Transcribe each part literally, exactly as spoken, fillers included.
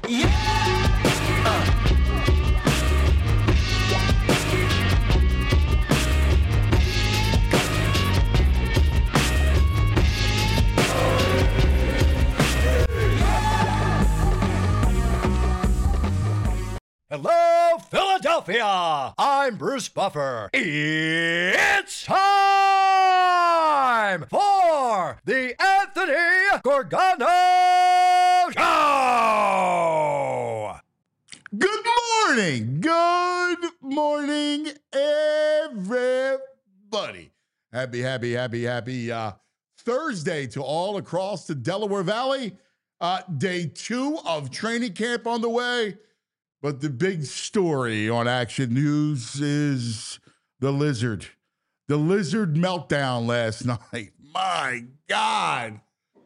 Hello, Philadelphia! I'm Bruce Buffer. It's time for the Anthony Gorgano Show! Good morning! Good morning, everybody. Happy, happy, happy, happy uh, Thursday to all across the Delaware Valley. Uh, day two of training camp on the way. But the big story on Action News is the Lizard. The Lizard meltdown last night. My God.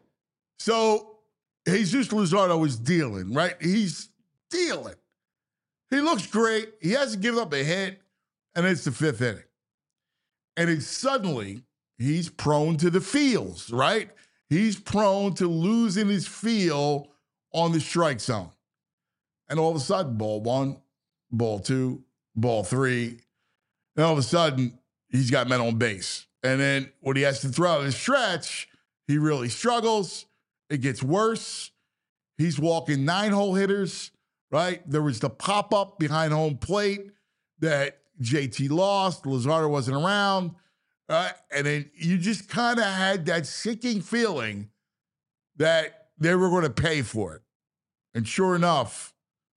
So Jesus Luzardo was dealing, right? He's dealing. He looks great. He hasn't given up a hit, and it's the fifth inning. And it's suddenly, he's prone to the feels, right? He's prone to losing his feel on the strike zone. And all of a sudden, ball one, ball two, ball three. And all of a sudden, he's got men on base. And then when he has to throw out his stretch, he really struggles. It gets worse. He's walking nine-hole hitters, right? There was the pop-up behind home plate that J T lost. Luzardo wasn't around. Right? And then you just kind of had that sinking feeling that they were going to pay for it. And sure enough,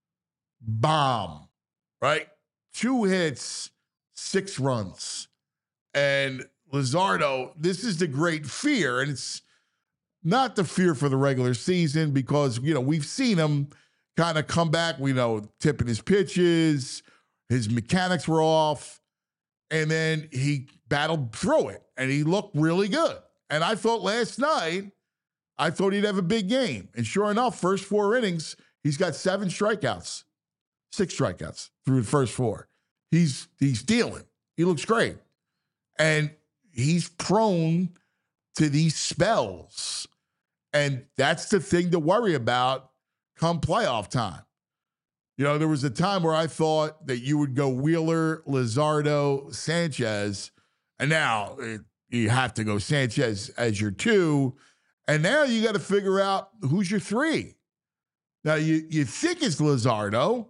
bomb, right? Two hits, six runs. And Luzardo, this is the great fear. And it's not the fear for the regular season because, you know, we've seen him kind of come back, we know, tipping his pitches, his mechanics were off, and then he battled through it, and he looked really good. And I thought last night, I thought he'd have a big game. And sure enough, first four innings, he's got seven strikeouts. Six strikeouts through the first four. He's he's dealing. He looks great. And he's prone to these spells. And that's the thing to worry about come playoff time. You know, there was a time where I thought that you would go Wheeler, Luzardo, Sanchez, and now it, you have to go Sanchez as your two. And now you got to figure out who's your three. Now, you, you think it's Luzardo,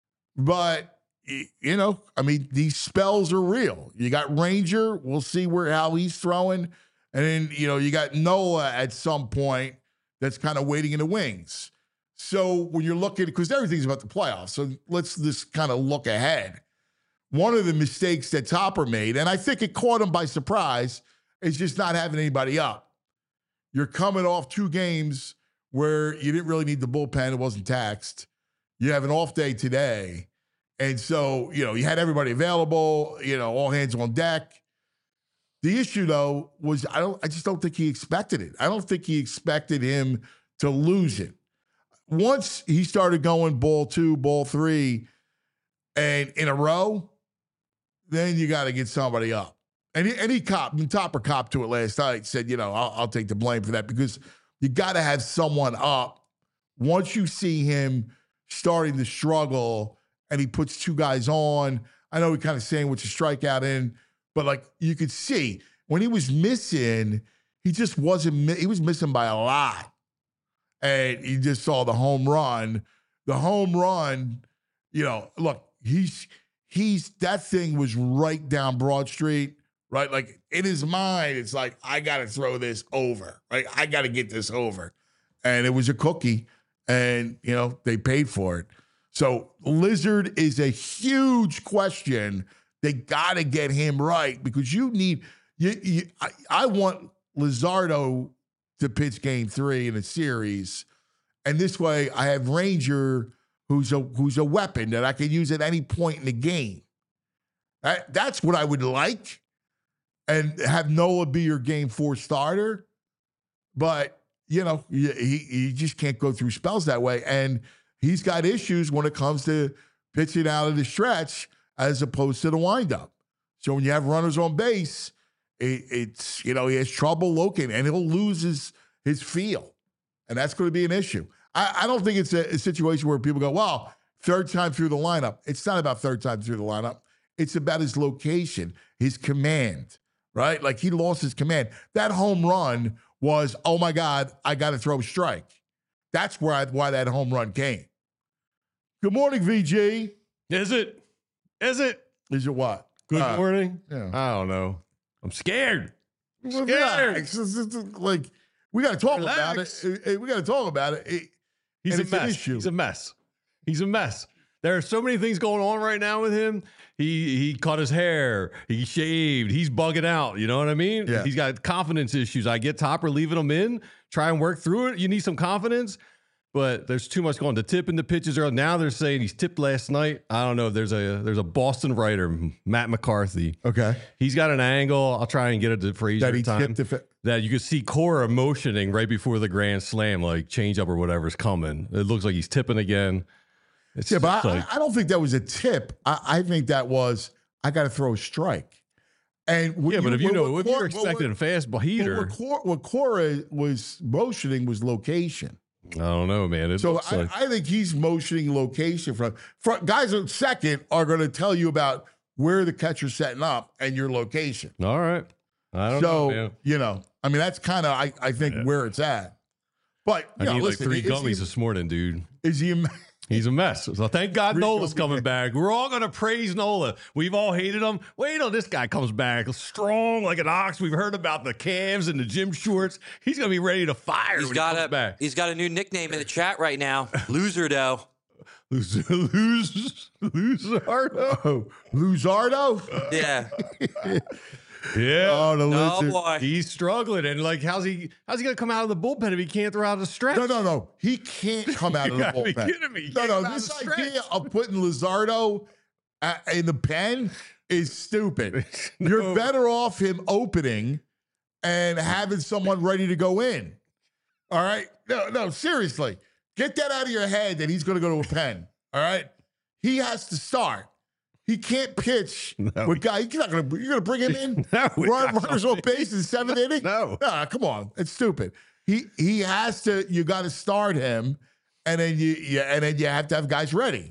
but, you know, I mean, these spells are real. You got Ranger. We'll see where how he's throwing. And then, you know, you got Noah at some point that's kind of waiting in the wings. So when you're looking, because everything's about the playoffs, so let's just kind of look ahead. One of the mistakes that Topper made, and I think it caught him by surprise, is just not having anybody up. You're coming off two games where you didn't really need the bullpen. It wasn't taxed. You have an off day today. And so, you know, you had everybody available, you know, all hands on deck. The issue, though, was I don't I just don't think he expected it. I don't think he expected him to lose it. Once he started going ball two, ball three, and in a row, then you got to get somebody up. And he, and he cop, and Topper copped to it last night, said, you know, I'll, I'll take the blame for that because you got to have someone up. Once you see him starting to struggle and he puts two guys on, I know he kind of saying what's a strikeout in, but like you could see when he was missing, he just wasn't, he was missing by a lot. And you just saw the home run. The home run, you know, look, he's, he's, that thing was right down Broad Street, right? Like in his mind, it's like, I got to throw this over, right? I got to get this over. And it was a cookie. And, you know, they paid for it. So Lizard is a huge question. They got to get him right because you need, you, you, I, I want Luzardo to pitch game three in a series. And this way I have Ranger who's a, who's a weapon that I can use at any point in the game. That, that's what I would like. And have Noah be your game four starter. But, you know, he, he just can't go through spells that way. And he's got issues when it comes to pitching out of the stretch as opposed to the windup. So when you have runners on base, it, it's, you know, he has trouble looking and he'll lose his, his feel. And that's going to be an issue. I, I don't think it's a, a situation where people go, well, third time through the lineup. It's not about third time through the lineup. It's about his location, his command, right? Like he lost his command. That home run was, oh my God, I got to throw a strike. That's where I, why that home run came. Good morning, V G. Is it? Is it? Is it what? Good Uh, morning. yeah. I don't know. I'm scared. I'm Well, scared. relax. It's just like we got to talk Relax. about it. Uh, We got to talk about it. It- He's and a it's an mess. issue. He's a mess. He's a mess. There are so many things going on right now with him. He he cut his hair. He shaved. He's bugging out. You know what I mean? Yeah. He's got confidence issues. I get Topper leaving him in. Try and work through it. You need some confidence. But there's too much going to tip in the pitches. Are now they're saying he's tipped last night. I don't know. There's a there's a Boston writer, Matt McCarthy. Okay. He's got an angle. I'll try and get it to Frazier That he time. tipped if it. That you could see Cora motioning right before the grand slam, like changeup or whatever's coming. It looks like he's tipping again. It's Yeah, but just I, like, I don't think that was a tip. I, I think that was I got to throw a strike. And what yeah, but if you what- know, what if you're Cor- expecting a what, fastball what, heater, what, Cor- what Cora was motioning was location. I don't know, man. It So looks I, like, I think he's motioning location from, from guys at second are going to tell you about where the catcher's setting up and your location. all right. I don't So, know, man. you know, I mean, that's kind of, I, I think, Yeah. where it's at. But, you I know, need listen, like three is, gummies he, this morning, dude. is he, a- He's a mess. So thank God Three Nola's gummies. coming back. We're all gonna praise Nola. We've all hated him. Wait till this guy comes back, strong like an ox. We've heard about the calves and the gym shorts. He's gonna be ready to fire He's when got he comes a back. he's got a new nickname in the chat right now. Loser though. Lose, lose, lose, oh, Luzardo? Yeah. yeah. Oh, the Oh loser. boy. He's struggling, and like, how's he? How's he gonna come out of the bullpen if he can't throw out a stretch? No, no, no. He can't come out of You the gotta be bullpen. kidding me. He No, can't no. come out This of the idea stretch. of putting Luzardo uh, in the pen is stupid. No. You're better off him opening and having someone ready to go in. All right? No, no, seriously. Get that out of your head that he's going to go to a pen. All right? He has to start. He can't pitch No, with guy. You're not going to. You're going to bring him in. No, we Run, got runners on base in the seventh inning. No. Nah, come on. It's stupid. He he has to. You got to start him, and then you, you and then you have to have guys ready.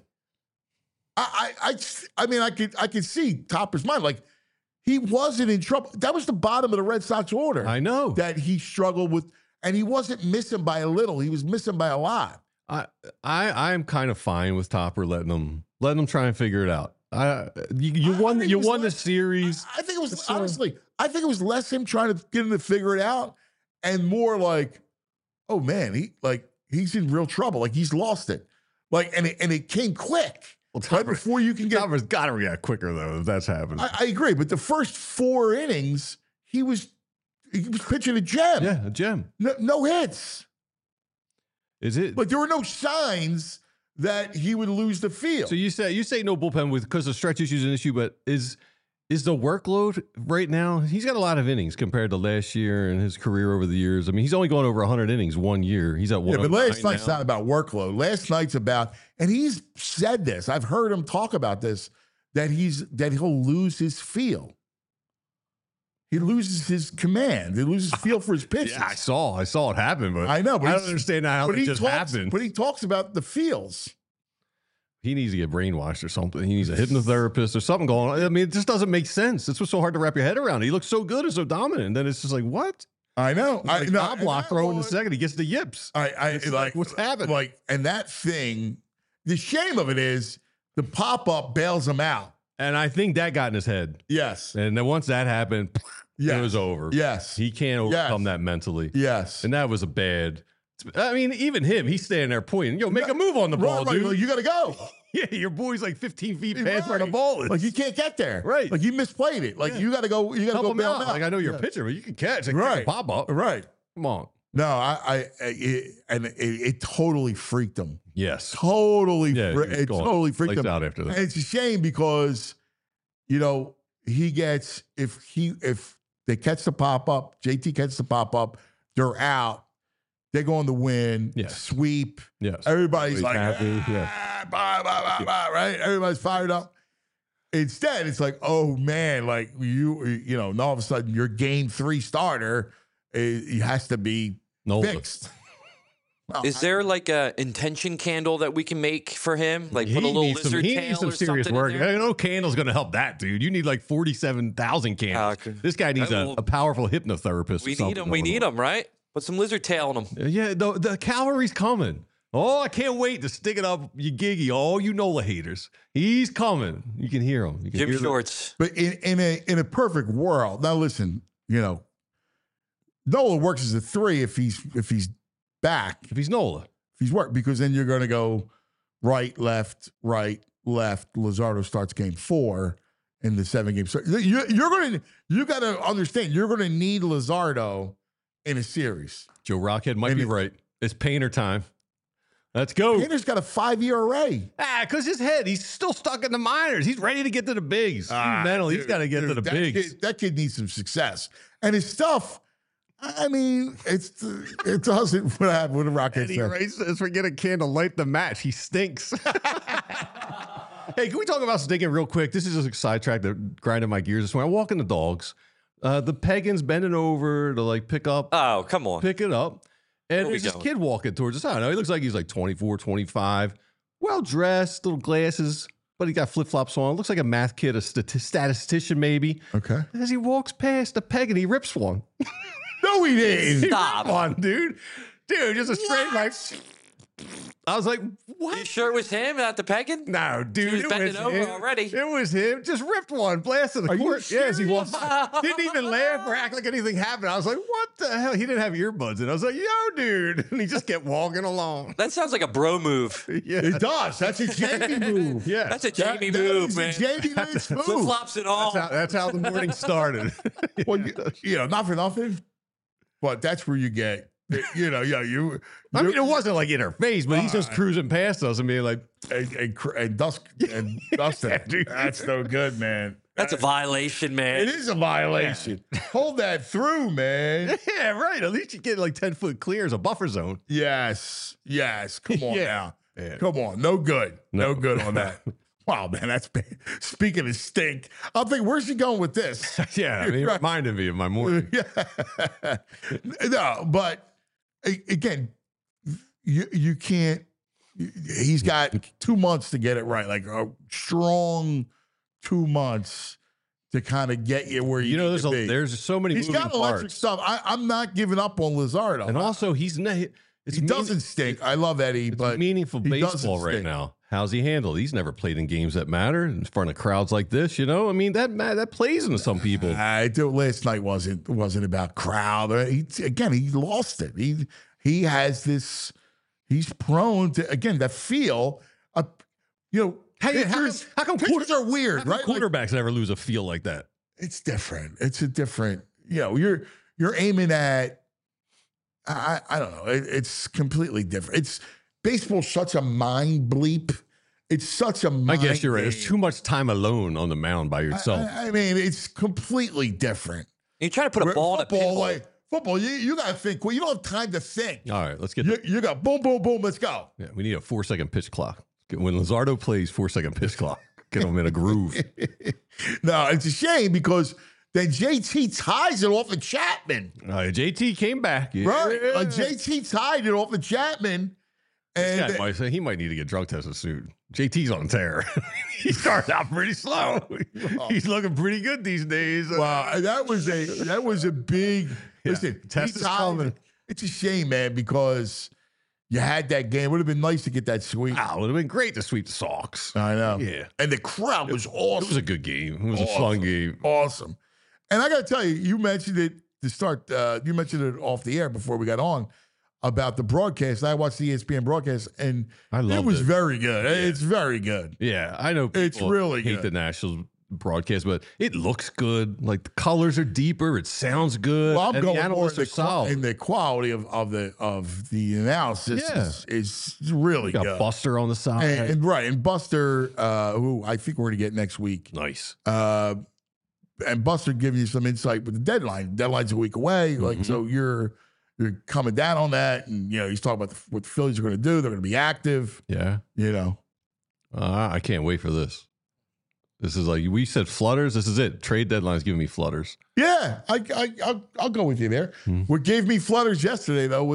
I I I, I mean I could I could see Topper's mind. Like he wasn't in trouble. That was the bottom of the Red Sox order. I know. that he struggled with, and he wasn't missing by a little. He was missing by a lot. I I I'm kind of fine with Topper letting them letting them try and figure it out. I you, you I- I won think you it was won the less- series. I think it was It's, uh, honestly. I think it was less him trying to get him to figure it out, and more like, oh man, he like he's in real trouble. Like he's lost it. Like and it, and it came quick. Well, Right Topper, before you can get. Topper's got to react quicker though. If that's happening. I, I agree, but the first four innings, he was he was pitching a gem. yeah, a gem. No, no hits. Is it? Like there were no signs that he would lose the field. So you say you say no bullpen with because the stretch issue is an issue, but is is the workload right now? He's got a lot of innings compared to last year and his career over the years. I mean, he's only going over one hundred innings one year. He's at one. yeah, but last now. night's not about workload. Last night's about, and he's said this. I've heard him talk about this, that he's that he'll lose his feel. He loses his command. He loses feel for his pitches. Yeah, I saw. I saw it happen, but I know, but I he's- don't understand how but it he just talks, happened. But he talks about the feels. He needs to get brainwashed or something. He needs a hypnotherapist or something going on. I mean, it just doesn't make sense. It's what's so hard to wrap your head around. He looks so good and so dominant. And then it's just like, what? I know. I Like, know. knob block and throw in the that second. He gets the yips. I, I It's like, like, what's happening? Like, and that thing, the shame of it is the pop up bails him out. And I think that got in his head. Yes. And then once that happened, Yes. it was over. Yes. He can't overcome that mentally. Yes. And that was a bad. I mean, even him, he's standing there pointing, yo, make a move on the ball, Right, right. dude. Like, you got to go. Yeah, your boy's like fifteen feet past Right. where the ball is. Like you can't get there. Right. Like you misplayed it. Like Yeah. you got to go. You got to Help go him bail out. him out. Like, I know you're Yeah. a pitcher, but you can catch. Like, Right. pop up. Right. Come on. No, I, I, I it, and it, it totally freaked him. Yes. Totally, Yeah, fre- he was it gone. totally freaked Lights him. out after that. And it's a shame because, you know, he gets if he if they catch the pop up, J T catches the pop up, they're out. They're going to win, Yeah. sweep. Yes. Everybody's Everybody's like, happy, yeah. "Ah, blah, blah, blah, blah," right? Everybody's fired up. Instead, it's like, oh man, like you, you know, and all of a sudden your game three starter, uh, he has to be No. fixed. Well, Is there like a intention candle that we can make for him? Like put a little needs some, lizard he tail needs some or serious something in work. there? No candle's going to help that, dude. You need like forty-seven thousand candles. Uh, okay. This guy needs Uh, a, well, a powerful hypnotherapist. We or something need him. We going need on. him, right? Put some lizard tail on him. Yeah, the, the cavalry's coming. Oh, I can't wait to stick it up you Giggy. All you Nola haters. He's coming. You can hear him. You can Jim hear the- Shorts. But in, in a in a perfect world, now listen, you know, Nola works as a three if he's if he's back, If he's Nola. if he's work, because then you're going to go right, left, right, left. Luzardo starts game four in the seven game. So you, you're going to you got to understand you're going to need Luzardo in a series. Joe Rockhead might And be it- right. It's Painter time. Let's go. Painter's got a five year array. Ah, because his head, he's still stuck in the minors. He's ready to get to the bigs. Mental, he's got to get to the that bigs. Kid, that kid needs some success, and his stuff. I mean, it's it doesn't what happened with the Rockets. Eddie Ray says, forget a candle, light the match. He stinks. Hey, can we talk about stinking real quick? This is just a sidetrack that grinded my gears this morning. I'm walking the dogs. Uh, the Pegan's bending over to like pick up, Oh, come on. pick it up. And Where we there's this going? kid walking towards us. I don't know. He looks like he's like twenty-four, twenty-five. Well dressed, little glasses, but he got flip flops on. Looks like a math kid, a stati- statistician maybe. Okay. As he walks past the Pegan, he rips one. No, he didn't. Stop. Come on, dude. Dude, just a straight like. I was like, You what? sure it was him, not the Pegan? No, dude. was it bending was over him. already. It was him. Just ripped one, blasted the Are you court. Yes, he serious? walked. Didn't even laugh or act like anything happened. I was like, what the hell? He didn't have earbuds in. I was like, yo, dude. And he just kept walking along. That sounds like a bro move. Yeah. It does. That's a Jamie move. Yeah. That's a That- Jamie that move, is man. a Jamie Lynch Flip move. flops and all. That's how, that's how the morning started. Well, you, you know, not for nothing, but that's where you get. You know, yeah, you. I mean, you- it wasn't like in her face, but he's just cruising past us and being like, and, and, cr- and Dusk and Dustin. dude. That's no good, man. That's a violation, man. It is a violation. Hold that through, man. yeah, right. At least you get like ten foot clear as a buffer zone. Yes, yes. Come on Yeah. now. Yeah. Come on. No good. No, No. good on that. Wow, man. That's bad. Speaking of stink, I'm thinking, where's she going with this? Yeah, I mean, it Right. reminded me of my morning. Yeah. No, but a- again, you you can't. He's got two months to get it right, like a strong two months to kind of get you where you, You know, need there's to a, be. there's so many He's moving got electric parts. stuff. I, I'm not giving up on Luzardo. And also, he's not. It's he mean- doesn't stink. I love Eddie, It's but meaningful he doesn't baseball right stink. now. How's he handled? He's never played in games that matter in front of crowds like this. You know, I mean that ma- that plays into some people. I do. Last night wasn't wasn't about crowd. Uh, He again, he lost it. He he has this. He's prone to again that feel. Uh, you know, Hey, how come- pitchers, how come pitchers quarter- are weird, How come right? Like, quarterbacks never lose a feel like that. it's different. It's a different. You know, you're you're aiming at. I I don't know. It, it's completely different. It's baseball's such a mind bleep. It's such a. Mind I guess you're right. There's game. too much time alone on the mound by yourself. I, I mean, it's completely different. You're trying to put a Where ball in a football, pinball. like football, you, you got to think. Well, you don't have time to think. All right, let's get. You, The, you got boom, boom, boom. Let's go. yeah, we need a four second pitch clock. When Luzardo plays, four second pitch clock. Get him in a groove. No, it's a shame because then J T ties it off of Chapman, Uh, J T came back. Yeah. right? Like J T tied it off of Chapman, This and guy might say he might need to get drug tested soon. J T's on tear. He started out pretty slow. He's looking pretty good these days. wow, that was a that was a big. Yeah, Listen, test he is tied coming. it. It's a shame, man, because you had that game. It would have been nice to get that sweep. Wow, it would have been great to sweep the Sox. I know. Yeah. And the crowd was It awesome. was a good game. It was a Awesome. fun game. Awesome. And I got to tell you, you mentioned it to start, uh, you mentioned it off the air before we got on about the broadcast. I watched the E S P N broadcast and I it loved was it. very good. It's very good. Yeah, I know It's people really hate good. the Nationals broadcast, but it looks good. Like the colors are deeper. It sounds good. Well, I'm and going the more analysts in are the, qua- solid. in the quality of, of the of the analysis Yeah. is, is really You got good. Buster on the side. And, and right, and Buster, uh, who I think we're going to get next week, nice. uh, and Buster giving you some insight with the deadline. Deadline's a week away, like Mhm. so you're you're coming down on that, and you know he's talking about the, what the Phillies are going to do. They're going to be active, Yeah. you know. Uh, I can't wait for this. This is like we said flutters. This is it. Trade deadline's giving me flutters. Yeah, I, I I'll, I'll go with you there. Hmm. What gave me flutters yesterday though was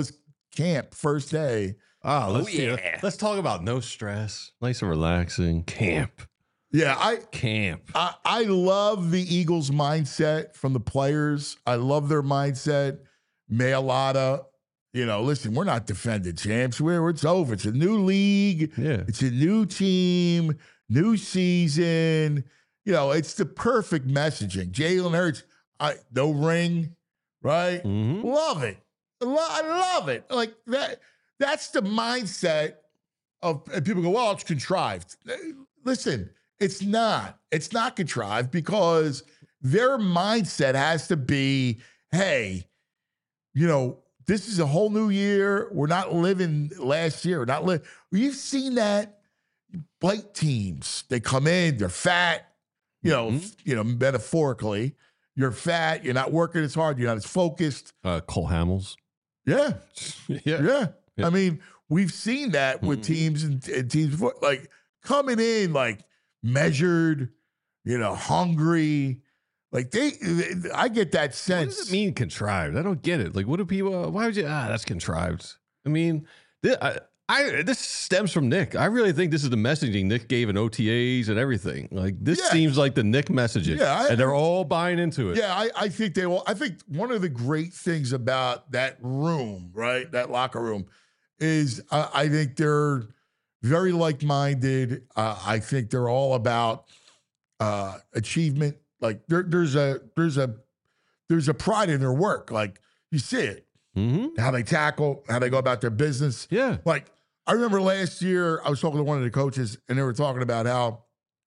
camp first day. Oh, let's, Oh, yeah. let's talk about no stress, nice and relaxing camp. Yeah, I Camp. I, I love the Eagles' mindset from the players. I love their mindset. Mailata, you know, listen, we're not defended champs. We're it's over. It's a new league. Yeah. It's a new team, new season. You know, it's the perfect messaging. Jalen Hurts, I no ring, right? Mhm. Love it. Lo- I love it. Like that. That's the mindset of and people go, well, it's contrived. Listen, it's not. It's not contrived because their mindset has to be, hey, you know, this is a whole new year. We're not living last year. We're not li- You've seen that Blake teams. They come in, they're fat, you know, Mhm. you know, metaphorically. You're fat, you're not working as hard, you're not as focused. Uh, Cole Hamels. Yeah. yeah. Yeah. Yeah. I mean, we've seen that with Mhm. teams and, and teams before, like coming in like measured, you know, hungry. Like they, I get that What sense. does it mean contrived? I don't get it. Like, what do people? Uh, why would you? Ah, that's contrived. I mean, this, I, I this stems from Nick. I really think this is the messaging Nick gave in O T As and everything. Like, this Yeah. seems like the Nick messaging. Yeah, I- and they're all buying into it. Yeah, I, I think they will. I think one of the great things about that room, right, that locker room, is I, I think they're very like-minded. Uh, I think they're all about uh, achievement. Like there, there's a there's a there's a pride in their work. Like you see it, Mm-hmm. how they tackle, how they go about their business. Yeah. Like I remember last year, I was talking to one of the coaches, and they were talking about how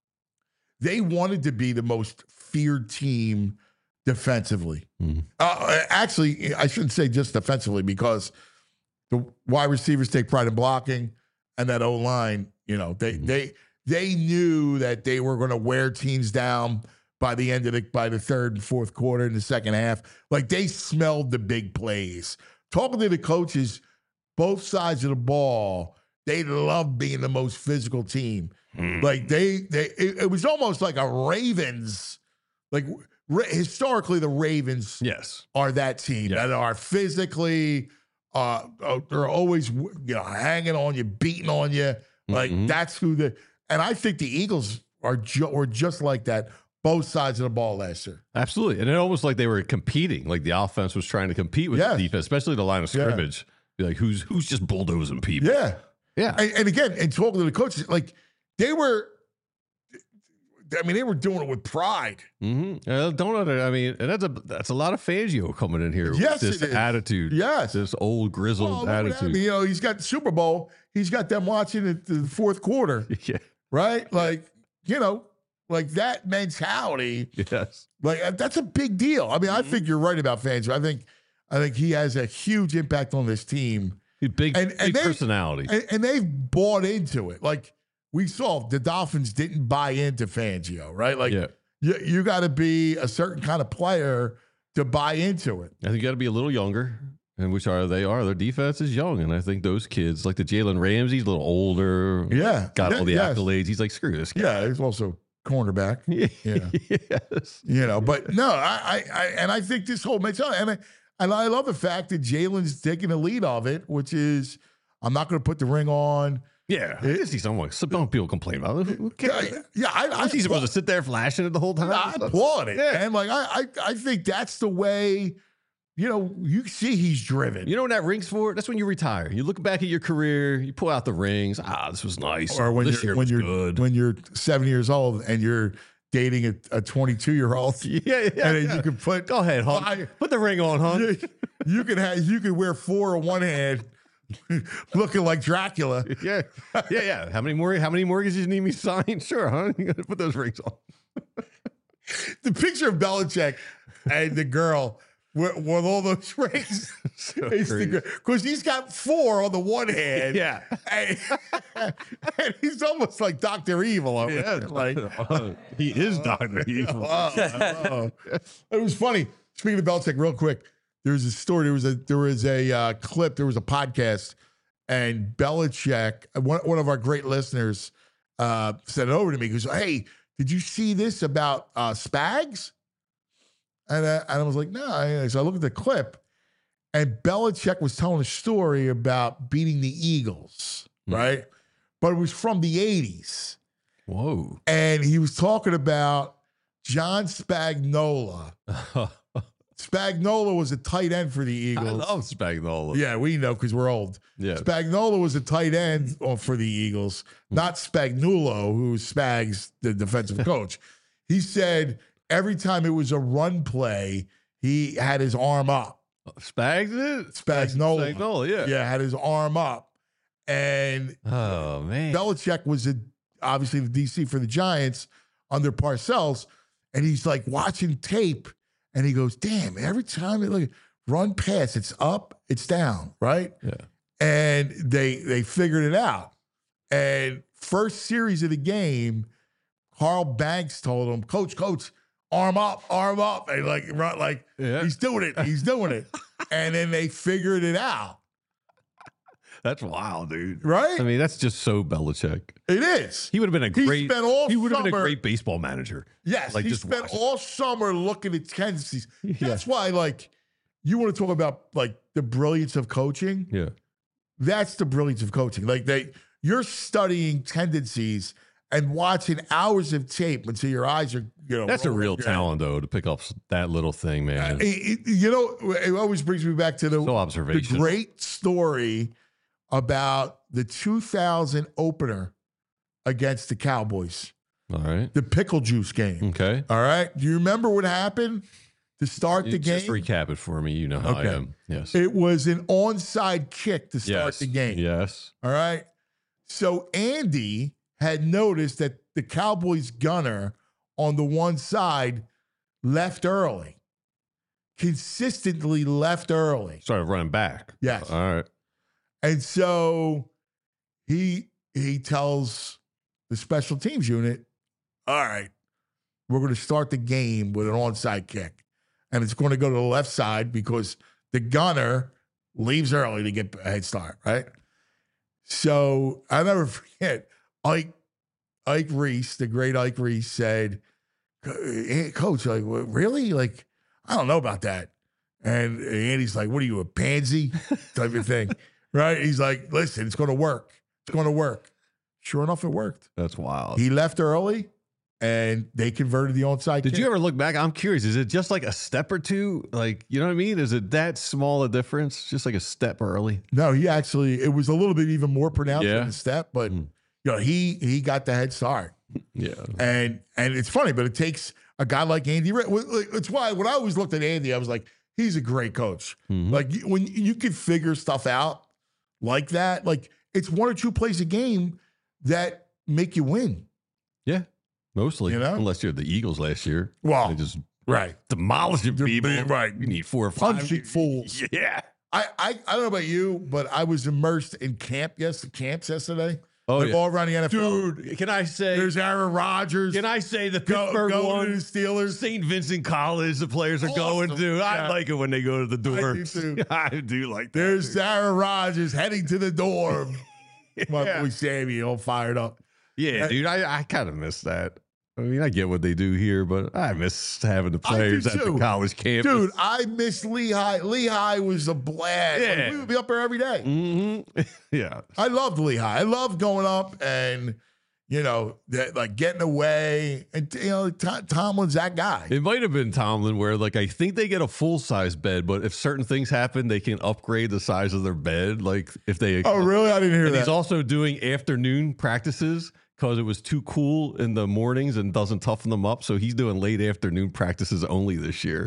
they wanted to be the most feared team defensively. Mhm. Uh, actually, I shouldn't say just defensively because the wide receivers take pride in blocking, and that O line, you know, they Mhm. they they knew that they were going to wear teams down by the end of the by the third and fourth quarter in the second half. Like they smelled the big plays. Talking to the coaches, both sides of the ball, they love being the most physical team. Mm. Like they they it, it was almost like a Ravens, like ra- historically the Ravens Yes. are that team Yeah. that are physically uh uh, they're always you know hanging on you, beating on you. Like Mhm. that's who the and I think the Eagles are ju- were just like that both sides of the ball last year. Absolutely. And it almost like they were competing. Like the offense was trying to compete with Yes. the defense, especially the line of Yeah. scrimmage. Be like, who's who's just bulldozing people? Yeah. Yeah. And, and again, and talking to the coaches, like they were I mean, they were doing it with pride. Mm-hmm. Uh, don't under, I mean, and that's a that's a lot of Fangio coming in here Yes, with this it is. attitude. Yes. This old grizzled Well, look what happened. attitude. You know, he's got the Super Bowl. He's got them watching it the fourth quarter, Yeah. right? Like, you know, like that mentality. Yes. Like uh, that's a big deal. I mean, I think you're right about Fangio. I think, I think he has a huge impact on this team, Big, And- big and they- personality. and, and they've bought into it. Like we saw, the Dolphins didn't buy into Fangio, right? Like yeah. you, you got to be a certain kind of player to buy into it. I think you got to be a little younger, and which are they are. Their defense is young, and I think those kids, like the Jalen Ramsey's a little older, Yeah, got all the yes. accolades. He's like, screw this guy. Yeah, he's also cornerback. Yeah. yes. You know, but no, I, I, I and I think this whole makes sense. And I, and I love the fact that Jalen's taking the lead of it, which is I'm not going to put the ring on. Yeah. I can see someone. Some people complain about it. Who Yeah, cares? yeah I, I, Is he supposed to sit there flashing it the whole time? I applaud it, Yeah. and like I, I, I think that's the way. You know, you see he's driven. You know when that ring's for? That's when you retire. You look back at your career, you pull out the rings. Ah, this was nice. or when this you're year when was you're good. when you're seven years old and you're dating a, a twenty-two year old, yeah, yeah. and then yeah. you can put Go ahead, hon. five- Put the ring on, hon. you, you can have you can wear four on one hand, looking like Dracula. Yeah, yeah, yeah. How many more? How many mortgages you need me to sign? Sure, huh? You gotta put those rings on. The picture of Belichick and the girl with, with all those rings, So because he's got four on the one hand, Yeah. and, and he's almost like Doctor Evil. Over Yeah, there. Like he is Doctor Evil. oh, oh. It was funny. Speaking of Belichick, real quick, there was a story. There was a there was a uh, clip. There was a podcast, and Belichick, one one of our great listeners, uh, sent it over to me. He goes, "Hey, did you see this about uh, Spags?" And, uh, and I was like, "No." I- So I looked at the clip, And Belichick was telling a story about beating the Eagles, Hmm. right? But it was from the eighties. Whoa. And he was talking about John Spagnuolo. Spagnuolo was a tight end for the I Eagles. love Spagnuolo. Yeah, we know because we're old. Yeah. Spagnuolo was a tight end for the Eagles, not Spagnuolo, who's Spags, the defensive coach. He said every time it was a run play, he had his arm up. Spags it? Spagnuolo. Spagnuolo, yeah. Yeah, had his arm up. And Oh, man. Belichick was a, obviously the D C for the Giants under Parcells, and he's like watching tape, and he goes, "Damn! Every time they look run pass, it's up, it's down, right?" Yeah. And they they figured it out. And first series of the game, Carl Banks told him, "Coach, coach, arm up, arm up," and like run like Yeah. he's doing it, he's doing it, and then they figured it out, That's wild, dude. right? I mean, that's just so Belichick. It is. He would have been a He great. spent all he would have been a summer- great baseball manager. Yes, Like, he just spent watch it. all summer looking at tendencies. Yeah. That's why, like, you want to talk about like the brilliance of coaching. Yeah. That's the brilliance of coaching. Like they, you're studying tendencies and watching hours of tape until your eyes are, you know. That's a rolling real up your head. talent, though, to pick up s- that little thing, man. It- it- you know, it always brings me back to the, So the observation. great story about the two thousand opener against the Cowboys, All right. the pickle juice game. Okay. All right. Do you remember what happened to start the You game? Just recap it for me. You know how Okay. I am. Yes. It was an onside kick to start yes. the game. Yes. All right. So Andy had noticed that the Cowboys gunner on the one side left early, consistently left early. Started running back. Yes. All right. And so he he tells the special teams unit, all right, we're going to start the game with an onside kick. And it's going to go to the left side because the gunner leaves early to get a head start, right? So I'll never forget, Ike, Ike Reese, the great Ike Reese said, hey, Coach, like, what, really? Like, I don't know about that. And Andy's like, what are you, a pansy? Type of thing. Right? He's like, listen, it's going to work. It's going to work. Sure enough, it worked. That's wild. He left early, and they converted the onside Did kick. you ever look back? I'm curious. Is it just like a step or two? Like, you know what I mean? Is it that small a difference? Just like a step early? No, he actually, it was a little bit even more pronounced Yeah. than the step, but Mm. you know, he he got the head start. Yeah. And and it's funny, but it takes a guy like Andy. Re- well, like, It's why when I always looked at Andy, I was like, he's a great coach. Mhm. Like you- when you can figure stuff out like that, like it's one or two plays a game that make you win. Yeah. Mostly. You know? Unless you're the Eagles last year. Well, They just right. demolishing They're people. being- right. You need four or five. Punching fools. Yeah. I, I I don't know about you, but I was immersed in camp. Yes, the camps yesterday. Oh, like yeah. all around the N F L. Dude, can I say, There's Aaron Rodgers. can I say the go, Pittsburgh going one? to the Steelers. Saint Vincent College, the players are going Awesome. to. I Yeah. like it when they go to the I door. do too. I do like that. There's dude. Aaron Rodgers heading to the dorm. My Yeah. boy Sammy all fired up. Yeah, dude, I, I kind of miss that. I mean, I get what they do here, but I miss having the I do players at the too. college campus. Dude, I miss Lehigh. Lehigh was a blast. Like, Yeah. we would be up there every day. hmm yeah. I loved Lehigh. I loved going up and, you know, that, like getting away. And, you know, Tom, Tomlin's that guy. It might have been Tomlin where, like, I think they get a full size bed, but if certain things happen, they can upgrade the size of their bed. Like, if they. Oh, really? I didn't hear And that. he's also doing afternoon practices because it was too cool in the mornings and doesn't toughen them up. So he's doing late afternoon practices only this year.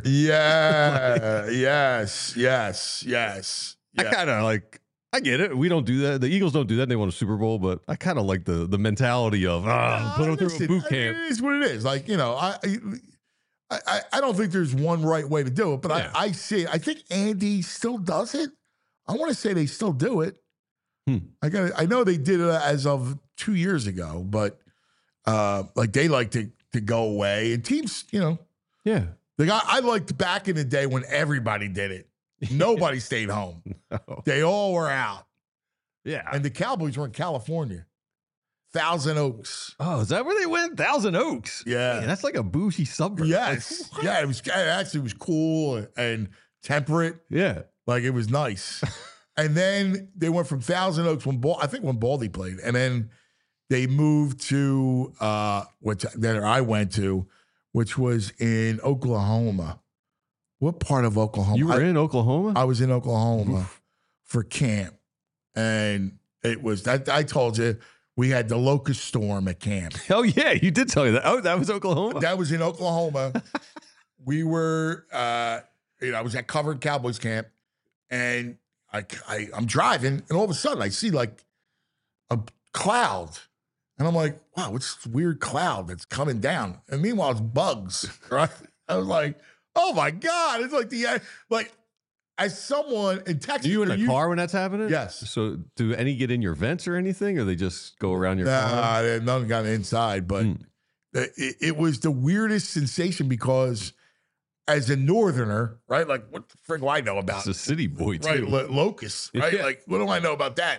Yeah. yes. Yes. Yes. I Yeah. kind of like. I get it. We don't do that. The Eagles don't do that. They won a Super Bowl, but I kind of like the the mentality of ah, put them through a Listen, boot I- camp. It is what it is. Like, you know, I I, I, I don't think there's one right way to do it, but Yeah. I, I see. I think Andy still does it. I want to say they still do it. Hmm. I got. I know they did it as of two years ago, but uh, like they like to to go away and teams. You know, Yeah. the guy I liked back in the day when everybody did it. Nobody stayed home. Oh, They all were out, yeah. and the Cowboys were in California, Thousand Oaks. oh, is that where they went? Thousand Oaks. Yeah. Man, that's like a bougie suburb. Yes. Like, Yeah, it was it actually was cool and temperate. yeah. Like it was nice. And then they went from Thousand Oaks when Bal- I think when Baldy played, and then they moved to uh, which that I went to, which was in Oklahoma. What part of Oklahoma? You were I, in Oklahoma? I was in Oklahoma Oof. for camp, and it was. I, I told you we had the locust storm at camp. Oh, yeah, you did tell me that. Oh, that was Oklahoma. That was in Oklahoma. We were, uh, you know, I was at Covered Cowboys camp, and I, I, I'm driving, and all of a sudden I see like a cloud, and I'm like, wow, what's this weird cloud that's coming down? And meanwhile, it's bugs, right? I was like, oh my God, it's like the, like, as someone in Texas. Are you in a you, car when that's happening? Yes. So do any get in your vents or anything, or they just go around your car? Nah, they- none got inside, but Mm. it, it was the weirdest sensation because as a northerner, right? Like, what the frick do I know about It's a city boy, too. right? Lo- locusts, right? Yeah. Like, what do I know about that?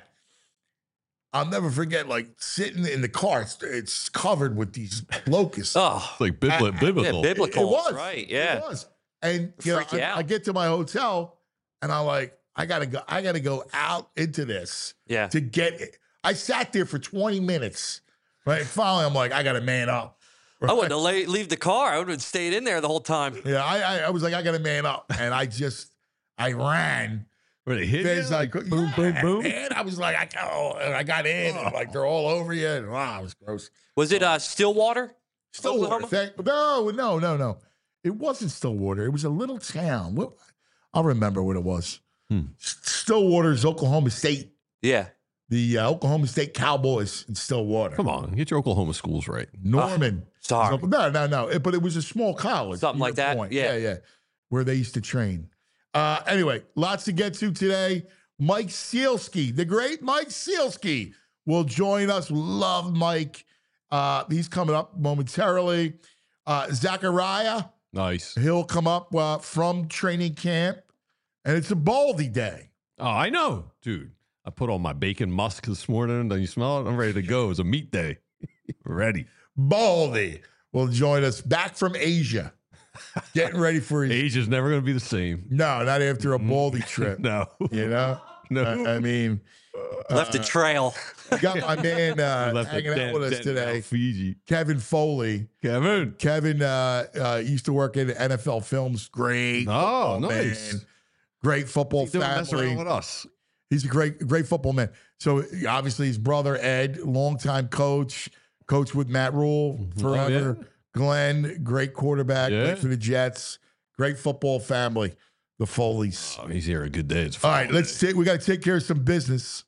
I'll never forget, like, sitting in the car. It's, it's covered with these locusts. Oh, It's like bibli- I- I- biblical. yeah, biblical. It was right? It Yeah. was. And you know, Freak you I, out. I get to my hotel, and I'm like, I gotta go. I gotta go out into this Yeah. to get it. I sat there for twenty minutes. Right. Finally, I'm like, I gotta man up. I wouldn't have la- leave the car. I would have stayed in there the whole time. Yeah, I, I, I was like, I gotta man up, and I just, I ran. Where they hit There's you? like, boom, yeah, boom, boom. man. I was like, I got, and I got in, and like they're all over you, and wow, it was gross. Was it uh, Stillwater? Stillwater. Oklahoma? Thank, no, no, no, no. It wasn't Stillwater. It was a little town. What, I'll remember what it was. Hmm. Stillwater is Oklahoma State. Yeah. The uh, Oklahoma State Cowboys in Stillwater. Come on, get your Oklahoma schools right. Norman. Sorry. No, no, no. It- but it was a small college. Something to like your that, point. yeah. yeah, yeah. Where they used to train. Uh, anyway, lots to get to today. Mike Sealski, the great Mike Sealski, will join us. Love Mike. Uh, he's coming up momentarily. Uh, Zachariah, Nice. he'll come up uh, from training camp, and it's a Baldy day. Oh, I know, dude. I put on my bacon musk this morning. Don't you smell it? I'm ready to go. It's a meat day. Ready. Baldy will join us back from Asia, getting ready for his. Asia's never going to be the same. No, not after a Baldy trip. No. You know? No. I, I mean, Left a trail. we got my man uh, Left a hanging out dent- with us dent today, out Fiji. Kevin Foley. Kevin. Kevin uh, uh, used to work in N F L Films. Great. Oh, football nice. man. Great football He's doing mess family. around with us. He's a great, great football man. So obviously his brother Ed, longtime coach, coach with Matt Rule forever. Oh, yeah. Glenn, great quarterback, Yeah. played for the Jets. Great football family, the Foleys. Oh, he's here a good day. It's All right, let's take. We got to take care of some business.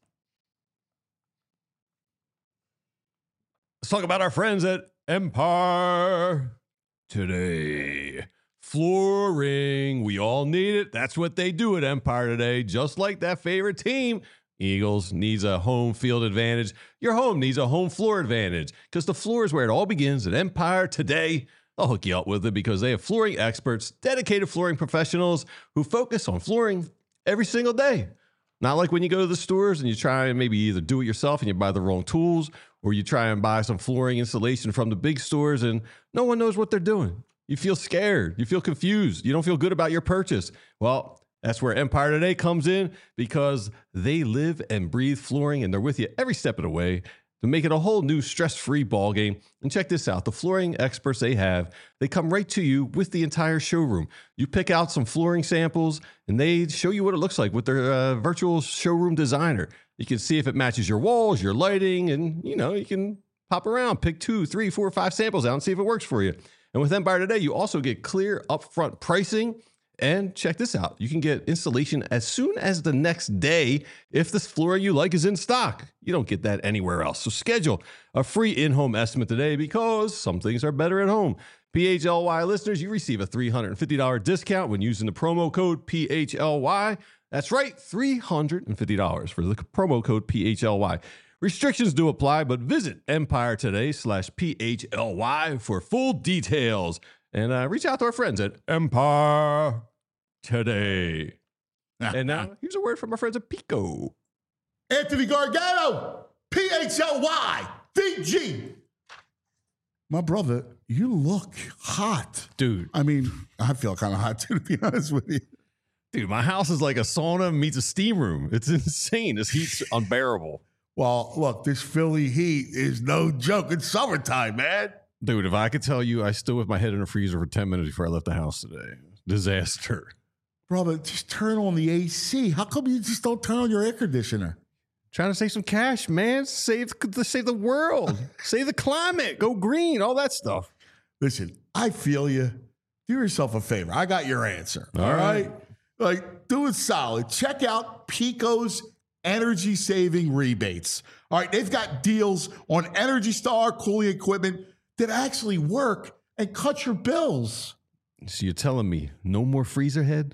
Let's talk about our friends at Empire today. Flooring. We all need it. That's what they do at Empire today. Just like that favorite team, Eagles needs a home field advantage. Your home needs a home floor advantage because the floor is where it all begins at Empire today. I'll hook you up with it because they have flooring experts, dedicated flooring professionals who focus on flooring every single day. Not like when you go to the stores and you try and maybe either do it yourself and you buy the wrong tools, or you try and buy some flooring installation from the big stores and no one knows what they're doing. You feel scared. You feel confused. You don't feel good about your purchase. Well, that's where Empire Today comes in because they live and breathe flooring and they're with you every step of the way to make it a whole new stress-free ball game. And check this out. The flooring experts they have, they come right to you with the entire showroom. You pick out some flooring samples and they show you what it looks like with their uh, virtual showroom designer. You can see if it matches your walls, your lighting, and you know, you can pop around, pick two, three, four, five samples out and see if it works for you. And with Empire Today, you also get clear upfront pricing. And check this out. You can get installation as soon as the next day if this flooring you like is in stock. You don't get that anywhere else. So schedule a free in-home estimate today because some things are better at home. P H L Y listeners, you receive a three hundred fifty dollars discount when using the promo code P H L Y. That's right, three hundred fifty dollars for the promo code P H L Y. Restrictions do apply, but visit Empire Today slash P H L Y for full details. And uh, reach out to our friends at Empire Today. And now, here's a word from our friends at Pico. Anthony Gargano, P H L Y, V G. My brother, you look hot. Dude, I mean, I feel kind of hot too, to be honest with you. Dude, my house is like a sauna meets a steam room. It's insane. This heat's unbearable. Well, look, this Philly heat is no joke. It's summertime, man. Dude, if I could tell you, I stood with my head in a freezer for ten minutes before I left the house today. Disaster. Brother, just turn on the A C. How come you just don't turn on your air conditioner? Trying to save some cash, man. Save, save the world. Save the climate. Go green. All that stuff. Listen, I feel you. Do yourself a favor. I got your answer. All, all right. right? Like, do it solid. Check out Pico's energy saving rebates. All right. They've got deals on Energy Star cooling equipment that actually work and cut your bills. So you're telling me no more freezer head?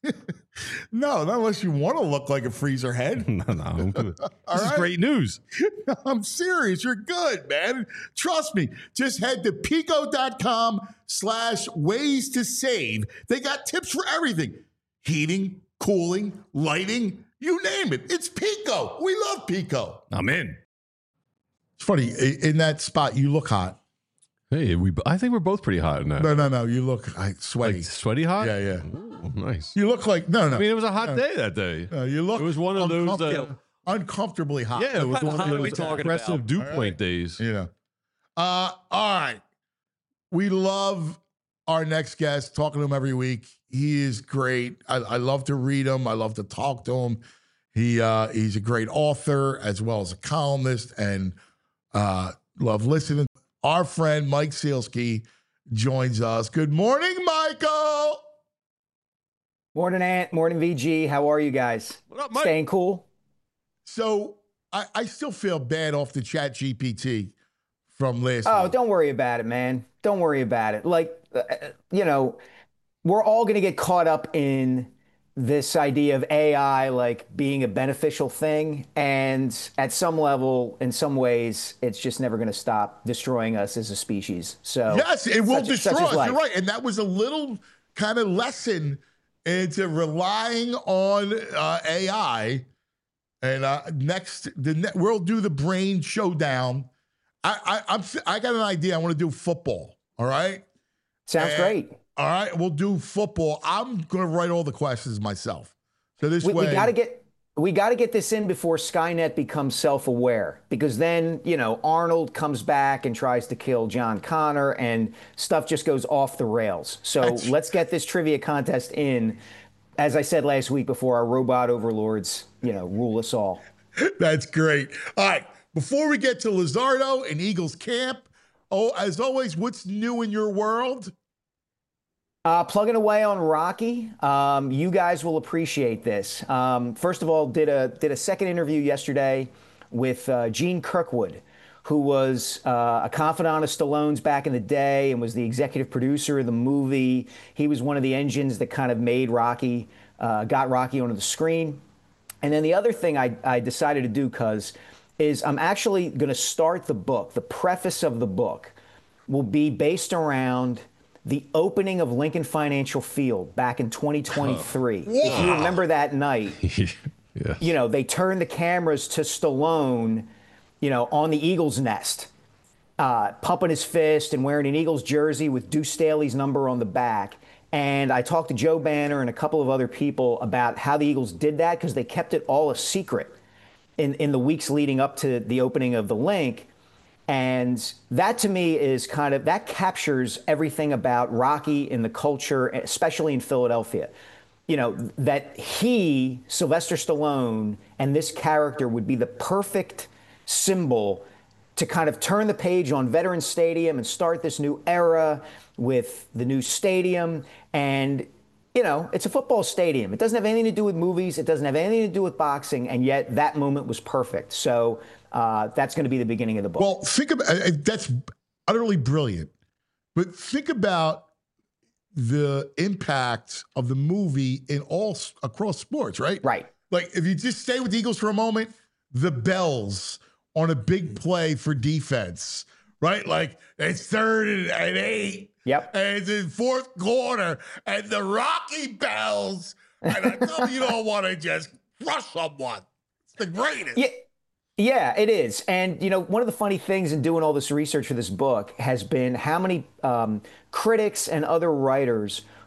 No, not unless you want to look like a freezer head. no, no. This right? is great news. I'm serious. You're good, man. Trust me. Just head to pico.com slash ways to save. They got tips for everything. Heating, cooling, lighting, you name it. It's Pico. We love Pico. I'm in. It's funny. In that spot, you look hot. Hey, we. I think we're both pretty hot in that. No, no, no. You look like sweaty. Like sweaty hot? Yeah, yeah. Ooh, nice. You look like, no, no. I mean, it was a hot no. day that day. No, you look It was one of those uncomfortable, uh, uncomfortably hot. Yeah, it was one of hot are we those talking aggressive about? dew All right. point days. You know. Uh, all right. We love our next guest, talking to him every week. He is great. I, I love to read him. I love to talk to him. He uh, he's a great author as well as a columnist, and uh, love listening. Our friend Mike Sielski joins us. Good morning, Michael. Morning, Ant. Morning, V G. How are you guys? What up, Mike? Staying cool? So I, I still feel bad off the Chat G P T from last Oh, week. don't worry about it, man. Don't worry about it. Like, uh, you know, we're all going to get caught up in this idea of A I like being a beneficial thing. And at some level, in some ways, it's just never going to stop destroying us as a species. So Yes, it will such- destroy such is us. life. You're right. And that was a little kind of lesson into relying on uh, A I. And uh, next, the ne- we'll do the brain showdown. I, I, I'm, I got an idea. I want to do football. All right. Sounds And- great. All right, we'll do football. I'm going to write all the questions myself. So this We, way, we got to get we got to get this in before Skynet becomes self-aware, because then, you know, Arnold comes back and tries to kill John Connor and stuff just goes off the rails. So That's- let's get this trivia contest in, as I said last week, before our robot overlords, you know, rule us all. That's great. All right, before we get to Lizardo and Eagles camp, oh, as always, what's new in your world? Uh, plugging away on Rocky. Um, you guys will appreciate this. Um, first of all, did a did a second interview yesterday with uh, Gene Kirkwood, who was uh, a confidant of Stallone's back in the day and was the executive producer of the movie. He was one of the engines that kind of made Rocky, uh, got Rocky onto the screen. And then the other thing I, I decided to do, cuz, is I'm actually going to start the book. The preface of the book will be based around the opening of Lincoln Financial Field back in twenty twenty-three. Oh, if you remember that night, Yeah. you know, they turned the cameras to Stallone, you know, on the Eagles nest, uh, pumping his fist and wearing an Eagles jersey with Deuce Staley's number on the back. And I talked to Joe Banner and a couple of other people about how the Eagles did that, because they kept it all a secret in, in the weeks leading up to the opening of the link. And that, to me, is kind of, that captures everything about Rocky in the culture, especially in Philadelphia. You know, that he, Sylvester Stallone, and this character would be the perfect symbol to kind of turn the page on Veterans Stadium and start this new era with the new stadium. And, you know, it's a football stadium. It doesn't have anything to do with movies. It doesn't have anything to do with boxing. And yet that moment was perfect. So uh, that's going to be the beginning of the book. Well, think about uh, that's utterly brilliant. But think about the impact of the movie in all across sports, right? Right. Like, if you just stay with the Eagles for a moment, the bells on a big play for defense, right? Like, it's third and, and eight. Yep. And it's in fourth quarter, and the Rocky bells. And I know you don't want to just crush someone. It's the greatest. Yeah. Yeah, it is. And, you know, one of the funny things in doing all this research for this book has been how many um, critics and other writers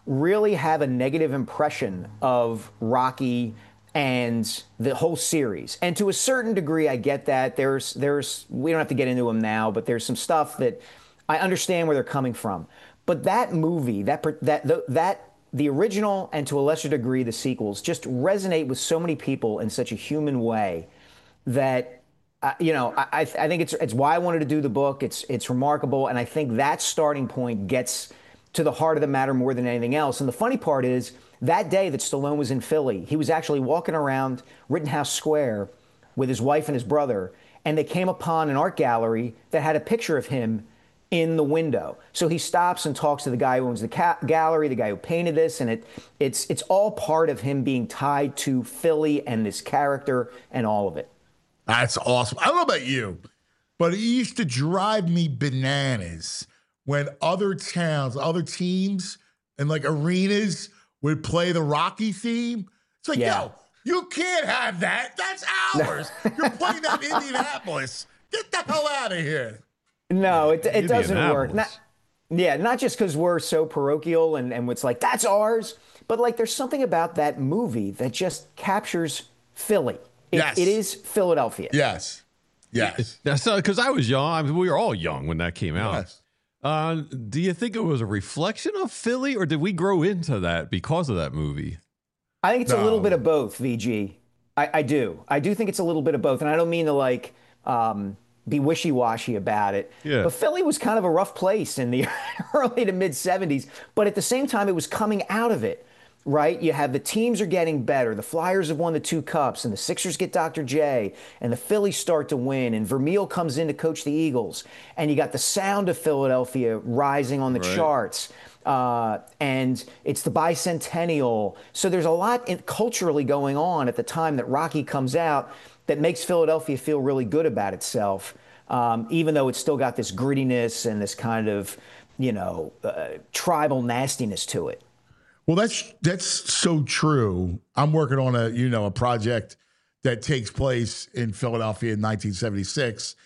really have a negative impression of Rocky and the whole series. And to a certain degree, I get that. There's, there's, we don't have to get into them now, but there's some stuff that I understand where they're coming from. But that movie, that that that the original and to a lesser degree the sequels, just resonate with so many people in such a human way that. Uh, you know, I, I think it's it's why I wanted to do the book. It's it's remarkable, and I think that starting point gets to the heart of the matter more than anything else. And the funny part is, that day that Stallone was in Philly, he was actually walking around Rittenhouse Square with his wife and his brother, and they came upon an art gallery that had a picture of him in the window. So he stops and talks to the guy who owns the ca- gallery, the guy who painted this, and it it's it's all part of him being tied to Philly and this character and all of it. That's awesome. I don't know about you, but it used to drive me bananas when other towns, other teams, and like arenas would play the Rocky theme. It's like, Yeah. yo, you can't have that. That's ours. You're playing that in Indianapolis. Get the hell out of here. No, it it doesn't work. Indianapolis. Not, yeah, not just because we're so parochial and, and it's like, that's ours, but like there's something about that movie that just captures Philly. It, Yes. it is Philadelphia. Yes. Yes. That's because I was young. I mean, we were all young when that came out. Yes. Uh, do you think it was a reflection of Philly, or did we grow into that because of that movie? I think it's a little No. bit of both, V G. I, I do. I do think it's a little bit of both. And I don't mean to like um, be wishy-washy about it. Yeah. But Philly was kind of a rough place in the early to mid seventies. But at the same time, it was coming out of it, right? You have the teams are getting better. The Flyers have won the two cups, and the Sixers get Doctor J, and the Phillies start to win, and Vermeil comes in to coach the Eagles. And you got the sound of Philadelphia rising on the Right. charts. Uh, and it's the bicentennial. So there's a lot in, culturally going on at the time that Rocky comes out that makes Philadelphia feel really good about itself, um, even though it's still got this grittiness and this kind of, you know, uh, tribal nastiness to it. Well, that's that's so true. I'm working on a you know a project that takes place in Philadelphia in nineteen seventy-six,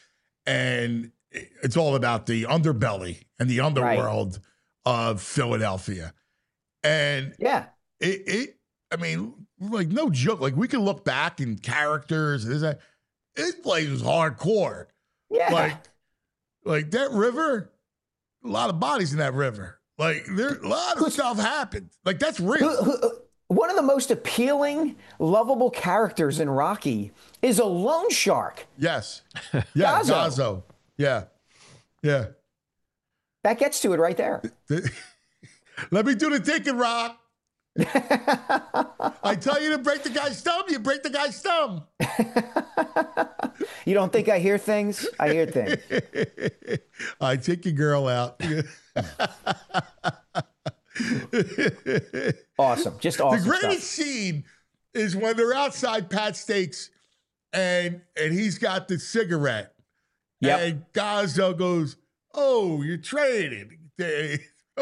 and it's all about the underbelly and the underworld of Philadelphia. And Yeah. it, it, I mean, like no joke. Like we can look back in characters. There's a, this place was hardcore. Yeah. Like, like that river, a lot of bodies in that river. Like there, a lot of stuff happened. Like that's real. Who- who- one of the most appealing, lovable characters in Rocky is a loan shark. Yes. Yeah. Gazzo. Gazzo. Yeah. Yeah. That gets to it right there. Let me do the thinking, Rock. I tell you to break the guy's thumb, you break the guy's thumb. You don't think I hear things? I hear things. I take your girl out. Awesome. Just awesome The greatest stuff. scene is when they're outside Pat Stakes and and he's got the cigarette. Yep. And Gazzo goes, "Oh, you're trading." you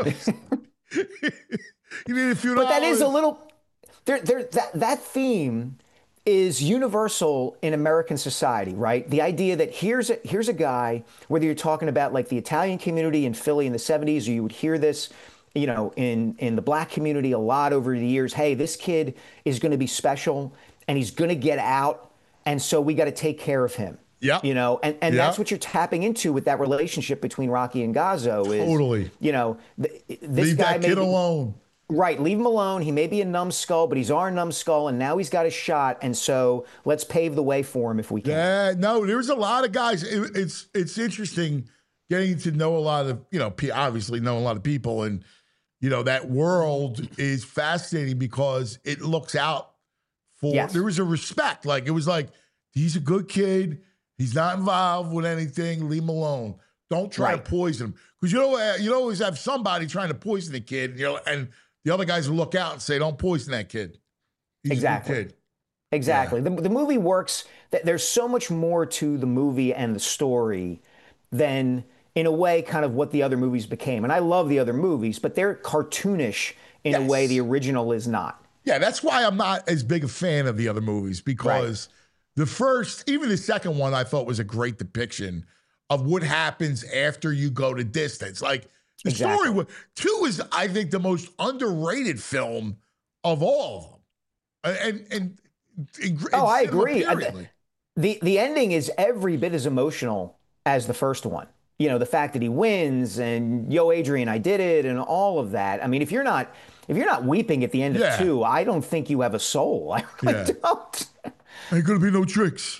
need a few But that is a dollars? little there there that that theme is universal in American society, right? The idea that here's a here's a guy, whether you're talking about like the Italian community in Philly in the seventies, or you would hear this, you know, in in the black community a lot over the years. Hey, this kid is going to be special and he's going to get out, and so we got to take care of him. Yep. You know, and, and Yep. that's what you're tapping into with that relationship between Rocky and Gazzo is, Totally. you know, th- this Leave guy that may kid be- alone. Right, leave him alone. He may be a numbskull, but he's our numbskull, and now he's got a shot. And so let's pave the way for him if we can. Yeah, no, there's a lot of guys. It, it's it's interesting getting to know a lot of, you know, pe- obviously know a lot of people. And, you know, that world is fascinating because it looks out for, Yes. there was a respect. Like, it was like, he's a good kid. He's not involved with anything. Leave him alone. Don't try Right. to poison him. Because you know, uh, you always have somebody trying to poison the kid, and, you know, and the other guys will look out and say, don't poison that kid. He's Exactly. a good kid. Exactly. The, the movie works. That there's so much more to the movie and the story than, in a way, kind of what the other movies became. And I love the other movies, but they're cartoonish in a Yes. way the original is not. Yeah, that's why I'm not as big a fan of the other movies, because the first, even the second one, I thought was a great depiction of what happens after you go to distance. Like The Exactly. story was two is, I think, the most underrated film of all of them. And and, and Oh, I cinema, agree. Uh, periodly. The the ending is every bit as emotional as the first one. You know, the fact that he wins and yo, Adrian, I did it, and all of that. I mean, if you're not if you're not weeping at the end Yeah. of two, I don't think you have a soul. I really Yeah. don't. Ain't gonna be no tricks.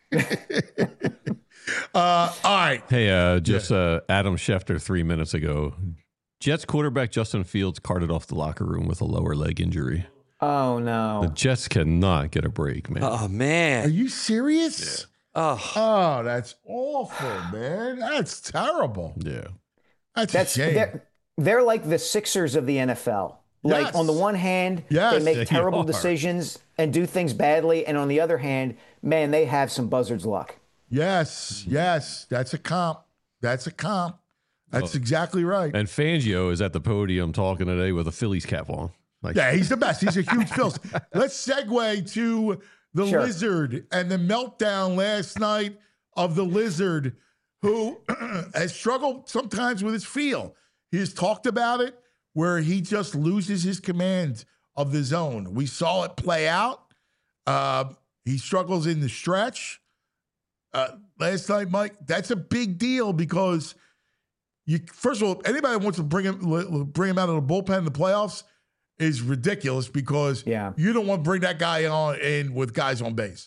uh, all right. Hey, uh, just uh, Adam Schefter three minutes ago. Jets quarterback Justin Fields carted off the locker room with a lower leg injury. Oh The no. Jets cannot get a break, man. Oh Are man. you serious? Oh, Oh, that's awful, man. That's terrible. Yeah. That's, That's a shame. they're, they're like the Sixers of the N F L. Like Yes. on the one hand, Yes, they they make terrible are. decisions and do things badly, and on the other hand, man, they have some buzzard's luck. Yes, yes. That's a comp. That's a comp. That's exactly right. And Fangio is at the podium talking today with a Phillies cap on. Like, Yeah, he's the best. He's a huge Phillies. Let's segue to the Sure. Lizard and the meltdown last night of the Lizard, who has struggled sometimes with his feel. He has talked about it where he just loses his command of the zone. We saw it play out. Uh, he struggles in the stretch. Uh, last night, Mike, that's a big deal because you. First of all, anybody that wants to bring him bring him out of the bullpen in the playoffs is ridiculous because Yeah. you don't want to bring that guy on in with guys on base.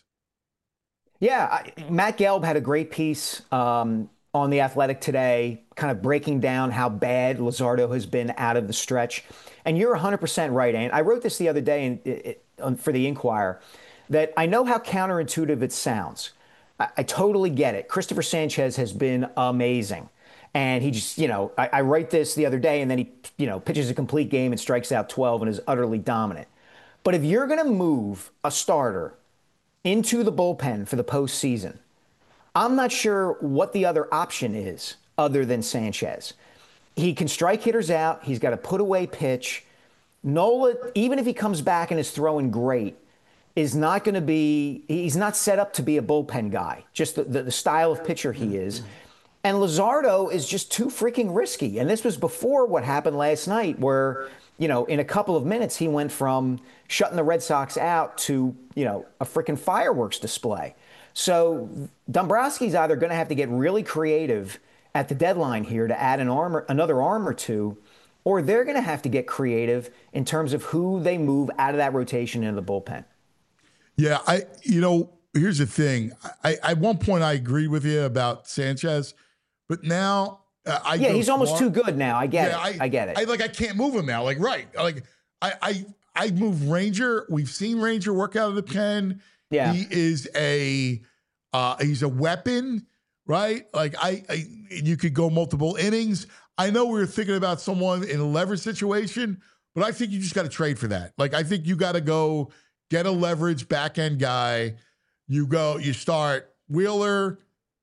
Yeah, I, Matt Gelb had a great piece um, on The Athletic today, kind of breaking down how bad Luzardo has been out of the stretch. And you're one hundred percent right, Ant. I wrote this the other day in, it, it, for the Inquirer, that I know how counterintuitive it sounds. I, I totally get it. Christopher Sanchez has been amazing. And he just, you know, I, I write this the other day, and then he, you know, pitches a complete game and strikes out twelve and is utterly dominant. But if you're going to move a starter into the bullpen for the postseason, I'm not sure what the other option is other than Sanchez. He can strike hitters out. He's got a put away pitch. Nola, even if he comes back and is throwing great, is not going to be, he's not set up to be a bullpen guy, just the, the, the style of pitcher he is. And Luzardo is just too freaking risky. And this was before what happened last night where, you know, in a couple of minutes, he went from shutting the Red Sox out to, you know, a freaking fireworks display. So Dombrowski's either going to have to get really creative at the deadline here to add an arm, or, another arm or two, or they're going to have to get creative in terms of who they move out of that rotation into the bullpen. Yeah, I. You know, here's the thing. I, I at one point I agreed with you about Sanchez, but now uh, I Yeah, go he's almost smart. too good now. I get Yeah, it. I, get it. I like. I can't move him now. Like, right? Like, I, I, I move Ranger. We've seen Ranger work out of the pen. Yeah. he is a, uh, he's a weapon, right? Like, I, I, you could go multiple innings. I know we were thinking about someone in a leverage situation, but I think you just got to trade for that. Like, I think you got to go get a leverage back end guy. You go. You start Wheeler,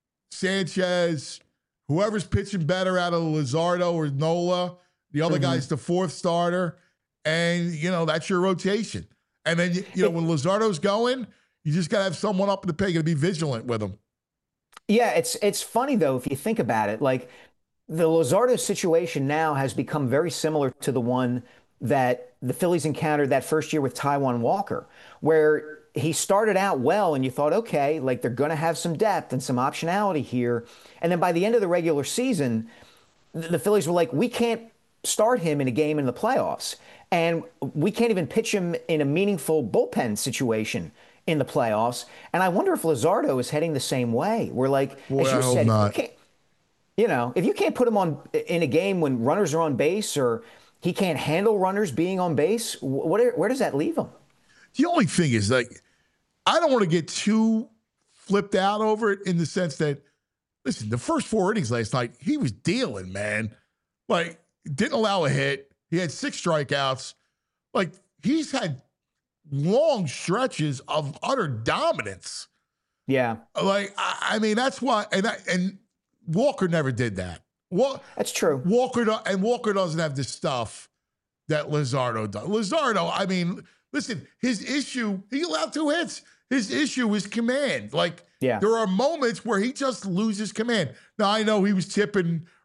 Sanchez. Whoever's pitching better out of Luzardo or Nola, the other Mm-hmm. guy's the fourth starter, and you know that's your rotation. And then you, you know when Luzardo's going, you just gotta have someone up in the pig and be vigilant with him. Yeah, it's it's funny though if you think about it. Like the Luzardo situation now has become very similar to the one that the Phillies encountered that first year with Taijuan Walker, where he started out well and you thought, okay, like they're going to have some depth and some optionality here. And then by the end of the regular season, th- the Phillies were like, we can't start him in a game in the playoffs. And we can't even pitch him in a meaningful bullpen situation in the playoffs. And I wonder if Luzardo is heading the same way. We're like, Boy, as you I hope said, if not. you can't, you know, if you can't put him on in a game when runners are on base or he can't handle runners being on base, what, where does that leave him? The only thing is, like, I don't want to get too flipped out over it in the sense that, listen, the first four innings last night, he was dealing, man. Like, didn't allow a hit. He had six strikeouts. Like, he's had long stretches of utter dominance. Yeah, Like, I, I mean, that's why, and I, and Walker never did that. Wa- that's true. Walker do- and Walker doesn't have the stuff that Luzardo does. Luzardo, I mean, listen, his issue, he allowed two hits. His issue is command. Like, Yeah. there are moments where he just loses command. Now, I know he was tipping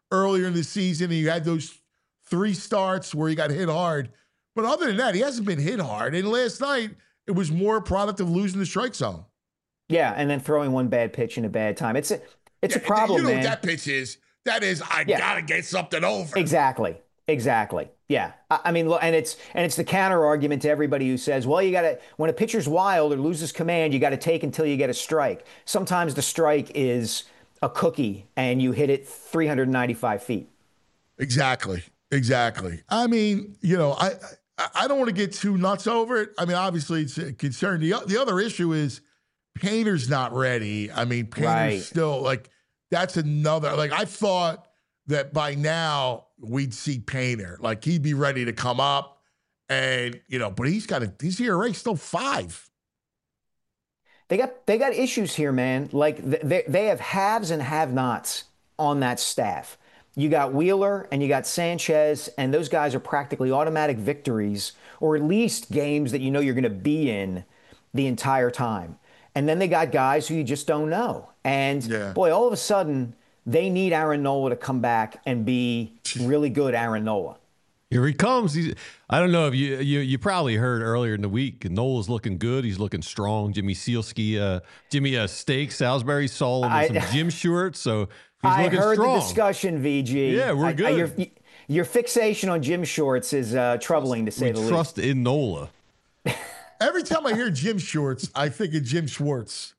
earlier in the season, and you had those three starts where he got hit hard. But other than that, he hasn't been hit hard. And last night, it was more a product of losing the strike zone. Yeah, and then throwing one bad pitch in a bad time. It's a it's yeah, a problem, you know man. What that pitch is? That is, I yeah. gotta get something over. Exactly. Exactly. Yeah. I, I mean, and it's and it's the counter argument to everybody who says, well, you got to, when a pitcher's wild or loses command, you got to take until you get a strike. Sometimes the strike is a cookie and you hit it three hundred ninety-five feet. Exactly. Exactly. I mean, you know, I I don't want to get too nuts over it. I mean, obviously it's a concern. The, the other issue is Painter's not ready. I mean, Painter's right. still like, that's another, like I thought that by now we'd see Painter, like he'd be ready to come up and, you know, but he's got a, his E R A still five. They got, they got issues here, man. Like they, they have haves and have-nots on that staff. You got Wheeler and you got Sanchez, and those guys are practically automatic victories, or at least games that you know you're going to be in the entire time. And then they got guys who you just don't know. And yeah. boy, all of a sudden, they need Aaron Nola to come back and be really good Aaron Nola. Here he comes. He's, I don't know if you, you you probably heard earlier in the week, Nola's looking good. He's looking strong. Jimmy Sealski, uh, Jimmy uh, Steak, Salisbury saw him in some gym shorts. So he's I looking heard strong. the discussion, V G. Yeah, we're good. I, I, your, your fixation on gym shorts is uh, troubling to say we the least. Trust in Nola. Every time I hear Jim Shorts, I think of Jim Schwartz.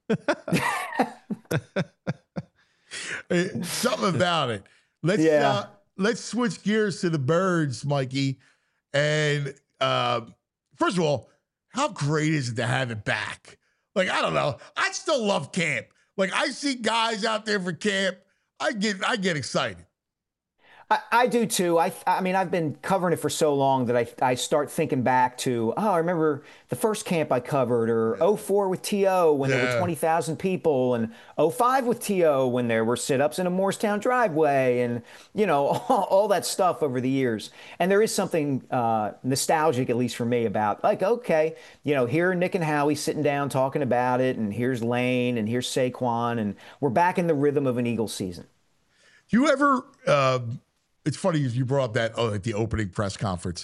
Something about it. Let's yeah. uh, let's switch gears to the Birds, Mikey. And uh, first of all, how great is it to have it back? Like, I don't know. I still love camp. Like, I see guys out there for camp. I get I get excited. I, I do too. I I mean, I've been covering it for so long that I I start thinking back to, oh, I remember the first camp I covered, or oh four with T O when yeah. there were twenty thousand people, and oh five with T O when there were sit-ups in a Morristown driveway, and, you know, all, all that stuff over the years. And there is something uh, nostalgic, at least for me, about, like, okay, you know, here are Nick and Howie sitting down talking about it, and here's Lane, and here's Saquon, and we're back in the rhythm of an Eagles season. Do you ever... Uh... It's funny you brought up that oh, at the opening press conference.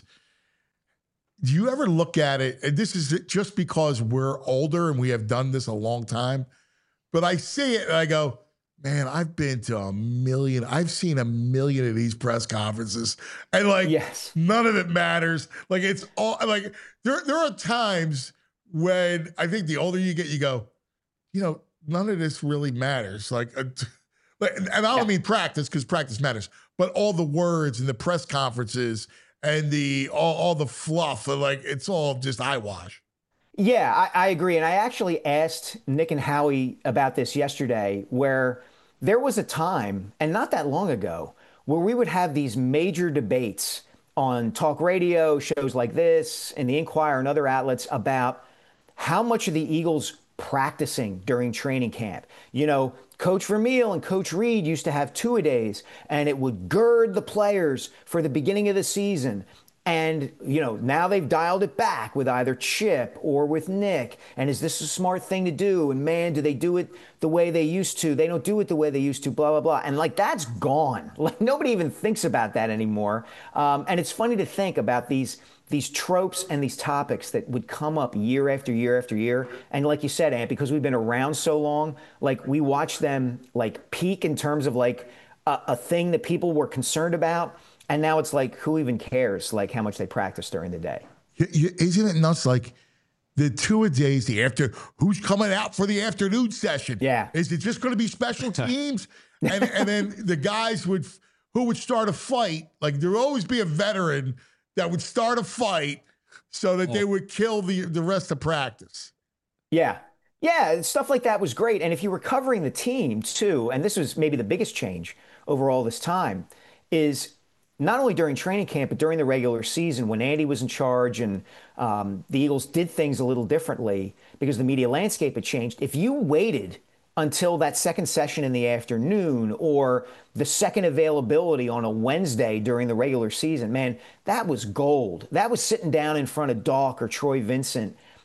Do you ever look at it, and this is just because we're older and we have done this a long time, but I see it and I go, man, I've been to a million, I've seen a million of these press conferences, and like yes. none of it matters. Like it's all like there, there are times when I think the older you get, you go, you know, none of this really matters. Like, uh, and I don't yeah. mean practice, because practice matters, but all the words and the press conferences and the all, all the fluff, like it's all just eyewash. Yeah, I, I agree. And I actually asked Nick and Howie about this yesterday, where there was a time, and not that long ago, where we would have these major debates on talk radio, shows like this, and the Inquirer and other outlets about how much of the Eagles practicing during training camp. You know, Coach Vermeil and Coach Reed used to have two-a-days, and it would gird the players for the beginning of the season. And, you know, now they've dialed it back with either Chip or with Nick. And is this a smart thing to do? And, man, do they do it the way they used to? They don't do it the way they used to, blah, blah, blah. And, like, that's gone. Like, nobody even thinks about that anymore. Um, and it's funny to think about these these tropes and these topics that would come up year after year after year. And like you said, Ant, because we've been around so long, like, we watch them, like, peak in terms of, like, a, a thing that people were concerned about. And now it's like, who even cares, like, how much they practice during the day? Isn't it nuts? Like, the two-a-days, the after, who's coming out for the afternoon session? Yeah. Is it just going to be special teams? and, and then the guys would, who would start a fight, like, there would always be a veteran that would start a fight so that oh. they would kill the, the rest of practice. Yeah. Yeah, stuff like that was great. And if you were covering the team, too, and this was maybe the biggest change over all this time, is not only during training camp, but during the regular season when Andy was in charge and um, the Eagles did things a little differently because the media landscape had changed. If you waited until that second session in the afternoon or the second availability on a Wednesday during the regular season, man, that was gold. That was sitting down in front of Doc or Troy Vincent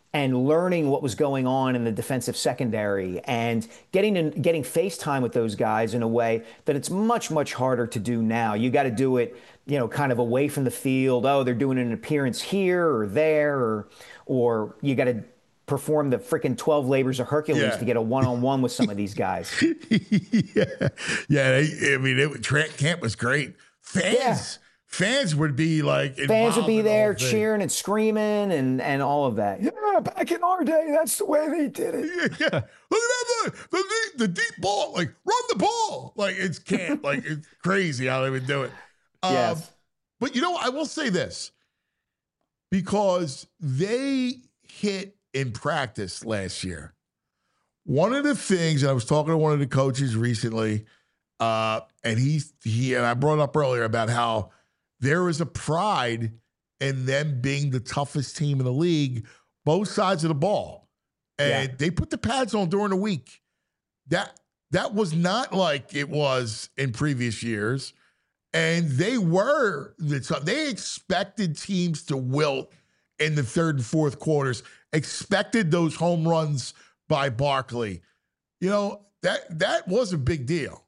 and learning what was going on in the defensive secondary and getting in, getting FaceTime with those guys in a way that it's much, much harder to do now. You got to do it, you know, kind of away from the field. Oh, they're doing an appearance here or there, or or you got to perform the freaking twelve labors of Hercules yeah. to get a one-on-one with some of these guys. yeah, yeah. They, I mean, it, Trent Camp was great. Fans. Yeah. Fans would be like, fans would be there the cheering and screaming and, and all of that. Yeah, back in our day, that's the way they did it. Yeah, yeah. Look at that, the, the, the deep ball, like run the ball. Like it's can't, like it's crazy how they would do it. Um, yes. But you know, I will say this, because they hit in practice last year. One of the things, and I was talking to one of the coaches recently, uh, and he, he, and I brought up earlier about how there is a pride in them being the toughest team in the league, both sides of the ball. And yeah. they put the pads on during the week. That that was not like it was in previous years. And they were the tough. They expected teams to wilt in the third and fourth quarters, expected those home runs by Barkley. You know, that that was a big deal.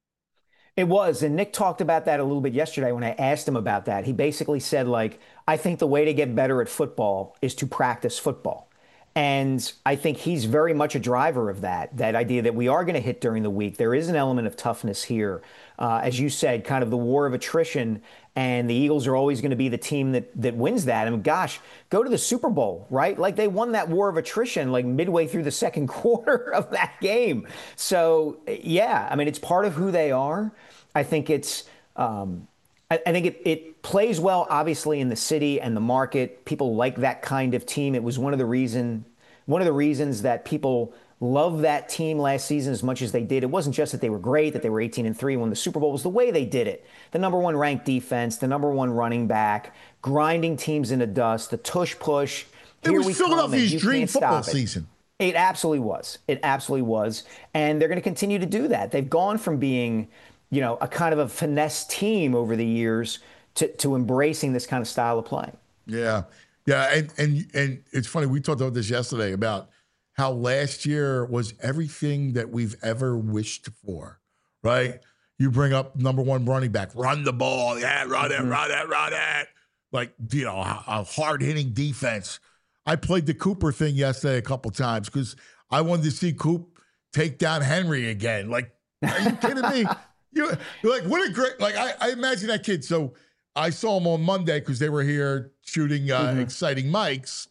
It was, and Nick talked about that a little bit yesterday when I asked him about that. He basically said, like, I think the way to get better at football is to practice football. And I think he's very much a driver of that, that idea that we are going to hit during the week. There is an element of toughness here. Uh, as you said, kind of the war of attrition, and the Eagles are always going to be the team that that wins that. I mean, gosh, go to the Super Bowl, right? Like they won that war of attrition like midway through the second quarter of that game. So, yeah, I mean, it's part of who they are. I think it's um, I, I think it, it plays well, obviously, in the city and the market. People like that kind of team. It was one of the reason, one of the reasons that people love that team last season as much as they did. It wasn't just that they were great, that they were eighteen and three, won the Super Bowl. It was the way they did it. The number one ranked defense, the number one running back, grinding teams into dust, the tush push. It Here was we Philadelphia's dream football it. season. It absolutely was. It absolutely was. And they're going to continue to do that. They've gone from being, you know, a kind of a finesse team over the years to, to embracing this kind of style of play. Yeah. Yeah. And, and, and it's funny. We talked about this yesterday about how last year was everything that we've ever wished for, right? You bring up number one running back, run the ball. Yeah, run it, mm-hmm. run it, run it. Like, you know, a, a hard-hitting defense. I played the Cooper thing yesterday a couple times because I wanted to see Coop take down Henry again. Like, are you kidding me? You like, what a great, like, I, I imagine that kid. So I saw him on Monday because they were here shooting uh, mm-hmm. exciting mics.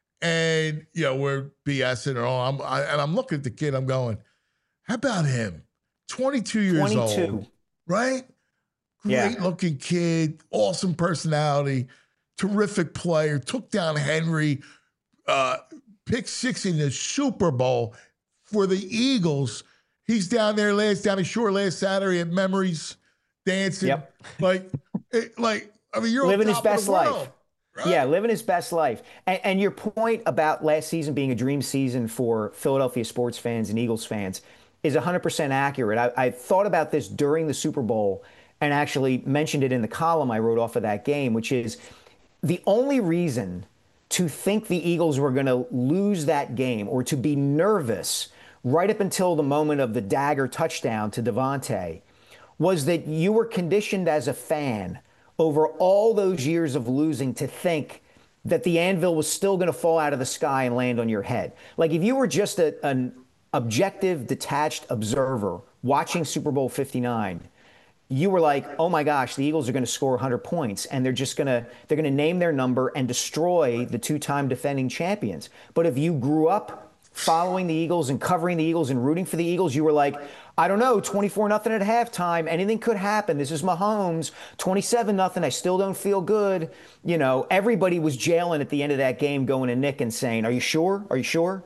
And, you know, we're BSing and all. I'm, I, and I'm looking at the kid. I'm going, how about him? twenty-two years twenty-two. old, right? Great yeah. looking kid, awesome personality, terrific player, took down Henry, uh, pick six in the Super Bowl for the Eagles. He's down there last, down the shore last Saturday at Memories dancing. Yep. Like, it, like, I mean, you're living on his top best of the life. world. Right. Yeah, living his best life. And, and your point about last season being a dream season for Philadelphia sports fans and Eagles fans is one hundred percent accurate. I, I thought about this during the Super Bowl and actually mentioned it in the column I wrote off of that game, which is the only reason to think the Eagles were going to lose that game or to be nervous right up until the moment of the dagger touchdown to Devontae was that you were conditioned as a fan over all those years of losing to think that the anvil was still going to fall out of the sky and land on your head. Like if you were just a, an objective, detached observer watching Super Bowl fifty-nine, you were like, oh my gosh, the Eagles are going to score one hundred points and they're just going to, they're going to name their number and destroy the two-time defending champions. But if you grew up following the Eagles and covering the Eagles and rooting for the Eagles, you were like, I don't know, twenty-four nothing at halftime. Anything could happen. This is Mahomes. twenty-seven nothing. I still don't feel good. You know, everybody was jailing at the end of that game going to Nick and saying, are you sure? Are you sure?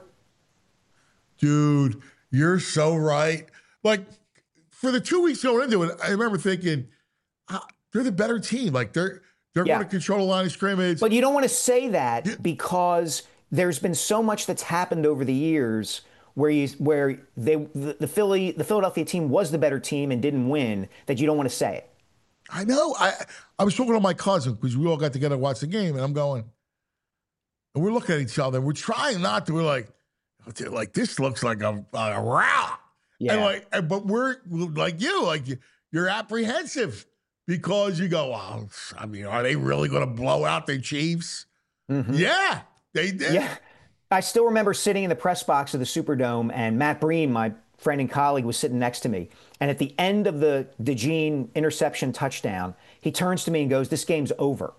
Dude, you're so right. Like, for the two weeks going into it, I remember thinking, ah, they're the better team. Like, they're they're yeah. going to control the line of scrimmage. But you don't want to say that because there's been so much that's happened over the years where you where they the, the Philly the Philadelphia team was the better team and didn't win, that you don't want to say it. I know. I I was talking to my cousin because we all got together to watch the game, and I'm going, and we're looking at each other. We're trying not to. We're like, like this looks like a, a rout. Yeah. And like, and, but we're like you, like you're apprehensive because you go, well, I mean, are they really going to blow out the Chiefs? Mm-hmm. Yeah, they did. Yeah. I still remember sitting in the press box of the Superdome, and Matt Breen, my friend and colleague, was sitting next to me. And at the end of the DeJean interception touchdown, he turns to me and goes, "This game's over."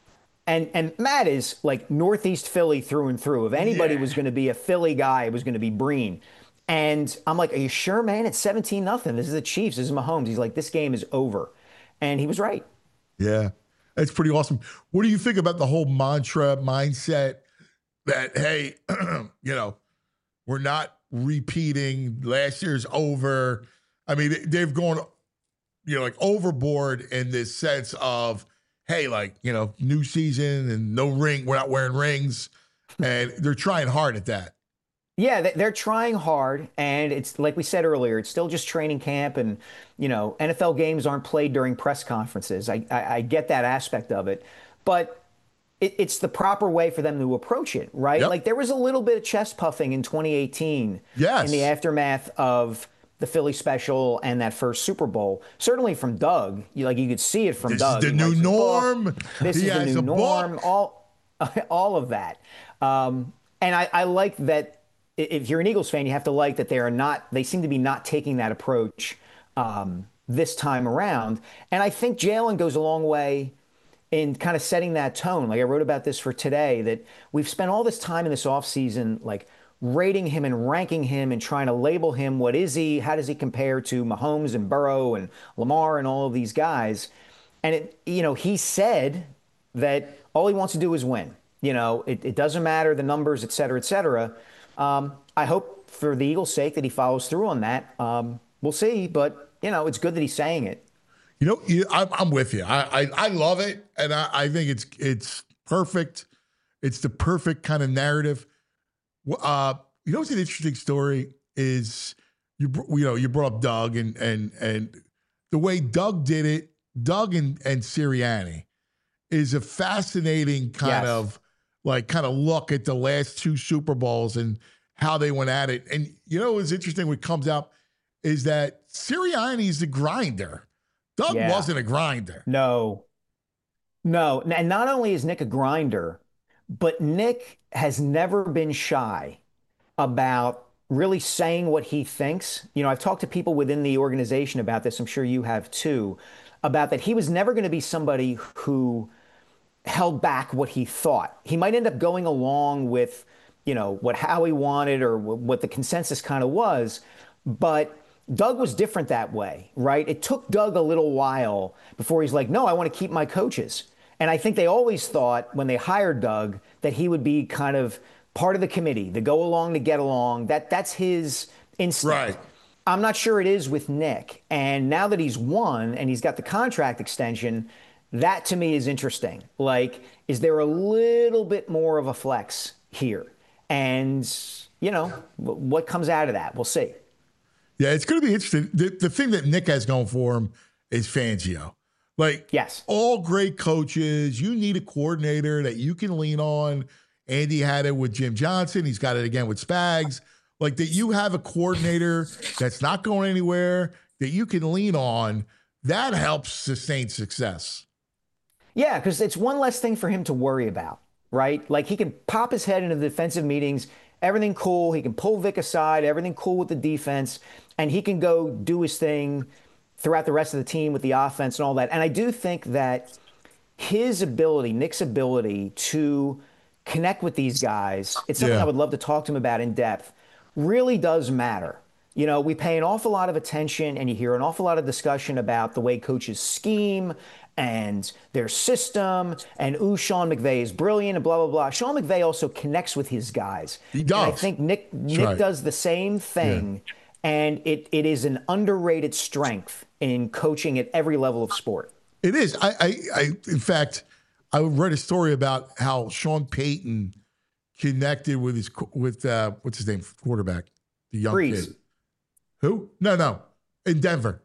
And and Matt is like Northeast Philly through and through. If anybody yeah. was going to be a Philly guy, it was going to be Breen. And I'm like, "Are you sure, man? It's seventeen nothing. This is the Chiefs. This is Mahomes." He's like, "This game is over." And he was right. Yeah, that's pretty awesome. What do you think about the whole mantra mindset that, hey, you know, we're not repeating last year's over? I mean, they've gone, you know, like overboard in this sense of, hey, like, you know, new season and no ring. We're not wearing rings. And they're trying hard at that. Yeah, they're trying hard. And it's like we said earlier, it's still just training camp. And, you know, N F L games aren't played during press conferences. I, I, I get that aspect of it. But it, it's the proper way for them to approach it, right? Yep. Like there was a little bit of chest puffing in twenty eighteen yes. in the aftermath of the Philly special and that first Super Bowl. Certainly from Doug, you, like you could see it from this Doug. This is the new norm. This he is the new norm. Book. All, all of that. Um, and I, I like that. If you're an Eagles fan, you have to like that they are not. They seem to be not taking that approach um, this time around. And I think Jalen goes a long way in kind of setting that tone. Like I wrote about this for today, that we've spent all this time in this offseason, like rating him and ranking him and trying to label him. What is he? How does he compare to Mahomes and Burrow and Lamar and all of these guys? And it, you know, he said that all he wants to do is win. You know, it, it doesn't matter the numbers, et cetera, et cetera. Um, I hope for the Eagles' sake that he follows through on that. Um, we'll see, but you know, it's good that he's saying it. You know, you, I'm, I'm with you. I, I I love it, and I, I think it's it's perfect. It's the perfect kind of narrative. Uh, you know, what's an interesting story is you you know you brought up Doug and and and the way Doug did it. Doug and and Sirianni is a fascinating kind yes. of. Like kind of look at the last two Super Bowls and how they went at it. And you know what's interesting what comes out is that Sirianni's the grinder. Doug yeah. wasn't a grinder. No. No. And not only is Nick a grinder, but Nick has never been shy about really saying what he thinks. You know, I've talked to people within the organization about this. I'm sure you have too, about that he was never going to be somebody who held back what he thought. He might end up going along with, you know, what Howie wanted or w- what the consensus kind of was, but Doug was different that way, right? It took Doug a little while before he's like, no, I want to keep my coaches. And I think they always thought when they hired Doug that he would be kind of part of the committee, the go along to get along. That that's his instinct. Right. I'm not sure it is with Nick. And now that he's won and he's got the contract extension, that to me is interesting. Like, is there a little bit more of a flex here? And, you know, what comes out of that? We'll see. Yeah, it's going to be interesting. The, the thing that Nick has going for him is Fangio. Like, yes, all great coaches, you need a coordinator that you can lean on. Andy had it with Jim Johnson. He's got it again with Spags. Like, that you have a coordinator that's not going anywhere, that you can lean on. That helps sustain success. Yeah, because it's one less thing for him to worry about, right? Like he can pop his head into the defensive meetings, everything cool. He can pull Vic aside, everything cool with the defense, and he can go do his thing throughout the rest of the team with the offense and all that. And I do think that his ability, Nick's ability to connect with these guys, it's something yeah. I would love to talk to him about in depth, really does matter. You know, we pay an awful lot of attention and you hear an awful lot of discussion about the way coaches scheme and their system, and ooh, Sean McVay is brilliant, and blah, blah, blah. Sean McVay also connects with his guys. He does. And I think Nick Nick right. does the same thing, yeah. and it it is an underrated strength in coaching at every level of sport. It is. I, I, I in fact, I read a story about how Sean Payton connected with his with uh, what's his name, quarterback, the young Breeze. kid. Who? No, no, in Denver.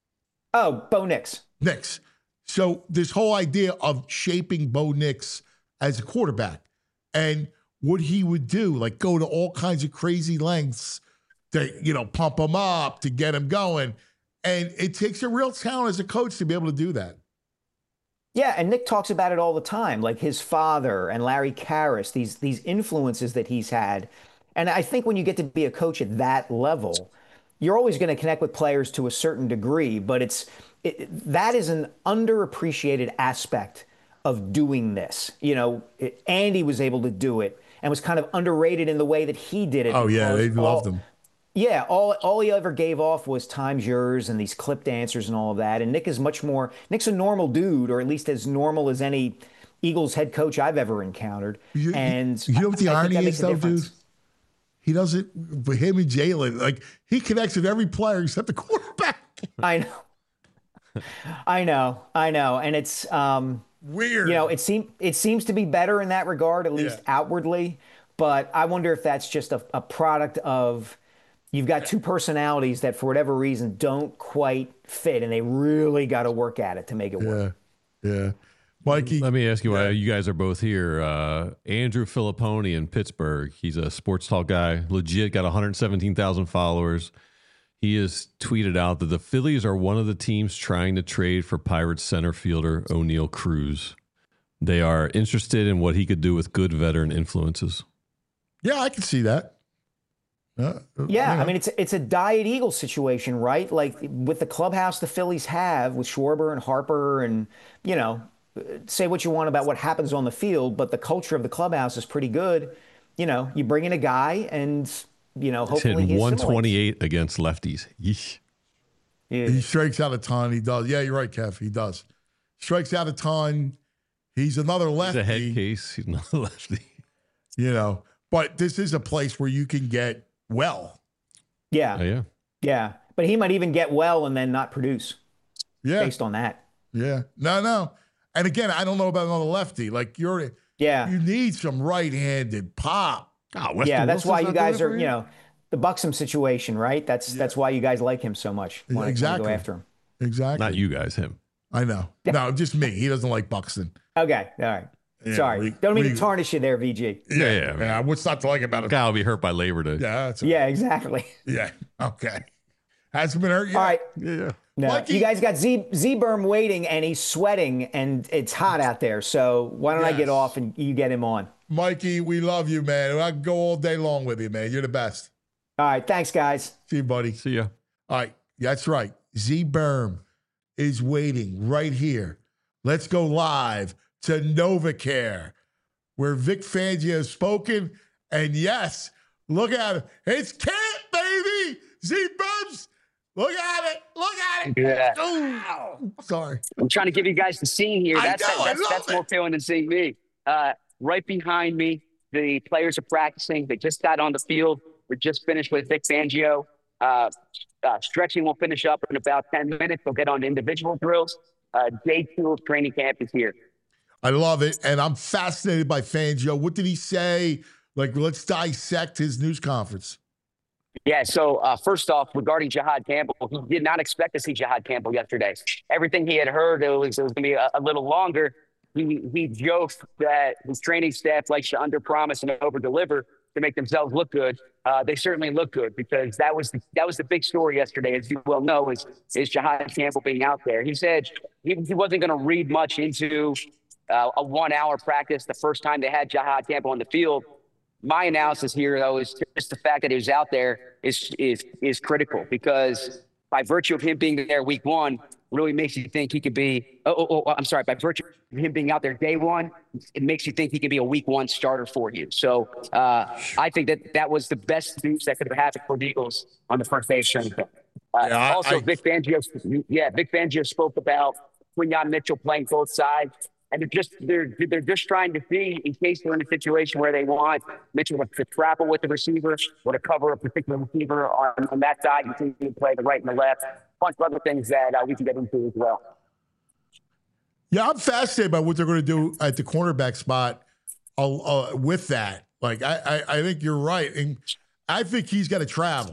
Oh, Bo Nix. Nix. So this whole idea of shaping Bo Nix as a quarterback. And what he would do, like go to all kinds of crazy lengths to, you know, pump him up, to get him going. And it takes a real talent as a coach to be able to do that. Yeah, and Nick talks about it all the time, like his father and Larry Karras, these these influences that he's had. And I think when you get to be a coach at that level, you're always going to connect with players to a certain degree, but it's it, that is an underappreciated aspect of doing this. You know, it, Andy was able to do it and was kind of underrated in the way that he did it. Oh, yeah, they all, loved him. Yeah, all all he ever gave off was time's yours and these clipped answers and all of that. And Nick is much more, Nick's a normal dude, or at least as normal as any Eagles head coach I've ever encountered. You, and you know what the I, irony I is, though, dude? He doesn't, but him and Jalen, like, he connects with every player except the quarterback. I know. I know. I know. And it's um, weird. You know, it seems it seems to be better in that regard, at least yeah. outwardly. But I wonder if that's just a, a product of you've got two personalities that, for whatever reason, don't quite fit, and they really got to work at it to make it work. Yeah. Yeah. Mikey. Let me ask you why you guys are both here. Uh, Andrew Filipponi in Pittsburgh. He's a sports talk guy, legit, got one hundred seventeen thousand followers. He has tweeted out that the Phillies are one of the teams trying to trade for Pirates center fielder O'Neal Cruz. They are interested in what he could do with good veteran influences. Yeah, I can see that. Uh, yeah, yeah, I mean, it's it's a Diet Eagles situation, right? Like with the clubhouse the Phillies have with Schwarber and Harper and, you know, say what you want about what happens on the field, but the culture of the clubhouse is pretty good. You know, you bring in a guy and, you know, hopefully he's he one twenty-eight against lefties. Yeesh. Yeah. He strikes out a ton. He does. Yeah, you're right, Kev. He does. Strikes out a ton. He's another lefty. He's a head case. He's another lefty. You know, but this is a place where you can get well. Yeah. Oh, yeah. Yeah. But he might even get well and then not produce. Yeah. Based on that. Yeah. No, no. And again, I don't know about another lefty. Like you're, yeah, you need some right-handed pop. Oh, yeah, that's why you guys are, you know, the Buxom situation, right? That's yeah. that's why you guys like him so much. Want exactly. to go after him. Exactly. Not you guys, him. I know. No, just me. He doesn't like Buxton. Okay. All right. Yeah, Sorry. We, Don't mean we, to tarnish you there, V G. Yeah, yeah. yeah. yeah. What's not to like about it? Guy will be hurt by Labor Day. Yeah. That's yeah, exactly. Yeah. Okay. Hasn't been hurt yet. All right. Yeah. No, Lucky. You guys got Z Z-Berm waiting, and he's sweating, and it's hot out there. So why don't yes. I get off and you get him on? Mikey, we love you, man. I can go all day long with you, man. You're the best. All right. Thanks, guys. See you, buddy. See ya. All right. That's right. Z-Berm is waiting right here. Let's go live to NovaCare, where Vic Fangio has spoken. And yes, look at it. It's Kent, baby. Z-Berm's. Look at it. Look at it. Yeah. Oh, sorry. I'm trying to give you guys the scene here. That's I know, that's, I love that's it. more appealing than seeing me. Uh, right behind me, the players are practicing. They just got on the field. We're just finished with Vic Fangio. Uh, uh, stretching will finish up in about ten minutes. We'll get on to individual drills. Uh, day two of training camp is here. I love it. And I'm fascinated by Fangio. What did he say? Like, let's dissect his news conference. Yeah, so uh, first off, regarding Jihad Campbell, he did not expect to see Jihad Campbell yesterday. Everything he had heard, it was, it was going to be a, a little longer. He, he joked that his training staff likes to underpromise and overdeliver to make themselves look good. Uh, they certainly look good because that was the, that was the big story yesterday, as you well know, is, is Jihad Campbell being out there. He said he, he wasn't going to read much into uh, a one-hour practice the first time they had Jihad Campbell on the field. My analysis here, though, is just the fact that he was out there is is is critical because by virtue of him being there week one, really makes you think he could be. Oh, oh, oh I'm sorry. By virtue of him being out there day one, it makes you think he could be a week one starter for you. So uh, I think that that was the best news that could have happened for the Eagles on the first day of training camp. Uh, yeah, also, I, Vic Fangio, yeah, Vic Fangio spoke about Quinyon Mitchell playing both sides. And they're just they're they're just trying to see in case they're in a situation where they want Mitchell to travel with the receiver or to cover a particular receiver on, on that side. You can you play the right and the left. A bunch of other things that uh, we can get into as well. Yeah, I'm fascinated by what they're going to do at the cornerback spot uh, uh, with that. Like, I, I I think you're right, and I think he's got to travel.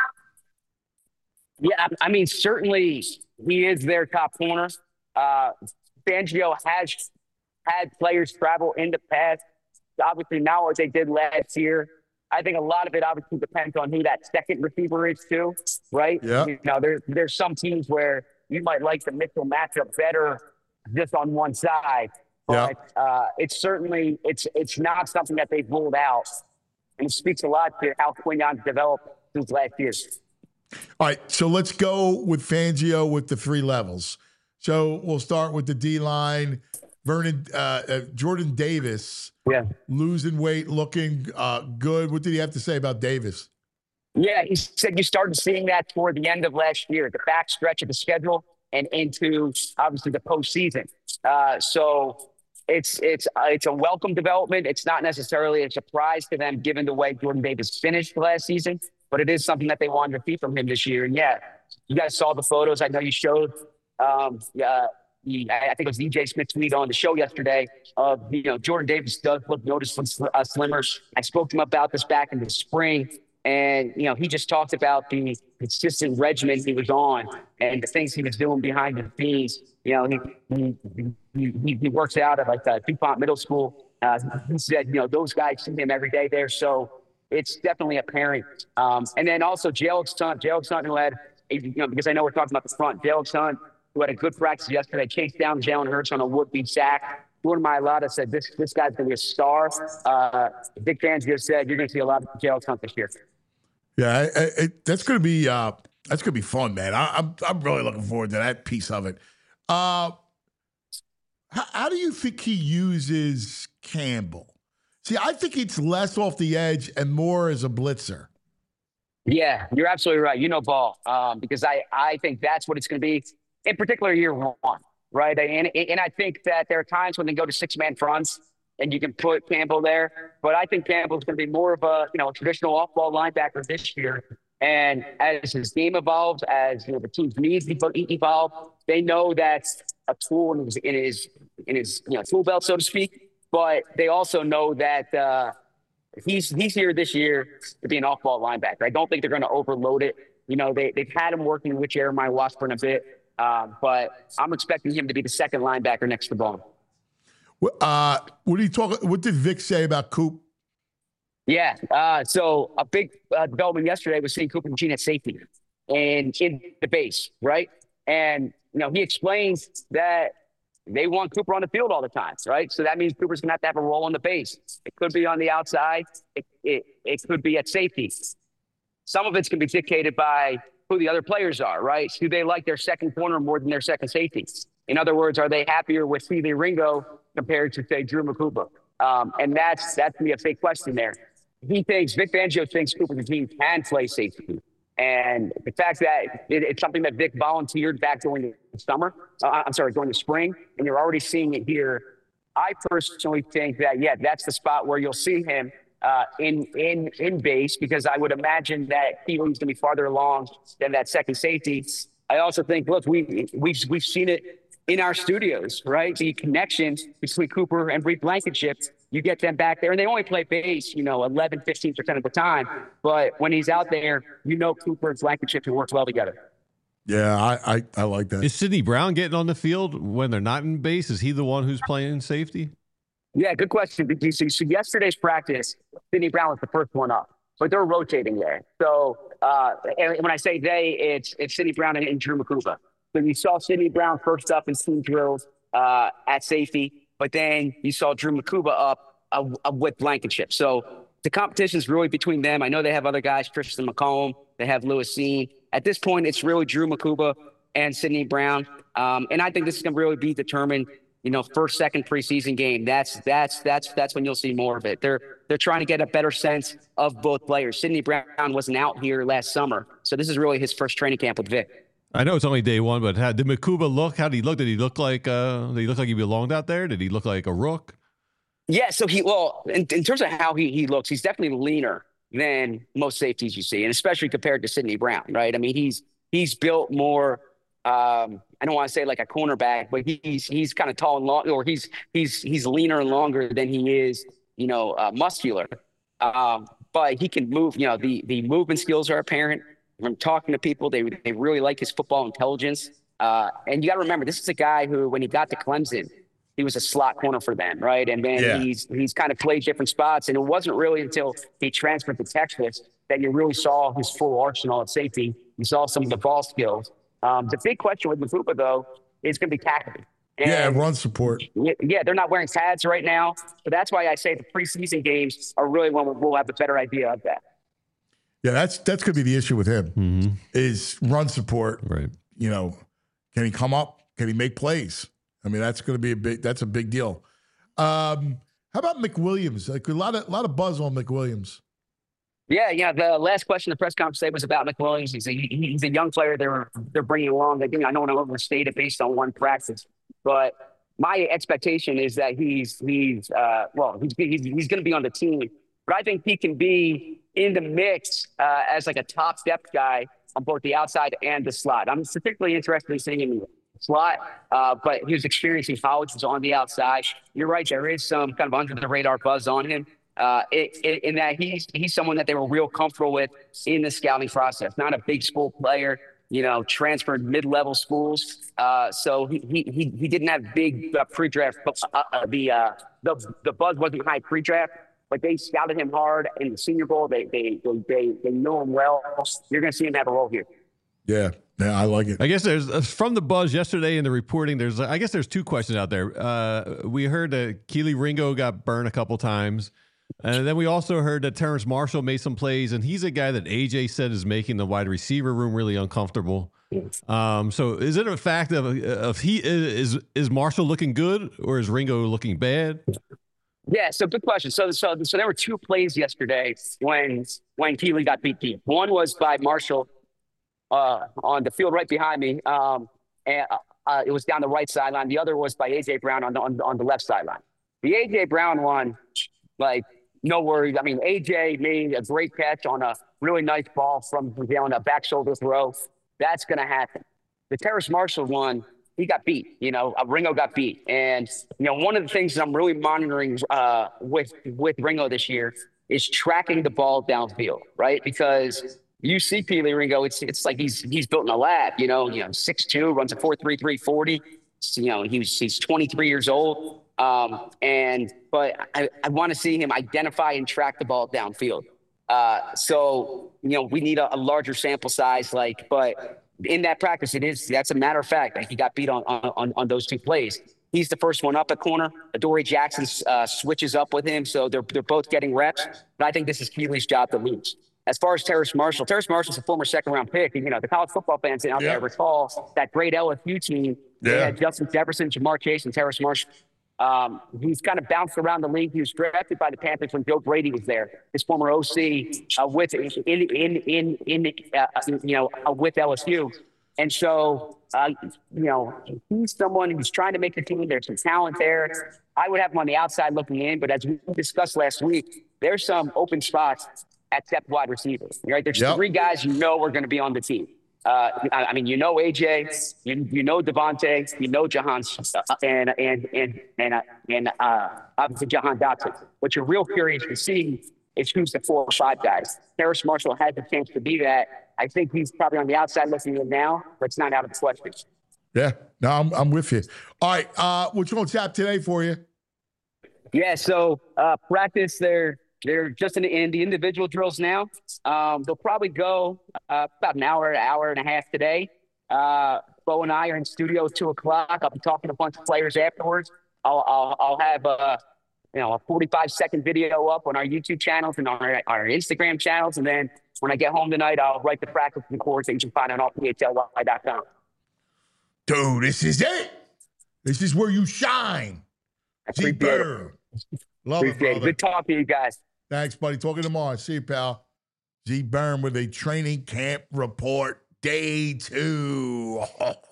Yeah, I mean, certainly he is their top corner. Uh, Fangio has had players travel in the past. obviously now what they did last year. I think a lot of it obviously depends on who that second receiver is too, right? Yeah. You know, there's there's some teams where you might like the Mitchell matchup better just on one side, but Yeah. uh, it's certainly it's it's not something that they've ruled out, and it speaks a lot to how Quignon's developed since last year. All right, so let's go with Fangio with the three levels. So we'll start with the D-line. Vernon, uh, uh, Jordan Davis, Yeah. losing weight, looking uh, good. What did he have to say about Davis? Yeah, he said you started seeing that toward the end of last year, the back stretch of the schedule and into obviously the postseason. Uh, so it's it's uh, it's a welcome development. It's not necessarily a surprise to them given the way Jordan Davis finished last season, but it is something that they wanted to see from him this year. And yeah, you guys saw the photos. I know you showed. Um, uh, the, I think it was E J Smith tweet on the show yesterday of, you know, Jordan Davis does look noticeably sl- uh, slimmer. I spoke to him about this back in the spring. And, you know, he just talked about the consistent regimen he was on and the things he was doing behind the scenes. You know, he he, he, he works out at like uh, DuPont Middle School. Uh, he said, you know, those guys see him every day there. So it's definitely apparent. Um, and then also Jalen Hunt, Jalen Hunt, who had, you know, because I know we're talking about the front, Jalen Hunt, who had a good practice yesterday, chased down Jalen Hurts on a would-be sack. Jordan Mailata said this this guy's going to be a star. Uh, Vic Fangio said you're going to see a lot of Jalen Hunt this year. Yeah, I, I, it, that's gonna be uh, that's gonna be fun, man. I, I'm I'm really looking forward to that piece of it. Uh, how, how do you think he uses Campbell? See, I think it's less off the edge and more as a blitzer. Yeah, you're absolutely right. You know ball, um, because I, I think that's what it's going to be, in particular year one, right? And, and I think that there are times when they go to six-man fronts and you can put Campbell there. But I think Campbell's going to be more of a, you know, traditional off-ball linebacker this year. And as his game evolves, as, you know, the team's needs evolve, they know that's a tool in his, in his, in his you know, tool belt, so to speak. But they also know that uh, he's he's here this year to be an off-ball linebacker. I don't think they're going to overload it. You know, they, they've had him working with Jeremiah Washburn a bit, um, but I'm expecting him to be the second linebacker next to Bone. Uh, what do you talk? What did Vic say about Coop? Yeah, uh, so a big uh, development yesterday was seeing Cooper Machine at safety and in the base, right? And, you know, he explains that they want Cooper on the field all the time, right? So that means Cooper's going to have to have a role on the base. It could be on the outside. It, it, it could be at safety. Some of it's going to be dictated by who the other players are, right? Do they like their second corner more than their second safety? In other words, are they happier with Seeley Ringo compared to, say, Drew McCoupa? Um, and that's that's going to be a big question there. He thinks, Vic Fangio thinks Cooper Machine can play safety. And the fact that it, it's something that Vic volunteered back during the summer, uh, I'm sorry, during the spring, and you're already seeing it here. I personally think that, yeah, that's the spot where you'll see him uh, in in in base, because I would imagine that Keely's going to be farther along than that second safety. I also think, look, we, we've, we've seen it in our studios, right? The connection between Cooper and Reed Blankenship. You get them back there, and they only play base, you know, eleven, fifteen percent of the time. But when he's out there, you know Cooper and Blankenship can work well together. Yeah, I, I, I like that. Is Sidney Brown getting on the field when they're not in base? Is he the one who's playing safety? Yeah, good question, B T C. So yesterday's practice, Sidney Brown was the first one up, but they're rotating there. So uh, and when I say they, it's it's Sidney Brown and, and Drew McCoupa. So you saw Sidney Brown first up in team drills uh, at safety. But then you saw Drew McCoupa up uh, uh, with Blankenship. So the competition is really between them. I know they have other guys, Tristan McComb. They have Lewis Seen. At this point, it's really Drew McCoupa and Sidney Brown. Um, and I think this is going to really be determined, you know, first, second preseason game. That's that's that's that's when you'll see more of it. They're they're trying to get a better sense of both players. Sidney Brown wasn't out here last summer, so this is really his first training camp with Vic. I know it's only day one, but how, did McCouba look? How did he look? Did he look like uh, did he look like he belonged out there? Did he look like a rook? Yeah, so he well, in, in terms of how he he looks, he's definitely leaner than most safeties you see, and especially compared to Sidney Brown, right? I mean, he's he's built more. Um, I don't want to say like a cornerback, but he's he's kind of tall and long, or he's he's he's leaner and longer than he is, you know, uh, muscular. Um, but he can move. You know, the the movement skills are apparent. From talking to people, they they really like his football intelligence. Uh, and you got to remember, this is a guy who, when he got to Clemson, he was a slot corner for them, right? And then Yeah. he's he's kind of played different spots. And it wasn't really until he transferred to Texas that you really saw his full arsenal at safety. You saw some of the ball skills. Um, the big question with Mafupa, though, is going to be tackling. Yeah, And run support. yeah, they're not wearing pads right now. So that's why I say the preseason games are really when we'll have a better idea of that. Yeah, that's that's going to be the issue with him Mm-hmm. is run support. Right. You know, can he come up? Can he make plays? I mean, that's going to be a big. That's a big deal. Um, how about McWilliams? Like a lot of a lot of buzz on McWilliams. Yeah, yeah. The last question the press conference today was about McWilliams. He's a, he's a young player they're they're bringing along. I think I don't want to overstate it based on one practice, but my expectation is that he's he's uh, well he's he's, he's going to be on the team, but I think he can be in the mix uh, as like a top depth guy on both the outside and the slot. I'm particularly interested in seeing him in the slot, uh, but his experience in college was on the outside. You're right, there is some kind of under the radar buzz on him. Uh, it, it, in that he's he's someone that they were real comfortable with in the scouting process. Not a big school player, you know, transferred mid-level schools. Uh, so he he he didn't have big uh, pre-draft. Uh, uh, the uh, the the buzz wasn't high pre-draft, but they scouted him hard in the Senior Bowl. They they they they, they know him well. You're going to see him have a role here. Yeah, yeah, I like it. I guess there's uh, from the buzz yesterday in the reporting. There's I guess there's two questions out there. Uh, we heard that Kelee Ringo got burned a couple times. And then we also heard that Terrace Marshall made some plays, and he's a guy that A J said is making the wide receiver room really uncomfortable. Um, so is it a fact of of he is is Marshall looking good or is Ringo looking bad? Yeah, so good question. So so so there were two plays yesterday when when Kelee got beat deep. One was by Marshall uh, on the field right behind me, um, and uh, it was down the right sideline. The other was by A J Brown on the on, on the left sideline. The A J Brown one, like. No worries. I mean, A J made a great catch on a really nice ball from on a back shoulder throw. That's going to happen. The Terrace Marshall one, he got beat. You know, uh, Ringo got beat. And, you know, one of the things that I'm really monitoring uh, with, with Ringo this year is tracking the ball downfield, right? Because you see Kelee Ringo, it's it's like he's he's built in a lab, you know, you know, six two, runs a four three three forty. You know, he's he's twenty-three years old. Um, and, but I, I want to see him identify and track the ball downfield. Uh, so, you know, we need a, a larger sample size, like, but in that practice, it is, that's a matter of fact. Like he got beat on, on, on those two plays. He's the first one up at corner. Adoree Jackson uh, switches up with him. So they're, they're both getting reps, but I think this is Keelee's job to lose. As far as Terrace Marshall, Terrace Marshall's a former second round pick. And, you know, the college football fans out Yeah. there recall that great L S U team. They Yeah. had Justin Jefferson, Jamar Chase, and Terrace Marshall. Um, he's kind of bounced around the league. He was drafted by the Panthers when Joe Brady was there, his former O C, uh, with in in in in uh, you know uh, with L S U, and so uh, you know he's someone who's trying to make the team. There's some talent there. I would have him on the outside looking in, but as we discussed last week, there's some open spots at depth wide receivers. Right, there's Yep. three guys you know are going to be on the team. Uh, I, I mean, you know A J, you you know Devontae, you know Jahan, uh, and and and and uh, and uh, obviously Jahan Dotson. What you're real curious to see is who's the four or five guys. Terrace Marshall had the chance to be that. I think he's probably on the outside looking in now, but it's not out of the question. Yeah, no, I'm I'm with you. All right, uh, what's on tap today for you? Yeah, so uh, practice they're they're just in the, in the individual drills now. Um, they'll probably go uh, about an hour, an hour and a half today. Uh, Bo and I are in studio at two o'clock. I'll be talking to a bunch of players afterwards. I'll I'll, I'll have uh, you know a forty-five second video up on our YouTube channels and on our, our Instagram channels, and then when I get home tonight, I'll write the practice reports that you can find on all P H L Y dot com. Dude, this is it. This is where you shine. Z Appreciate it. Bird. Love it, Appreciate it. brother. Good talking to you guys. Thanks, buddy. Talking tomorrow. See you, pal. Z Byrne with a training camp report, day two.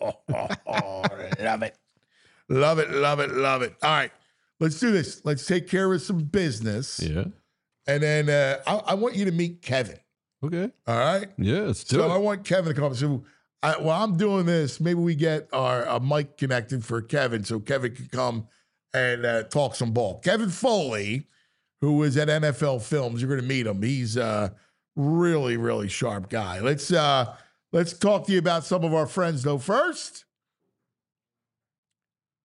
Love it. Love it, love it, love it. All right, let's do this. Let's take care of some business. Yeah. And then uh, I, I want you to meet Kevin. Okay. All right? Yeah, let's do So it. I want Kevin to come. So I, while I'm doing this, maybe we get our a mic connected for Kevin so Kevin can come and uh, talk some ball. Kevin Foley, who is at N F L Films, you're going to meet him. He's a really, really sharp guy. Let's uh, let's talk to you about some of our friends, though. First,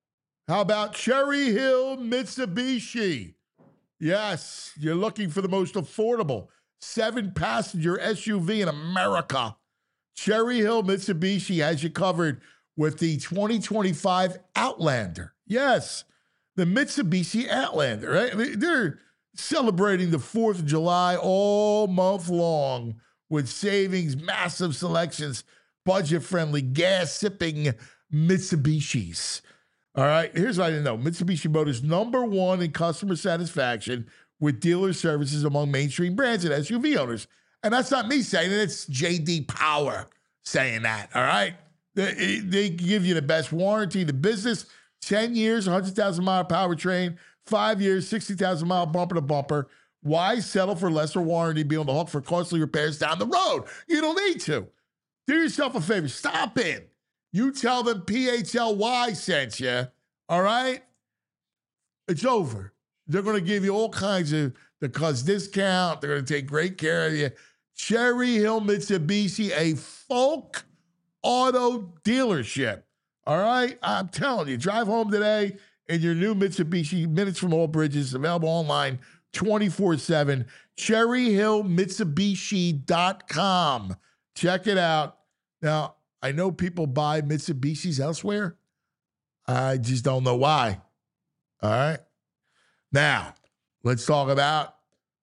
How about Cherry Hill Mitsubishi? Yes, you're looking for the most affordable seven-passenger S U V in America. Cherry Hill Mitsubishi has you covered with the twenty twenty-five Outlander. Yes, the Mitsubishi Outlander, right? They're celebrating the fourth of July all month long with savings, massive selections, budget-friendly, gas-sipping Mitsubishis. All right, here's what I didn't know. Mitsubishi Motors number one in customer satisfaction with dealer services among mainstream brands and S U V owners. And that's not me saying it, it's J D Power saying that, all right? They, they give you the best warranty in the business, ten years, one hundred thousand mile powertrain, five years, sixty thousand mile bumper to bumper. Why settle for lesser warranty, be on the hook for costly repairs down the road? You don't need to. Do yourself a favor, stop in. You tell them P H L Y sent you, all right? It's over. They're going to give you all kinds of the cuz discount. They're going to take great care of you. Cherry Hill Mitsubishi, a Folk Auto dealership, all right? I'm telling you, drive home today in your new Mitsubishi, minutes from all bridges, available online twenty-four seven, cherry hill mitsubishi dot com. Check it out. Now, I know people buy Mitsubishis elsewhere. I just don't know why. All right. Now, let's talk about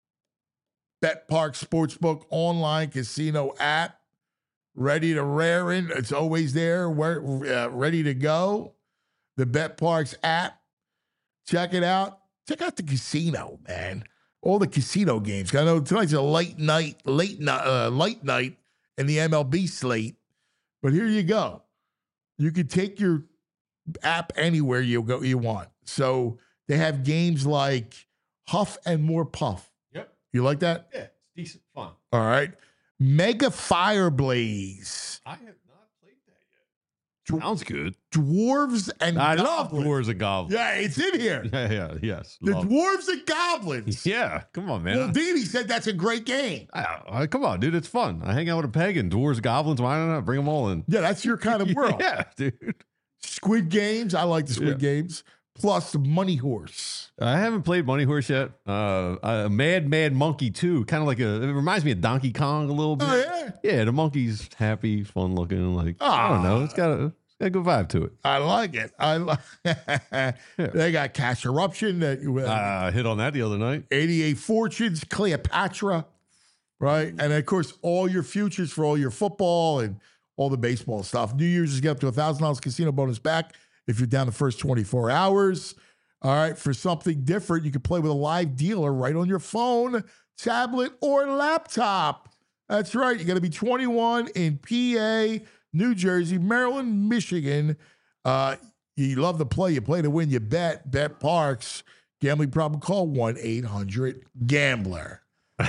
BetParx Sportsbook online casino app. Ready to rear in. It's always there, uh, ready to go. The BetParx app. Check it out. Check out the casino, man. All the casino games. I know tonight's a late night, late night, uh, late night in the M L B slate. But here you go. You can take your app anywhere you go you want. So they have games like Huff and More Puff. Yep. You like that? Yeah, it's decent fun. All right. Mega Fire Blaze. I have not played that yet. Sounds good. Dwarves and I Goblins. love Dwarves and Goblins. Yeah, it's in here. Yeah, yeah, yes. The love Dwarves and Goblins. Yeah, come on, man. Well, Dini said that's a great game. I, I, come on, dude. It's fun. I hang out with a pagan. Dwarves, goblins. Why not bring them all in? Yeah, that's your kind of world. Yeah, dude. Squid Games. I like the Squid Yeah. Games. Plus the Money Horse. I haven't played Money Horse yet. Uh, uh Mad Mad Monkey too. Kind of like a. It reminds me of Donkey Kong a little bit. Oh, yeah? Yeah, the monkey's happy, fun looking. Like I don't know. It's got a, it's got a good vibe to it. I like it. I like. They got Cash Eruption. That you I uh, hit on that the other night. eighty-eight Fortunes, Cleopatra, right? And of course, all your futures for all your football and all the baseball stuff. New Year's is get up to a thousand dollars casino bonus back if you're down the first twenty-four hours. All right, for something different, you can play with a live dealer right on your phone, tablet, or laptop. That's right. You got to be twenty-one in P A, New Jersey, Maryland, Michigan. Uh, you love to play. You play to win. You bet. BetParx. Gambling problem? Call one eight hundred gambler.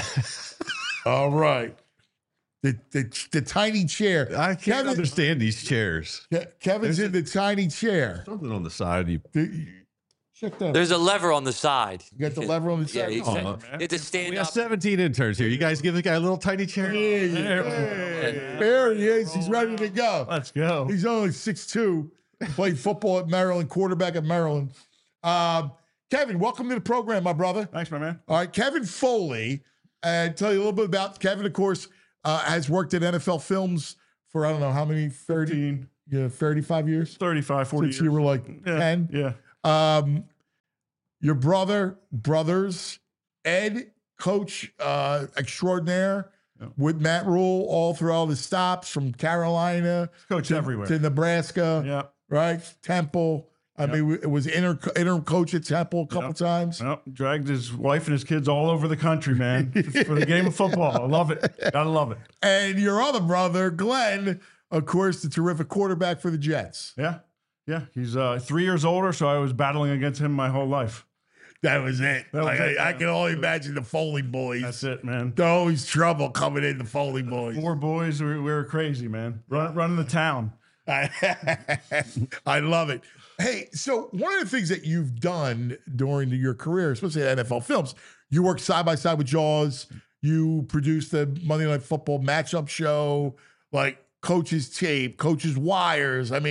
All right. The, the the tiny chair. I can't Kevin, understand these chairs. Ke- Kevin's There's in the tiny chair. Something on the side. You, The- check that. There's a lever on the side. You got the lever on the Yeah, side. you Oh, sta- man. you have to stand we up. got seventeen interns here. You guys give the guy a little tiny chair. Hey, hey, there he is. He's ready to go. Let's go. He's only six two. Played football at Maryland, quarterback at Maryland. Um, Kevin, welcome to the program, my brother. Thanks, my man. All right, Kevin Foley. And tell you a little bit about Kevin, of course, uh, has worked at N F L Films for, I don't know, how many? thirty? fifteen, Yeah, thirty-five years? thirty-five, forty Since years. you were like yeah, ten? Yeah. Um, your brother, brothers, Ed, coach uh, extraordinaire Yeah. with Matt Rule all through all the stops from Carolina Coach to, everywhere. to Nebraska, Yeah. right? Temple. I Yep. mean, it was interim, interim coach at Temple a couple Yep. times. Well, dragged his wife and his kids all over the country, man, for the game of football. I love it. Gotta love it. And your other brother, Glenn, of course, the terrific quarterback for the Jets. Yeah. Yeah. He's uh, three years older, so I was battling against him my whole life. That was it. That was Like, it, I, I man. can only imagine the Foley boys. That's it, man. There's always trouble coming in, the Foley boys. Four boys, we, we were crazy, man. Run, running the town. I, I love it. Hey, so one of the things that you've done during your career, especially at N F L Films, you worked side by side with Jaws. You produced the Monday Night Football matchup show, like Coach's Tape, Coach's Wires. I mean,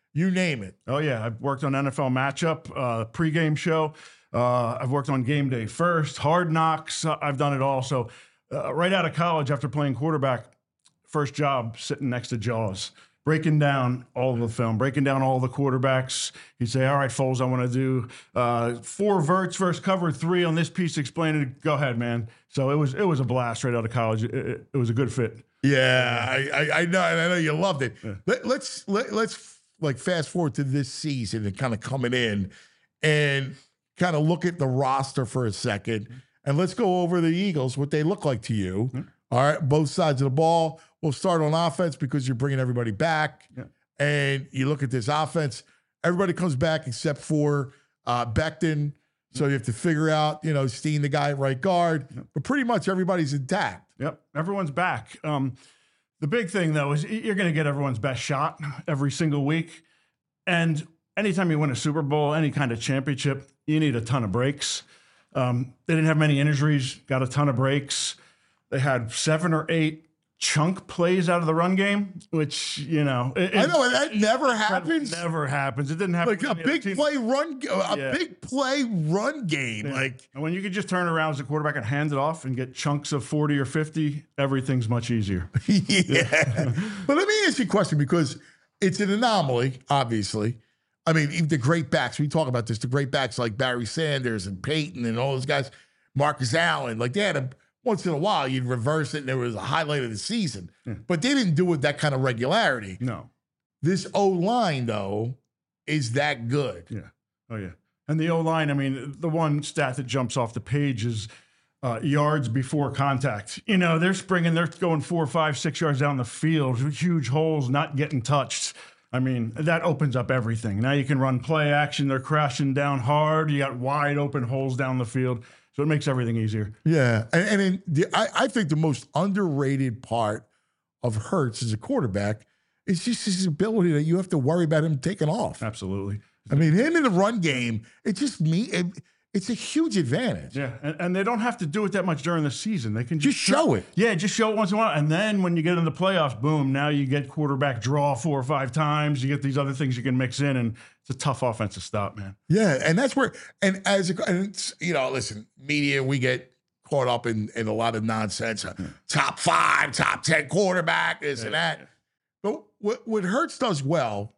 You name it. Oh, yeah. I've worked on N F L Matchup, uh, pregame show. Uh, I've worked on Game Day First, Hard Knocks. Uh, I've done it all. So uh, right out of college, after playing quarterback, first job sitting next to Jaws, breaking down all of the film, breaking down all the quarterbacks. He'd say, all right, Foles, I want to do uh, four verts versus cover three on this piece, explain it. Go ahead, man. So it was it was a blast right out of college. It, it, it was a good fit. Yeah, I, I, I know. I know you loved it. Yeah. Let, let's let, let's like fast forward to this season and kind of coming in and kind of look at the roster for a second. And let's go over the Eagles, what they look like to you. Mm-hmm. All right, both sides of the ball. We'll start on offense because you're bringing everybody back. Yeah. And you look at this offense, everybody comes back except for uh, Becton. So you have to figure out, you know, Steen, the guy at right guard. Yep. But pretty much everybody's intact. Yep, everyone's back. Um, the big thing, though, is you're going to get everyone's best shot every single week. And anytime you win a Super Bowl, any kind of championship, you need a ton of breaks. Um, they didn't have many injuries, got a ton of breaks. They had seven or eight chunk plays out of the run game, which, you know. It, I know, that never happens. Never happens. It didn't happen. Like a big play run, a yeah. big play run game. Yeah. Like, and when you could just turn around as a quarterback and hand it off and get chunks of forty or fifty, everything's much easier. yeah. yeah. But let me ask you a question, because it's an anomaly, obviously. I mean, even the great backs, we talk about this, the great backs like Barry Sanders and Peyton and all those guys, Marcus Allen, like they had a, once in a while you'd reverse it and there was a highlight of the season. Yeah. But they didn't do it with that kind of regularity. No. This O-line, though, is that good. Yeah. Oh, yeah. And the O-line, I mean, the one stat that jumps off the page is uh, yards before contact. You know, they're springing, they're going four, five, six yards down the field, huge holes, not getting touched. I mean, that opens up everything. Now you can run play action. They're crashing down hard. You got wide open holes down the field. So it makes everything easier. Yeah. And, and in the, I, I think the most underrated part of Hurts as a quarterback is just his ability that you have to worry about him taking off. Absolutely. I mean, him in the run game, it just me. It, it's a huge advantage. Yeah, and, and they don't have to do it that much during the season. They can just, just show it. Yeah, just show it once in a while. And then when you get in the playoffs, boom, now you get quarterback draw four or five times. You get these other things you can mix in, and it's a tough offense to stop, man. Yeah, and that's where, and as a, and it's, you know, listen, media, we get caught up in, in a lot of nonsense. Yeah. Top five, top ten quarterback, this yeah, and that. Yeah. But what, what Hurts does well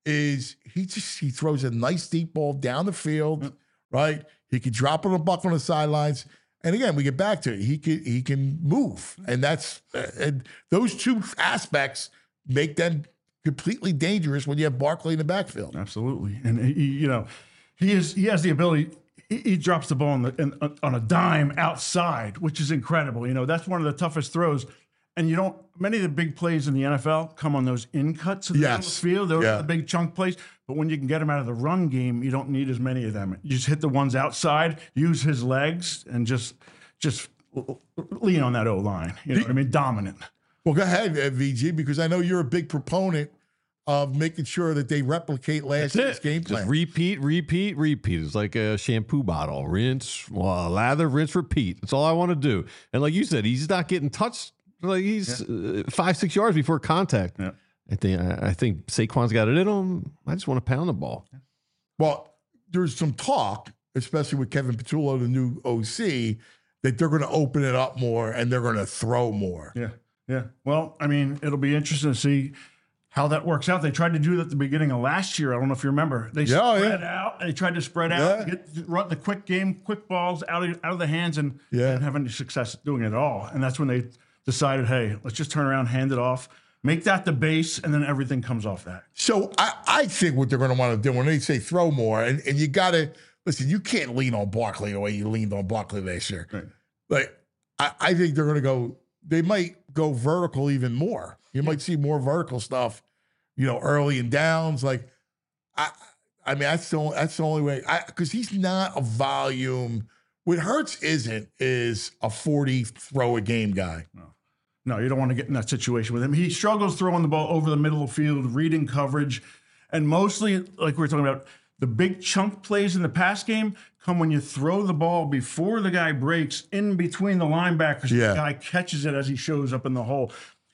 is he just, he throws a nice deep ball down the field, yeah. right? He could drop on a buck on the sidelines, and again, we get back to it. He can he can move, and that's uh, and those two aspects make them completely dangerous when you have Barkley in the backfield. Absolutely, and he, you know, he is he has the ability. He, he drops the ball on the in, on a dime outside, which is incredible. You know, that's one of the toughest throws. And you don't, many of the big plays in the N F L come on those in cuts of the yes. field. Those yeah. are the big chunk plays. But when you can get them out of the run game, you don't need as many of them. You just hit the ones outside, use his legs, and just just lean on that O-line. You know what I mean? Dominant. Well, go ahead, uh, V G, because I know you're a big proponent of making sure that they replicate last year's game plan. Just repeat, repeat, repeat. It's like a shampoo bottle. Rinse, well, lather, rinse, repeat. That's all I want to do. And like you said, he's not getting touched. Like he's yeah. uh, five, six yards before contact. Yeah. I think I think Saquon's got it in him. I just want to pound the ball. Well, there's some talk, especially with Kevin Patullo, the new O C, that they're going to open it up more and they're going to throw more. Yeah, yeah. Well, I mean, it'll be interesting to see how that works out. They tried to do that at the beginning of last year. I don't know if you remember. They yeah, spread yeah. out. They tried to spread out, yeah. get run the quick game, quick balls out of, out of the hands, and yeah. didn't have any success doing it at all. And that's when they decided, hey, let's just turn around, hand it off, make that the base, and then everything comes off that. So I, I think what they're going to want to do when they say throw more, and, and you got to, listen, you can't lean on Barkley the way you leaned on Barkley last year. Right. Like, I, I think they're going to go, they might go vertical even more. You yeah. might see more vertical stuff, you know, early and downs. Like, I I mean, that's the only, that's the only way, because he's not a volume. What Hurts isn't is a forty throw a game guy. No. No, you don't want to get in that situation with him. He struggles throwing the ball over the middle of the field, reading coverage, and mostly, like we were talking about, the big chunk plays in the pass game come when you throw the ball before the guy breaks in between the linebackers. Yeah. The guy catches it as he shows up in the hole.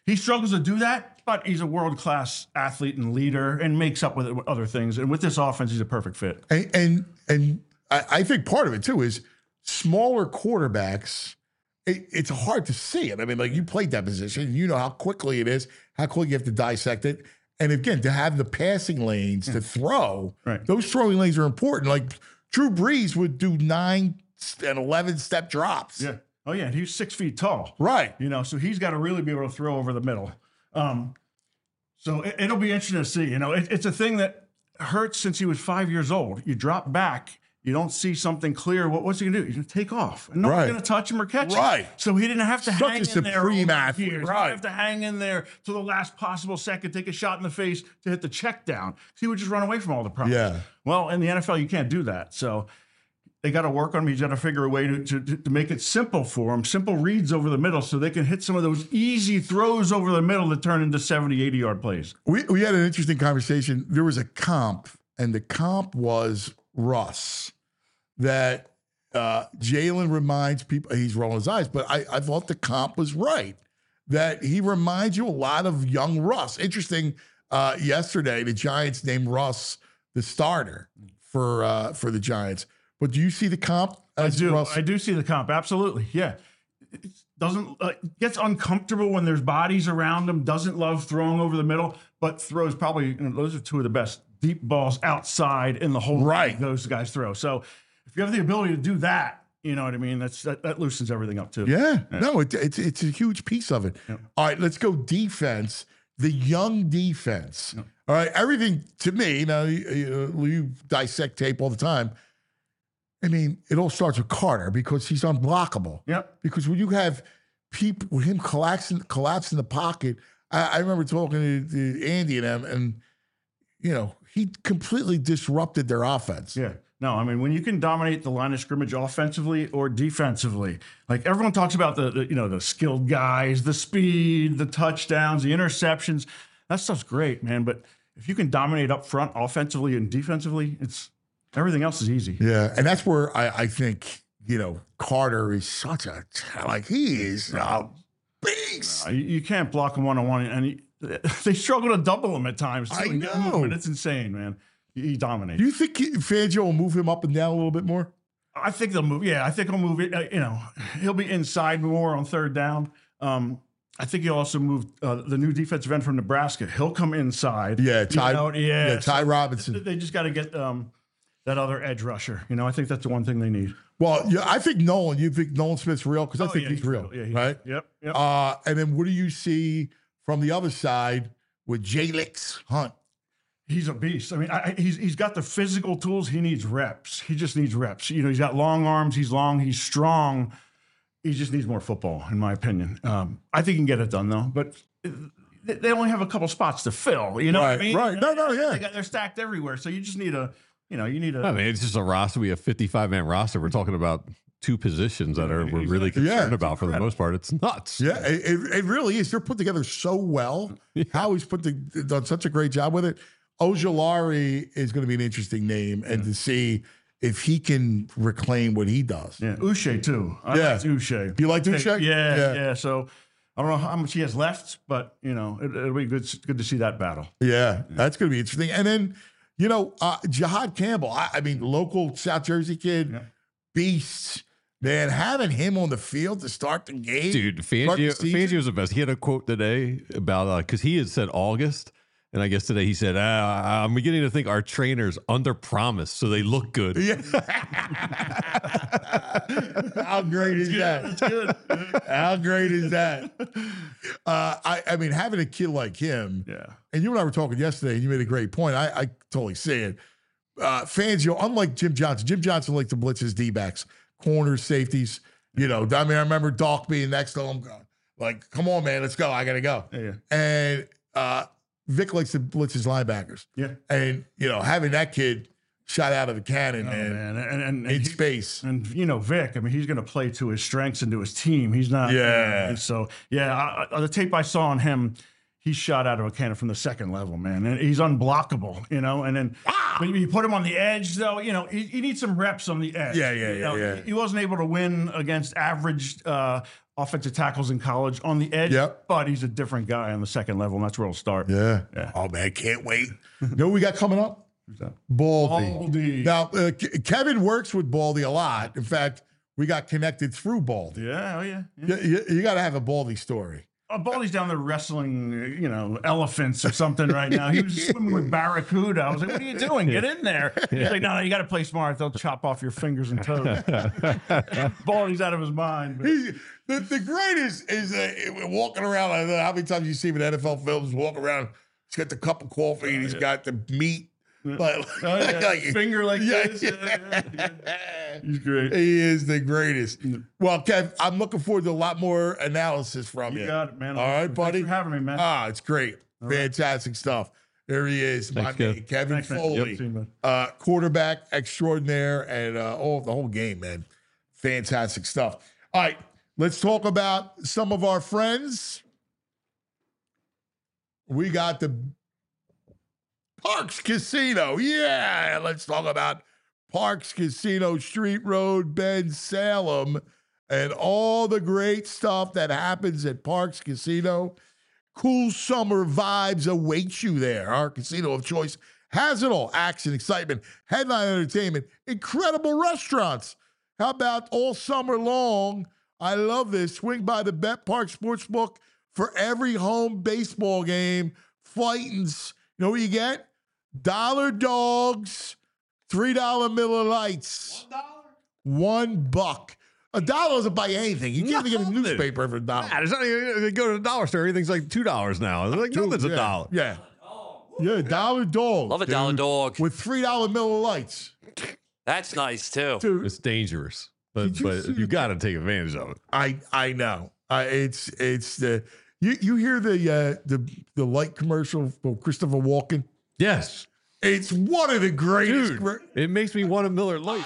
he struggles to do that, but he's a world-class athlete and leader and makes up with it with other things. And with this offense, he's a perfect fit. And and, and I, I think part of it too is smaller quarterbacks. It, it's hard to see it. I mean, like you played that position, you know how quickly it is, how quickly you have to dissect it. And again, to have the passing lanes to throw, Right. those throwing lanes are important. Like Drew Brees would do nine and eleven step drops. Yeah. Oh, yeah. And he's six feet tall. Right. You know, so he's got to really be able to throw over the middle. Um, so it, it'll be interesting to see. You know, it, it's a thing that hurts since he was five years old. You drop back, you don't see something clear. What, what's he going to do? He's going to take off. And no Right. one's going to touch him or catch him. Right. So he didn't have to Such hang a in there all supreme those athlete. years. He Right. didn't have to hang in there to the last possible second, take a shot in the face to hit the check down. He would just run away from all the problems. Yeah. Well, in the N F L, you can't do that. So they got to work on him. He's got to figure a way to, to, to make it simple for him, simple reads over the middle so they can hit some of those easy throws over the middle that turn into seventy, eighty yard plays. We we had an interesting conversation. There was a comp, and the comp was Russ. That uh, Jalen reminds people, he's rolling his eyes, but I, I thought the comp was right. That he reminds you a lot of young Russ. Interesting, uh, yesterday, the Giants named Russ the starter for uh, for the Giants. But do you see the comp as I do. Russ? I do see the comp. Absolutely. Yeah. It doesn't uh, gets uncomfortable when there's bodies around him. Doesn't love throwing over the middle, but throws probably. You know, those are two of the best deep balls outside in the whole Right. league those guys throw. So if you have the ability to do that, you know what I mean. That's that, that loosens everything up too. Yeah, no, it, it's it's a huge piece of it. Yeah. All right, let's go defense. The young defense. All right, everything to me. Now you, you, you dissect tape all the time. I mean, it all starts with Carter because he's unblockable. Yep. Because when you have people with him collapsing, collapsing the pocket, I, I remember talking to, to Andy and them, and you know he completely disrupted their offense. Yeah. No, I mean, when you can dominate the line of scrimmage offensively or defensively, like everyone talks about the, the you know, the skilled guys, the speed, the touchdowns, the interceptions, that stuff's great, man. But if you can dominate up front offensively and defensively, it's everything else is easy. Yeah, and that's where I, I think, you know, Carter is such a, like, he is a beast. Uh, you, you can't block him one-on-one, and he, they struggle to double him at times. I too. know. Movement, it's insane, man. He, he dominates. Do you think he- Fangio will move him up and down a little bit more? I think they'll move. Yeah, I think he'll move it. Uh, you know, he'll be inside more on third down. Um, I think he'll also move uh, the new defensive end from Nebraska. He'll come inside. Yeah, You Ty, know, yeah, yeah, Ty so Robinson. They just got to get um, that other edge rusher. You know, I think that's the one thing they need. Well, yeah, I think Nolan, you think Nolan Smith's real? Because I Oh, think yeah, he's, real, Yeah, he's- right? Yep. Yep. Uh, and then what do you see from the other side with Jalix Hunt? He's a beast. I mean, I, he's he's got the physical tools. He needs reps. He just needs reps. You know, he's got long arms. He's long. He's strong. He just needs more football, in my opinion. Um, I think he can get it done though. But they they only have a couple spots to fill. You know what I Right, mean? right. No, no, yeah. They got, they're stacked everywhere. So you just need a, you know, you need a. I mean, it's just a roster. We have fifty-five man roster. We're talking about two positions that are we're really Exactly. concerned Yeah. about for the most part. It's nuts. Yeah, it, it, it really is. They're put together so well. How he's put the, done such a great job with it. Ojulari is going to be an interesting name, and to see if he can reclaim what he does. Yeah, Uche too. I Yeah. like Uche. You like Uche? Yeah, Yeah. yeah, So I don't know how much he has left, but you know, it, it'll be good. Good to see that battle. Yeah, that's going to be interesting. And then, you know, uh, Jihad Campbell, I, I mean, local South Jersey kid, Yeah. beast. Man, having him on the field to start the game. Dude, start the Fangio, season. Fangio was the best. He had a quote today about because he had said August, and I guess today he said, ah, "I'm beginning to think our trainers under promise, so they look good." Yeah. How great is that? That's good. How great is that? Uh, I, I mean, having a kid like him, Yeah. and you and I were talking yesterday, and you made a great point. I, I totally see it. Uh, Fangio, unlike Jim Johnson, Jim Johnson likes to blitz his D-backs, corners, safeties. You know, I mean, I remember Doc being next to him, going, like, come on, man, let's go. I got to go. Yeah, yeah. And uh, Vic likes to blitz his linebackers. Yeah. And, you know, having that kid shot out of the cannon, Oh, man, man. And, and, and, in he- space. and you know, Vic, I mean, he's going to play to his strengths and to his team. He's not. Yeah. So, yeah, I, I, the tape I saw on him, he shot out of a cannon from the second level, man. And he's unblockable, you know, and then But you put him on the edge, though. You know, he, he needs some reps on the edge. Yeah, yeah, You yeah, know, yeah. He wasn't able to win against average uh, offensive tackles in college on the edge. Yep. But he's a different guy on the second level, and that's where he'll start. Yeah. Yeah. Oh, man, can't wait. You know what we got coming up? that? Baldy. Baldy. Now, uh, Ke- Kevin works with Baldy a lot. In fact, we got connected through Baldy. Yeah, oh yeah. yeah. You, you, you got to have a Baldy story. Oh, Baldy's down there wrestling, you know, elephants or something right now. He was swimming with barracuda. I was like, what are you doing? Get in there. He's like, no, no, you got to play smart. They'll chop off your fingers and toes. Baldy's out of his mind. But. He, the, the greatest is uh, walking around. I don't know how many times you see him in N F L films, walking around. He's got the cup of coffee and he's got the meat. But, Oh, yeah. like, Finger like yeah, this. yeah. Yeah, yeah, yeah. He's great. He is the greatest. Well, Kev, I'm looking forward to a lot more analysis from you. You got it, man. All right, Thanks buddy. for having me, man. Ah, it's great. Fantastic stuff. There he is, my Thanks, man, Kev. Kevin Thanks, man. Foley, Yep, see you, man. uh, quarterback extraordinaire, and uh, oh, the whole game, man. Fantastic stuff. All right, let's talk about some of our friends. We got the Parks Casino. Yeah, let's talk about Parks Casino, Street Road, Bend, Salem, and all the great stuff that happens at Parks Casino. Cool summer vibes await you there. Our casino of choice has it all. Action, excitement, headline entertainment, incredible restaurants. How about all summer long? I love this. Swing by the Bet Park Sportsbook for every home baseball game. Fightins. You know what you get? Dollar dogs, three dollar Miller Lights. One dollar? One buck. A dollar doesn't buy anything. You can't even get a Nothing. newspaper for a dollar. Yeah, there's not even, they go to the dollar store, everything's like two dollars now. It's like nothing's yeah. a dollar. Yeah. Yeah, dollar dog. Love a dollar dude, dog. With three dollar Miller Lights. That's nice too. Dude, It's dangerous, but Did you but see you the- got to take advantage of it. I I know. Uh, it's it's the you you hear the uh, the the light commercial for Christopher Walken. Yes, It's one of the greatest dude, gr- it makes me want a Miller Lite.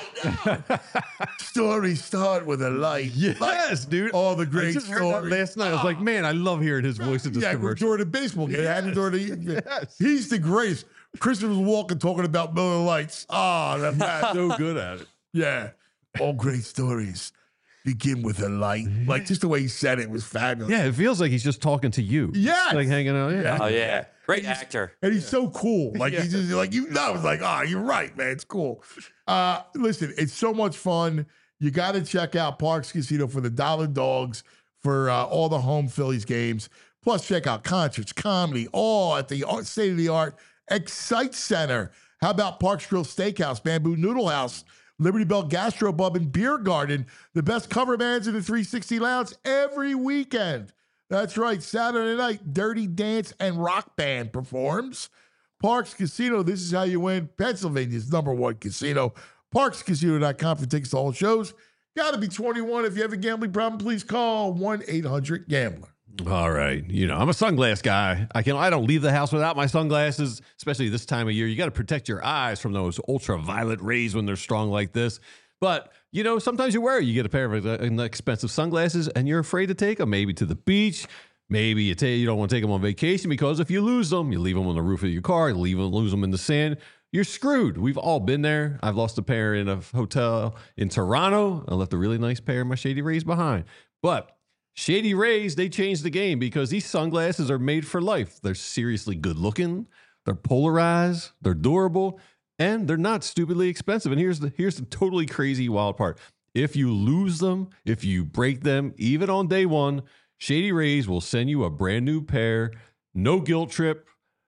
stories. Start with a light. Yes, dude. All the I great just heard that stories. last night. I was like, man, I love hearing his voice in this Yeah, commercial. during the baseball game. Yes. During the, Yes. He's the greatest. Christopher Walken talking about Miller Lights. Ah, that man. So good at it. Yeah. All great stories begin with a light. Like just the way he said it was fabulous. Yeah, it feels like he's just talking to you. Yes. like hanging out. Yeah. Yeah. Oh yeah, great actor. And he's so cool. Like he's just like, you know, it's like, oh, you're right, man. It's cool. Uh, listen, it's so much fun. You got to check out Parks Casino for the Dollar Dogs for uh, all the home Phillies games. Plus, check out concerts, comedy, all at the state of the art Excite Center. How about Parks Grill Steakhouse, Bamboo Noodle House, Liberty Bell Gastro Pub and Beer Garden, the best cover bands in the three sixty Lounge every weekend. That's right, Saturday night, Dirty Dance and Rock Band performs. Parks Casino, this is how you win. Pennsylvania's number one casino. parks casino dot com for tickets to all shows. Got to be twenty-one. If you have a gambling problem, please call one eight hundred gambler. All right. You know, I'm a sunglass guy. I can I don't leave the house without my sunglasses, especially this time of year. You got to protect your eyes from those ultraviolet rays when they're strong like this. But, you know, sometimes you wear it. You get a pair of uh, expensive sunglasses and you're afraid to take them, maybe to the beach. Maybe you, take, you don't want to take them on vacation because if you lose them, you leave them on the roof of your car, you leave them, lose them in the sand, you're screwed. We've all been there. I've lost a pair in a hotel in Toronto. I left a really nice pair of my Shady Rays behind. But Shady Rays, they changed the game because these sunglasses are made for life. They're seriously good looking, they're polarized, they're durable, and they're not stupidly expensive. And here's the here's the totally crazy wild part. If you lose them, if you break them, even on day one, Shady Rays will send you a brand new pair, no guilt trip,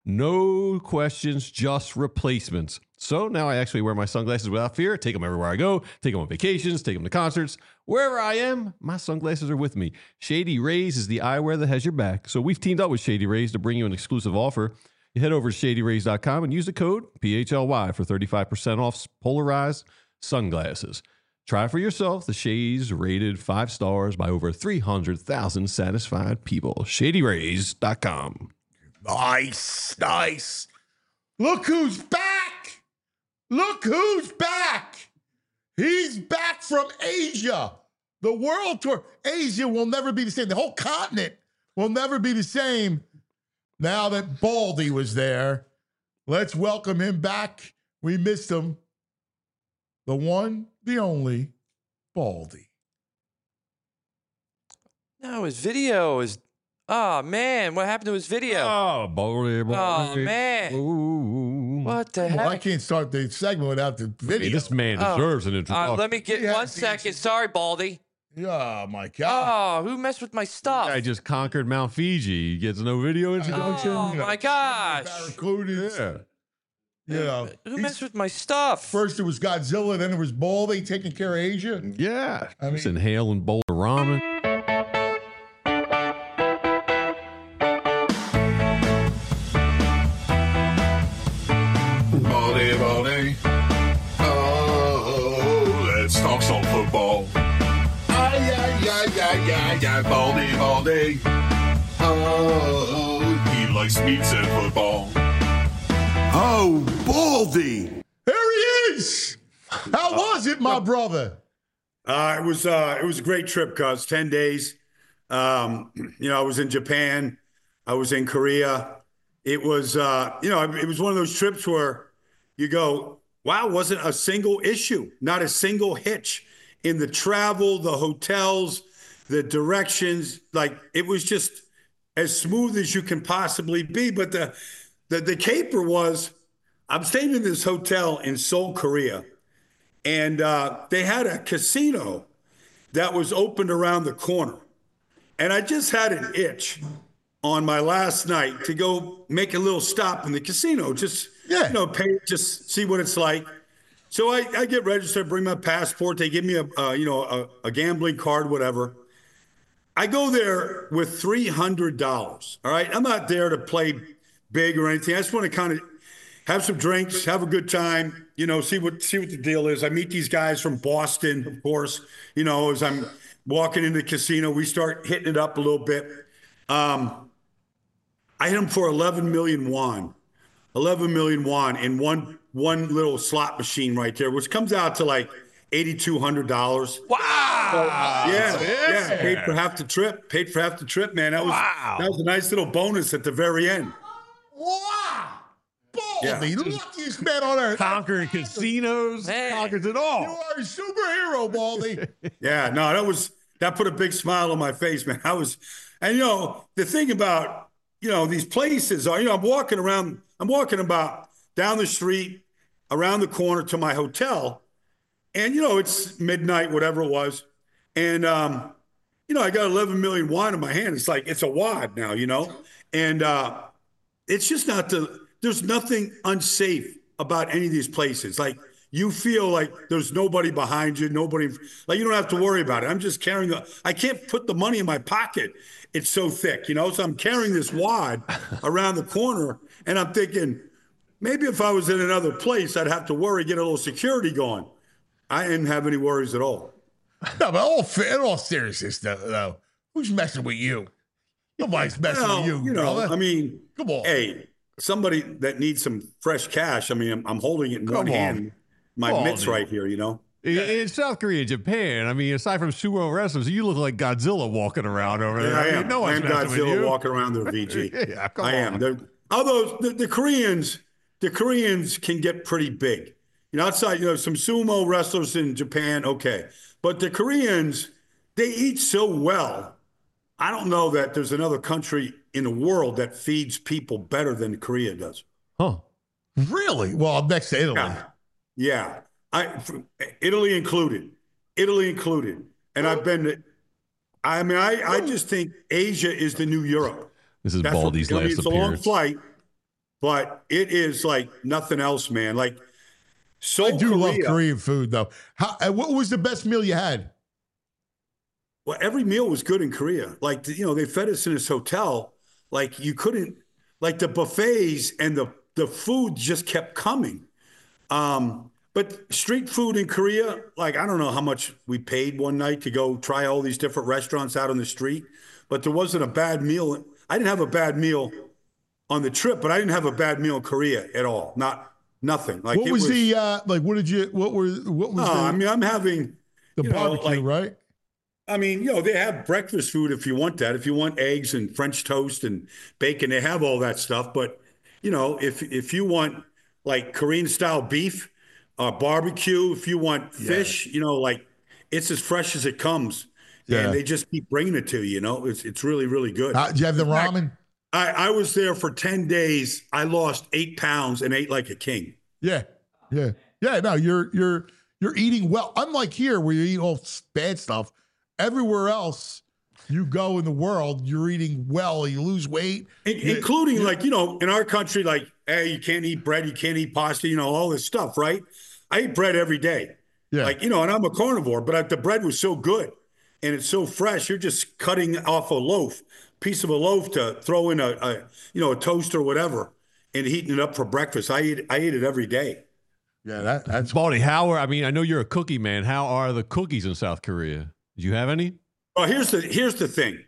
no questions, just replacements. So now I actually wear my sunglasses without fear. Take them everywhere I go. Take them on vacations. Take them to concerts. Wherever I am, my sunglasses are with me. Shady Rays is the eyewear that has your back. So we've teamed up with Shady Rays to bring you an exclusive offer. You head over to shady rays dot com and use the code P H L Y for thirty-five percent off polarized sunglasses. Try for yourself. The Shades rated five stars by over three hundred thousand satisfied people. shady rays dot com. Nice, nice. Look who's back. Look who's back. He's back from Asia. The world tour. Asia will never be the same. The whole continent will never be the same now that Baldy was there. Let's welcome him back We missed him. The one, the only, Baldy. No, his video is. Oh man, what happened to his video? Oh, Baldy, Baldy. Oh, man. Ooh. What the Well, I heck? can't start the segment without the video. Hey, this man Oh. deserves an Uh, introduction. let me get Yeah, one it's- second. Sorry, Baldy. Oh, my God. Oh, who messed with my stuff? I just conquered Mount Fiji. He gets no video introduction. Oh my gosh! Barracudas. Yeah. You know, Who he's- messed with my stuff? First it was Godzilla, then it was Baldy taking care of Asia. Yeah. I Just mean- inhaling bowl of ramen. Baldy, Baldy. Oh, let's talk some football. Ay, ay, ay, ay, ay, ay, Baldy, Baldy. Oh, he likes meats and football. Oh, Baldy. There he is. How was it, my brother? Uh, it was uh, it was a great trip, cuz ten days. Um, you know, I was in Japan, I was in Korea. It was uh, you know, it was one of those trips where you go, wow, wasn't a single issue, not a single hitch in the travel, the hotels, the directions. Like it was just as smooth as you can possibly be. But the the the caper was, I'm staying in this hotel in Seoul, Korea. And uh, they had a casino that was opened around the corner. And I just had an itch on my last night to go make a little stop in the casino, just, Yeah. you know, pay, just see what it's like. So I, I get registered, bring my passport. They give me a, uh, you know, a, a gambling card, whatever. I go there with three hundred dollars. All right. I'm not there to play big or anything. I just want to kind of have some drinks, have a good time, you know, see what see what the deal is. I meet these guys from Boston, of course, you know, as I'm walking into the casino, we start hitting it up a little bit. Um, I hit them for eleven million won, eleven million won in one one little slot machine right there, which comes out to like eighty-two hundred dollars. Wow! Yeah, yeah, paid for half the trip, paid for half the trip, man. That was Wow. that was a nice little bonus at the very end. Wow. Baldy, Yeah. the luckiest man on earth. Conquering casinos, Man. conquers it You all. are a superhero, Baldy. Yeah, no, that was that put a big smile on my face, man. I was, and you know, the thing about you know these places are, you know, I'm walking around, I'm walking about down the street, around the corner to my hotel, and you know it's midnight, whatever it was, and um, you know I got eleven million won in my hand. It's like it's a wad now, you know, and uh, it's just not the. There's nothing unsafe about any of these places. Like you feel like there's nobody behind you, nobody, like you don't have to worry about it. I'm just carrying the, I can't put the money in my pocket. It's so thick, you know? So I'm carrying this wad around the corner and I'm thinking, maybe if I was in another place, I'd have to worry, get a little security going. I didn't have any worries at all. No, but all fa- in all seriousness, though, though, who's messing with you? Nobody's messing Well, with you, you know, brother. I mean, Come on. hey, somebody that needs some fresh cash. I mean, I'm, I'm holding it in Come one on. hand. My Come mitts on, right here, you know? In, in South Korea, Japan, I mean, aside from sumo wrestlers, you look like Godzilla walking around over there. Yeah, I mean, am. no I one's am messing with Godzilla you. walking around there, V G. Yeah, come I on. am. They're, although the, the Koreans, the Koreans can get pretty big. You know, outside, you know, some sumo wrestlers in Japan, okay. But the Koreans, they eat so well. I don't know that there's another country in the world that feeds people better than Korea does. Huh. Really? Well, next to Italy. Yeah. Yeah. I, f- Italy included. Italy included. And I've been, to- I mean, I, I just think Asia is the new Europe. This is That's what- Baldy's I mean, last it's a long appearance. flight, but it is like nothing else, man. Like, so I do Korea, love Korean food, though. How, uh, what was the best meal you had? Well, every meal was good in Korea. Like, you know, they fed us in this hotel. Like, you couldn't, like, the buffets and the, the food just kept coming. Um, but street food in Korea, like, I don't know how much we paid one night to go try all these different restaurants out on the street, but there wasn't a bad meal. I didn't have a bad meal on the trip, but I didn't have a bad meal in Korea at all. Not, nothing. Like, What it was, the, uh, like, what did you, what were, what was No, the, I mean, I'm having the you know, barbecue, like- right? I mean, you know, they have breakfast food if you want that. If you want eggs and French toast and bacon, they have all that stuff. But, you know, if if you want like Korean style beef, uh, barbecue. If you want fish, yeah. you know, like it's as fresh as it comes. Yeah. And they just keep bringing it to you, you know, it's, it's really, really good. Uh, do you have the ramen? I, I was there for ten days. I lost eight pounds and ate like a king. Yeah. Yeah. Yeah. No, you're, you're, you're eating well. Unlike here where you eat all bad stuff, everywhere else you go in the world, you're eating well, you lose weight. In, including you, like, you know, in our country, like, hey, you can't eat bread, you can't eat pasta, you know, all this stuff, right? I eat bread every day. Yeah. Like, you know, and I'm a carnivore, but I, the bread was so good and it's so fresh. You're just cutting off a loaf, piece of a loaf to throw in a, a you know, a toast or whatever and heating it up for breakfast. I eat, I eat it every day. Yeah, that, that's Baldy. How are, I mean, I know you're a cookie man. How are the cookies in South Korea? Do you have any? Well, here's the here's the thing.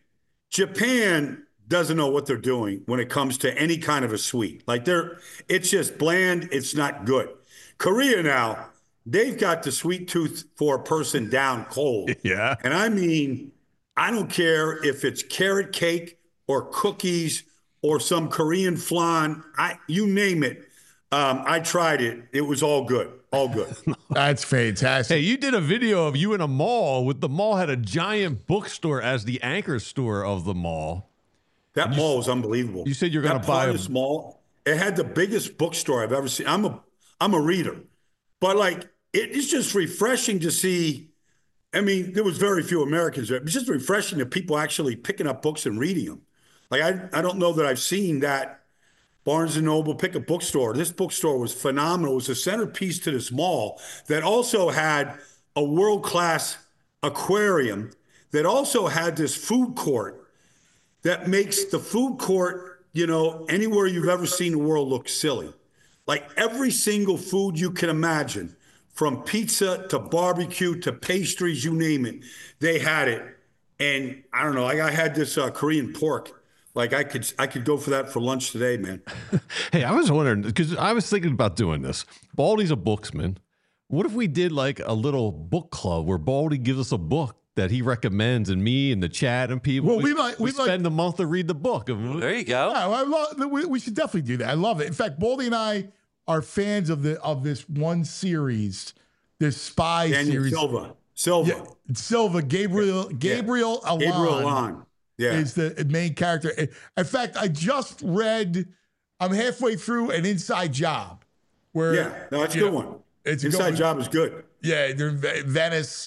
Japan doesn't know what they're doing when it comes to any kind of a sweet. Like they're, it's just bland. It's not good. Korea now, they've got the sweet tooth for a person down cold. Yeah. And I mean, I don't care if it's carrot cake or cookies or some Korean flan. I you name it. Um, I tried it. It was all good. All good. That's fantastic. Hey, you did a video of you in a mall with the mall had a giant bookstore as the anchor store of the mall. That you, mall was unbelievable. You said you're going to buy a this mall. It had the biggest bookstore I've ever seen. I'm a I'm a reader, but like it, it's just refreshing to see. I mean, there was very few Americans there. It's just refreshing that people actually picking up books and reading them. Like I I don't know that I've seen that. Barnes and Noble, pick a bookstore. This bookstore was phenomenal. It was a centerpiece to this mall that also had a world-class aquarium that also had this food court that makes the food court, you know, anywhere you've ever seen the world look silly. Like every single food you can imagine, from pizza to barbecue to pastries, you name it, they had it. And I don't know, like I had this uh, Korean pork. Like I could, I could go for that for lunch today, man. Hey, I was wondering because I was thinking about doing this. Baldy's a booksman. What if we did like a little book club where Baldy gives us a book that he recommends, and me and the chat and people. Well, we, we might we, we spend like, the month to read the book. There you go. Yeah, I love, we, we should definitely do that. I love it. In fact, Baldy and I are fans of the of this one series, this spy Daniel series. Silva, Silva, yeah, Silva, Gabriel, Gabriel yeah. Alon. Gabriel Alon. Yeah. Is the main character. In fact, I just read, I'm halfway through an Inside Job. Where, yeah, no, it's a good know, one. It's Inside good, Job is good. Yeah, they're in Venice.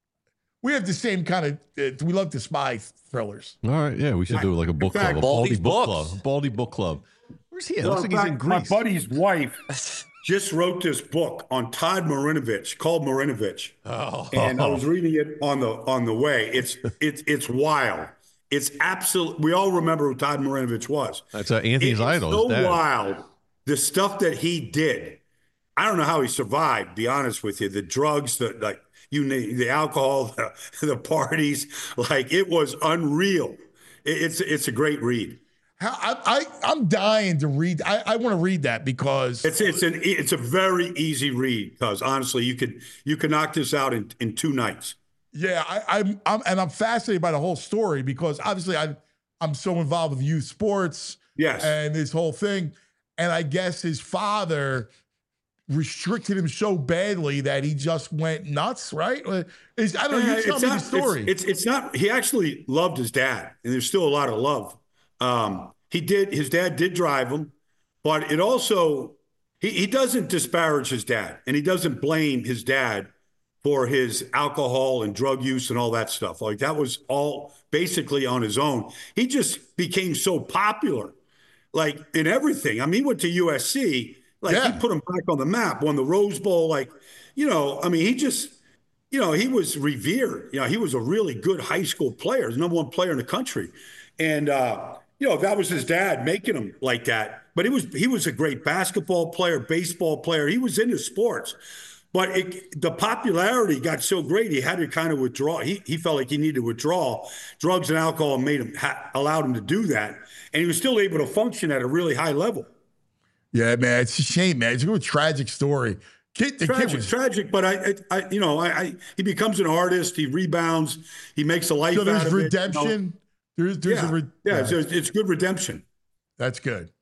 We have the same kind of, uh, we love the spy thrillers. All right, yeah, we should do like a book fact, club, a Baldy book books. club, Baldy book club. Where's he? It Well, looks like fact, he's in Greece. My buddy's wife just wrote this book on Todd Marinovich called Marinovich. Oh. And I was reading it on the on the way. It's it's it's wild. It's absolute. We all remember who Todd Marinovich was. That's uh, Anthony's it's idol. So wild. The stuff that he did. I don't know how he survived. Be honest with you. The drugs, the like, you name the alcohol, the, the parties. Like it was unreal. It, it's it's a great read. How, I, I I'm dying to read. I, I want to read that because it's it's an it's a very easy read. Because honestly, you could you could knock this out in in two nights. Yeah, I, I'm, I'm, and I'm fascinated by the whole story because obviously I, I'm so involved with youth sports, yes, and this whole thing, and I guess his father restricted him so badly that he just went nuts, right? Is, I don't know. You tell me the story. It's, it's it's not. He actually loved his dad, and there's still a lot of love. Um, he did. His dad did drive him, but it also he he doesn't disparage his dad, and he doesn't blame his dad for his alcohol and drug use and all that stuff. Like that was all basically on his own. He just became so popular, like in everything. I mean, he went to U S C, like yeah. he put him back on the map, won the Rose Bowl. Like, you know, I mean, he just, you know, he was revered. You know, he was a really good high school player, the number one player in the country. And, uh, you know, that was his dad making him like that. But he was, he was a great basketball player, baseball player. He was into sports. But it, the popularity got so great, he had to kind of withdraw. He he felt like he needed to withdraw. Drugs and alcohol made him ha- allowed him to do that, and he was still able to function at a really high level. Yeah, man, it's a shame, man. It's a real tragic story. Kid, the tragic, kid was... tragic. But I, I, I you know, I, I, he becomes an artist. He rebounds. He makes a life so out of redemption. it. You know? There's, there's yeah, a re- yeah. It's, it's good redemption. That's good.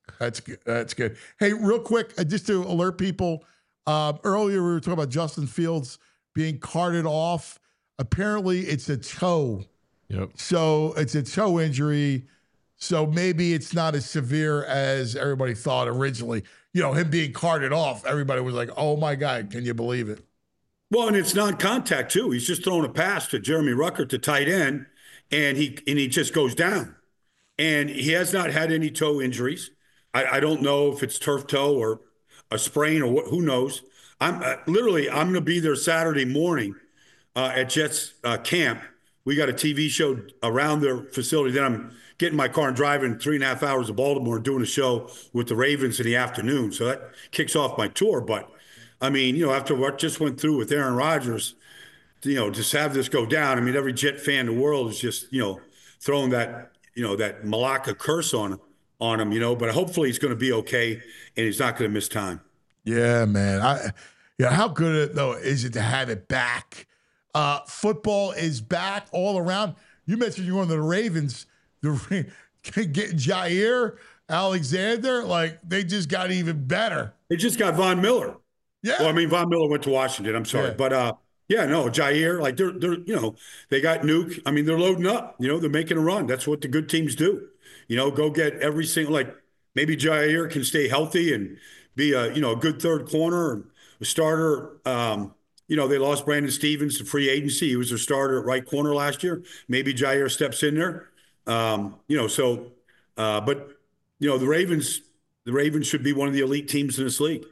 That's good. That's good. Hey, real quick, uh, just to alert people, uh, earlier we were talking about Justin Fields being carted off. Apparently, it's a toe. Yep. So it's a toe injury. So maybe it's not as severe as everybody thought originally. You know, him being carted off, everybody was like, oh my God, can you believe it? Well, and it's non-contact too. He's just throwing a pass to Jeremy Ruckert, the tight end, and he and he just goes down. And he has not had any toe injuries. I, I don't know if it's turf toe or a sprain or what, who knows. I'm uh, literally I'm going to be there Saturday morning uh, at Jets uh, camp. We got a T V show around their facility. Then I'm getting my car and driving three and a half hours to Baltimore and doing a show with the Ravens in the afternoon. So that kicks off my tour. But I mean, you know, after what just went through with Aaron Rodgers, you know, just have this go down. I mean, every Jet fan in the world is just, you know, throwing that, you know, that Malacca curse on on him, you know, but hopefully he's going to be okay and he's not going to miss time. Yeah, man. I, yeah, how good though is it to have it back? Uh, football is back all around. You mentioned you're on the Ravens. The getting Jair Alexander, like they just got even better. They just got Von Miller. Yeah. Well, I mean, Von Miller went to Washington. I'm sorry, Yeah. but uh, yeah, no, Jair, like they're they're you know they got Nuke. I mean, they're loading up. You know, they're making a run. That's what the good teams do. You know, go get every single like maybe Jair can stay healthy and be a you know a good third corner, a starter. Um, you know, they lost Brandon Stevens to free agency. He was their starter at right corner last year. Maybe Jair steps in there. Um, you know, so, uh, but you know, the Ravens, the Ravens should be one of the elite teams in this league.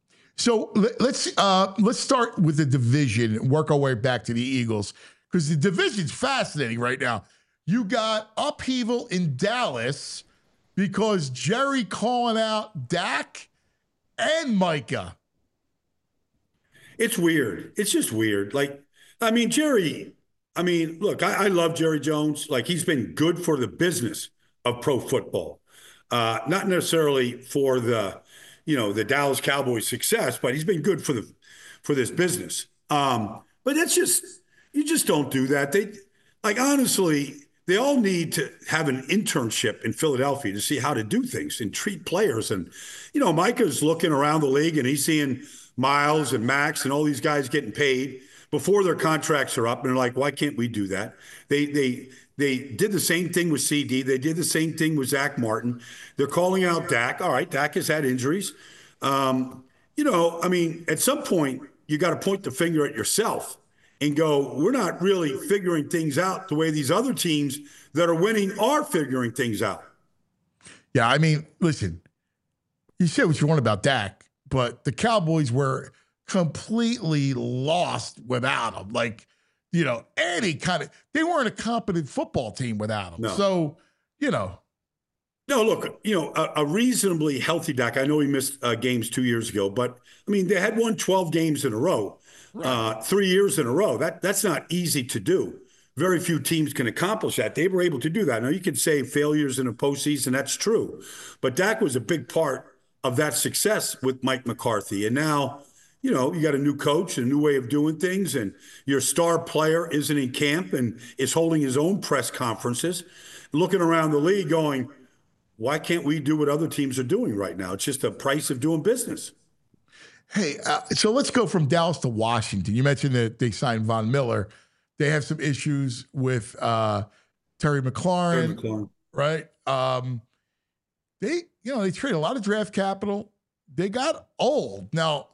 So let- let's uh, let's start with the division and work our way back to the Eagles because the division's fascinating right now. You got upheaval in Dallas because Jerry calling out Dak and Micah. It's weird. It's just weird. Like, I mean, Jerry, I mean, look, I, I love Jerry Jones. Like, he's been good for the business of pro football, uh, not necessarily for the, you know, the Dallas Cowboys success, but he's been good for the, for this business. Um, but that's just, you just don't do that. They, like, honestly, they all need to have an internship in Philadelphia to see how to do things and treat players. And, you know, Micah's looking around the league and he's seeing Miles and Max and all these guys getting paid before their contracts are up. And they're like, why can't we do that? They, they, they did the same thing with C D. They did the same thing with Zach Martin. They're calling out Dak. All right, Dak has had injuries. Um, you know, I mean, at some point, you got to point the finger at yourself and go, we're not really figuring things out the way these other teams that are winning are figuring things out. Yeah, I mean, listen, you say what you want about Dak, but the Cowboys were completely lost without him. Like, you know, any kind of, they weren't a competent football team without him. No. So, you know. No, look, you know, a, a reasonably healthy Dak. I know he missed uh, games two years ago, but I mean, they had won twelve games in a row, right. uh, three years in a row. That That's not easy to do. Very few teams can accomplish that. They were able to do that. Now, you could say failures in a postseason. That's true. But Dak was a big part of that success with Mike McCarthy. And now, you know, you got a new coach, a new way of doing things, and your star player isn't in camp and is holding his own press conferences, looking around the league going, why can't we do what other teams are doing right now? It's just the price of doing business. Hey, uh, so let's go from Dallas to Washington. You mentioned that they signed Von Miller. They have some issues with uh, Terry McLaurin, Terry McLaurin. right? Um, they, you know, they traded a lot of draft capital. They got old. Now,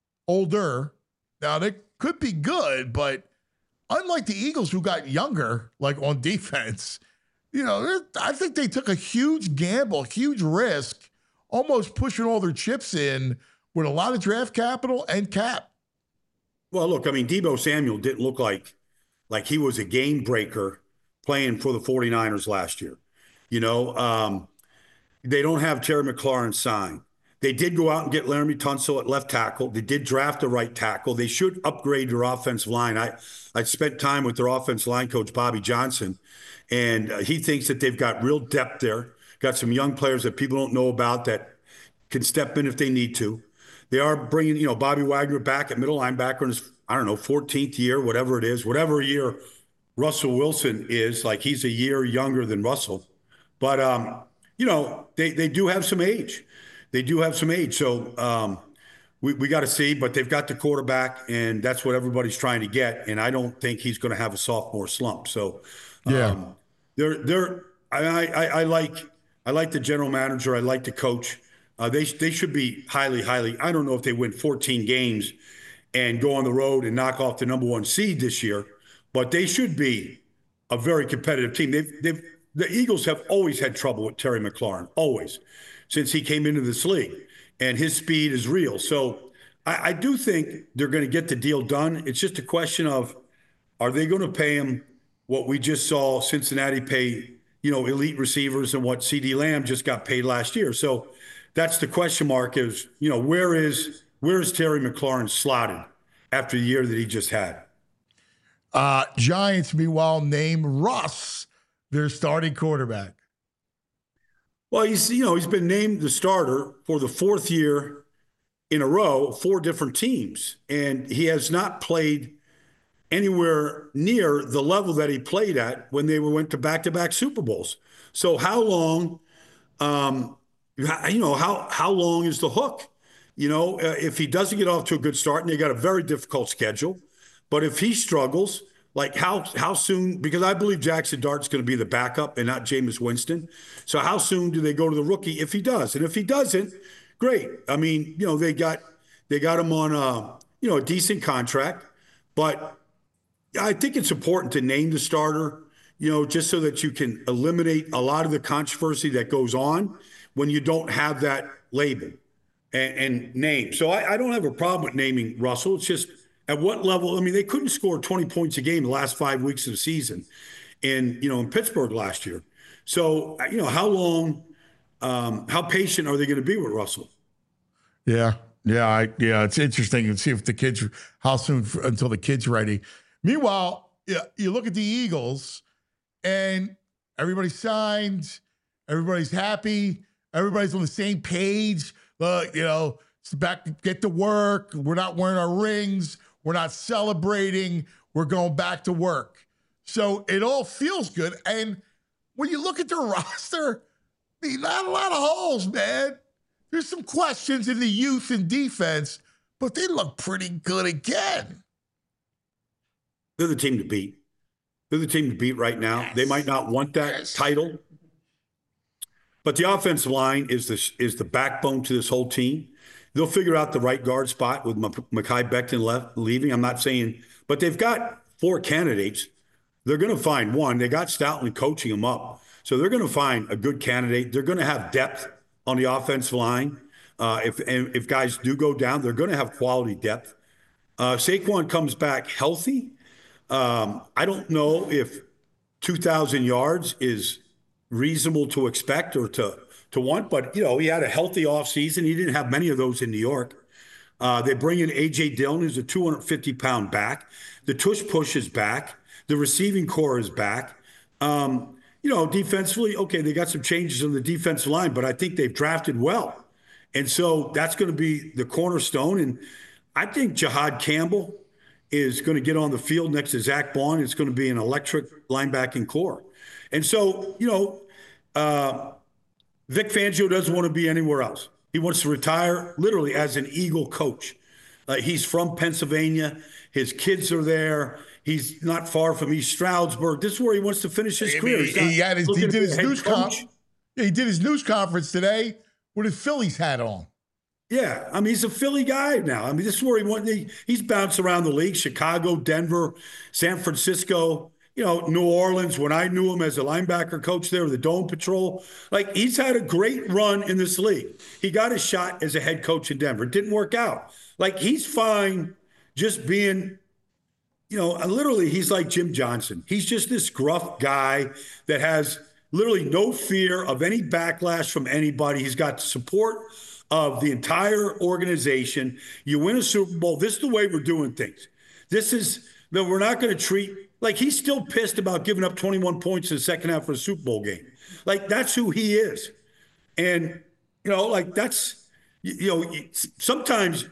older. Now, they could be good, but unlike the Eagles who got younger, like on defense, you know, I think they took a huge gamble, huge risk, almost pushing all their chips in with a lot of draft capital and cap. Well, look, I mean, Deebo Samuel didn't look like like he was a game breaker playing for the 49ers last year. You know, um, they don't have Terry McLaurin signed. They did go out and get Laramie Tunsil at left tackle. They did draft a right tackle. They should upgrade their offensive line. I, I spent time with their offensive line coach, Bobby Johnson, and uh, he thinks that they've got real depth there, got some young players that people don't know about that can step in if they need to. They are bringing, you know, Bobby Wagner back at middle linebacker in his, I don't know, fourteenth year, whatever it is, whatever year Russell Wilson is. Like, he's a year younger than Russell. But, um, you know, they, they do have some age. They do have some age. So um, we, we got to see, but they've got the quarterback, and that's what everybody's trying to get. And I don't think he's going to have a sophomore slump. So yeah, um, they're, they're, I, I, I like, I like the general manager. I like the coach. Uh, they, they should be highly, highly, I don't know if they win fourteen games and go on the road and knock off the number one seed this year, but they should be a very competitive team. They've, they've, the Eagles have always had trouble with Terry McLaurin, always, since he came into this league, and his speed is real. So I, I do think they're going to get the deal done. It's just a question of, are they going to pay him what we just saw Cincinnati pay, you know, elite receivers, and what CeeDee Lamb just got paid last year? So that's the question mark is, you know, where is where is Terry McLaurin slotted after the year that he just had? Uh, Giants, meanwhile, named Russ their starting quarterback. Well, he's, you know, he's been named the starter for the fourth year in a row, four different teams, and he has not played anywhere near the level that he played at when they went to back-to-back Super Bowls. So how long, um, you know, how how long is the hook? You know, uh, if he doesn't get off to a good start, and they got a very difficult schedule, but if he struggles, like how how soon? Because I believe Jackson Dart's going to be the backup and not Jameis Winston. So how soon do they go to the rookie if he does? And if he doesn't, great. I mean, you know, they got they got him on a you know a decent contract, but I think it's important to name the starter, you know, just so that you can eliminate a lot of the controversy that goes on when you don't have that label and, and name. So I, I don't have a problem with naming Russell. It's just at what level. I mean, they couldn't score twenty points a game the last five weeks of the season in, you know, in Pittsburgh last year. So, you know, how long, um, how patient are they going to be with Russell? Yeah. Yeah. I, yeah. It's interesting to see if the kids, how soon until the kid's ready. Meanwhile, yeah, you look at the Eagles and everybody's signed, everybody's happy, everybody's on the same page. Look, you know, it's back to get to work. We're not wearing our rings. We're not celebrating. We're going back to work. So it all feels good. And when you look at the roster, I mean, not a lot of holes, man. There's some questions in the youth and defense, but they look pretty good again. They're the team to beat. They're the team to beat right now. Yes. They might not want that yes. title, but the offensive line is the, is the backbone to this whole team. They'll figure out the right guard spot with Mekhi Becton left, leaving. I'm not saying, but they've got four candidates. They're going to find one. They got Stoutland coaching them up. So they're going to find a good candidate. They're going to have depth on the offensive line. Uh, if and if guys do go down, they're going to have quality depth. Uh, Saquon comes back healthy. Um, I don't know if two thousand yards is reasonable to expect or to to want, but, you know, he had a healthy offseason. He didn't have many of those in New York. Uh, they bring in A J. Dillon, who's a two hundred fifty pound back. The tush push is back. The receiving core is back. Um, you know, defensively, okay, they got some changes on the defensive line, but I think they've drafted well. And so that's going to be the cornerstone. And I think Jihad Campbell is going to get on the field next to Zach Bond. It's going to be an electric linebacking core. And so, you know, uh, Vic Fangio doesn't want to be anywhere else. He wants to retire literally as an Eagle coach. Uh, he's from Pennsylvania. His kids are there. He's not far from East Stroudsburg. This is where he wants to finish his I career. mean, he, had his, he did his news conference. Yeah, he did his news conference today with his Phillies hat on. Yeah, I mean, he's a Philly guy now. I mean, this is where he went. He, he's bounced around the league: Chicago, Denver, San Francisco. You know, New Orleans. When I knew him as a linebacker coach there, the Dome Patrol. Like, he's had a great run in this league. He got a shot as a head coach in Denver. It didn't work out. Like, he's fine just being. You know, literally, he's like Jim Johnson. He's just this gruff guy that has literally no fear of any backlash from anybody. He's got support of the entire organization. You win a Super Bowl. This is the way we're doing things. This is that we're not going to treat like he's still pissed about giving up twenty-one points in the second half of a Super Bowl game. Like, that's who he is. And, you know, like that's, you know, sometimes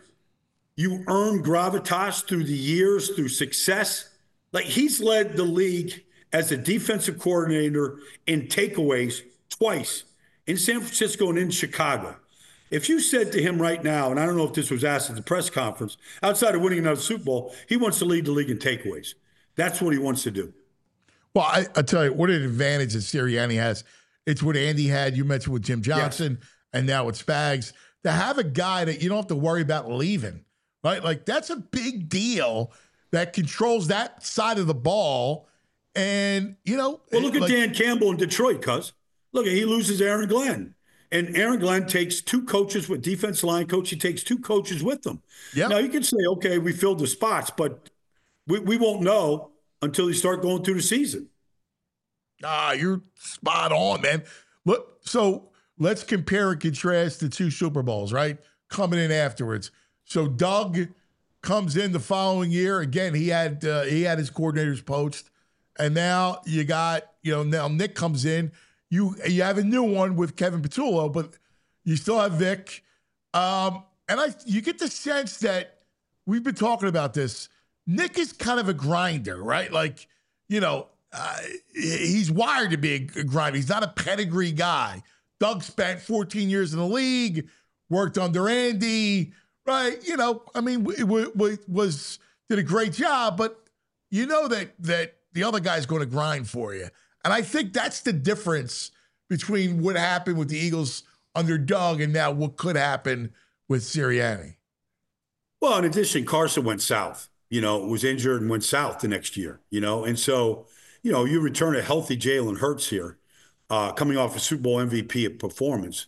you earn gravitas through the years, through success. Like, he's led the league as a defensive coordinator in takeaways twice in San Francisco and in Chicago. If you said to him right now, and I don't know if this was asked at the press conference, outside of winning another Super Bowl, he wants to lead the league in takeaways. That's what he wants to do. Well, I, I tell you, what an advantage that Sirianni has. It's what Andy had. You mentioned with Jim Johnson, yes. and now with Spags. To have a guy that you don't have to worry about leaving, right? Like, that's a big deal that controls that side of the ball. And, you know. Well, look at like, Dan Campbell in Detroit, cuz. Look, he loses Aaron Glenn. And Aaron Glenn takes two coaches with defensive line coach. He takes two coaches with them. Yeah. Now, you can say, okay, we filled the spots, but we, we won't know until you start going through the season. Ah, you're spot on, man. Look, so let's compare and contrast the two Super Bowls, right? Coming in afterwards. So Doug comes in the following year. Again, he had uh, he had his coordinators poached. And now you got, you know, now Nick comes in. You you have a new one with Kevin Patullo, but you still have Vic. Um, and I you get the sense that we've been talking about this. Nick is kind of a grinder, right? Like, you know, uh, he's wired to be a grinder. He's not a pedigree guy. Doug spent fourteen years in the league, worked under Andy, right? You know, I mean, w- w- was did a great job, but you know that that the other guy's going to grind for you. And I think that's the difference between what happened with the Eagles under Doug and now what could happen with Sirianni. Well, in addition, Carson went south, you know, was injured and went south the next year, you know. And so, you know, you return a healthy Jalen Hurts here, uh, coming off a Super Bowl M V P performance.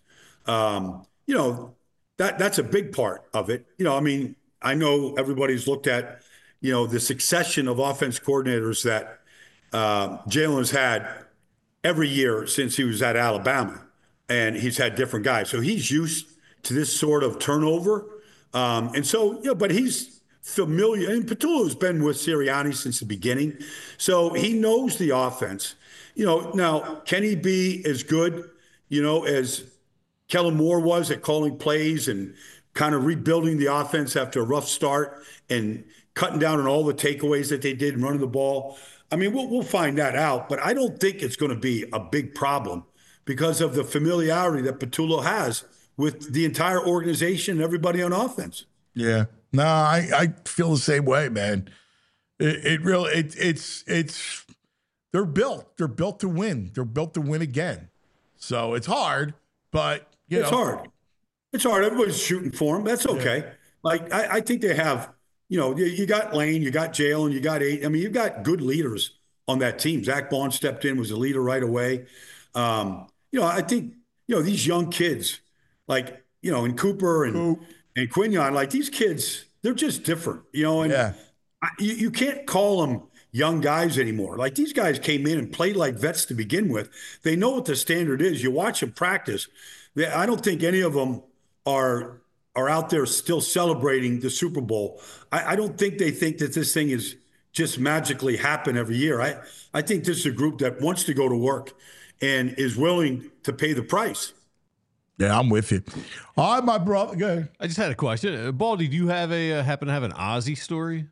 Um, you know, that that's a big part of it. You know, I mean, I know everybody's looked at, you know, the succession of offense coordinators that Uh, Jalen's had every year since he was at Alabama, and he's had different guys. So he's used to this sort of turnover. Um, and so, you know, but he's familiar. And Patullo's been with Sirianni since the beginning. So he knows the offense. You know, now, can he be as good, you know, as Kellen Moore was at calling plays and kind of rebuilding the offense after a rough start and cutting down on all the takeaways that they did and running the ball? I mean, we'll, we'll find that out, but I don't think it's going to be a big problem because of the familiarity that Patullo has with the entire organization and everybody on offense. Yeah. No, I, I feel the same way, man. It, it really, it, it's, it's, they're built. They're built to win. They're built to win again. So it's hard, but, you it's know. It's hard. It's hard. Everybody's shooting for them. That's okay. Yeah. Like, I, I think they have. You know, you got Lane, you got Jalen, you got eight. I mean, you've got good leaders on that team. Zach Bond stepped in, was a leader right away. Um, you know, I think, you know, these young kids, like, you know, and Cooper and, Coop. and Quinion, like these kids, they're just different, you know, and yeah. I, you, you can't call them young guys anymore. Like these guys came in and played like vets to begin with. They know what the standard is. You watch them practice. They, I don't think any of them are – are out there still celebrating the Super Bowl. I, I don't think they think that this thing is just magically happen every year. I, I think this is a group that wants to go to work and is willing to pay the price. Yeah, I'm with you. All right, my brother. Go ahead. I just had a question. Uh, Baldy, do you have a uh, happen to have an Ozzy story?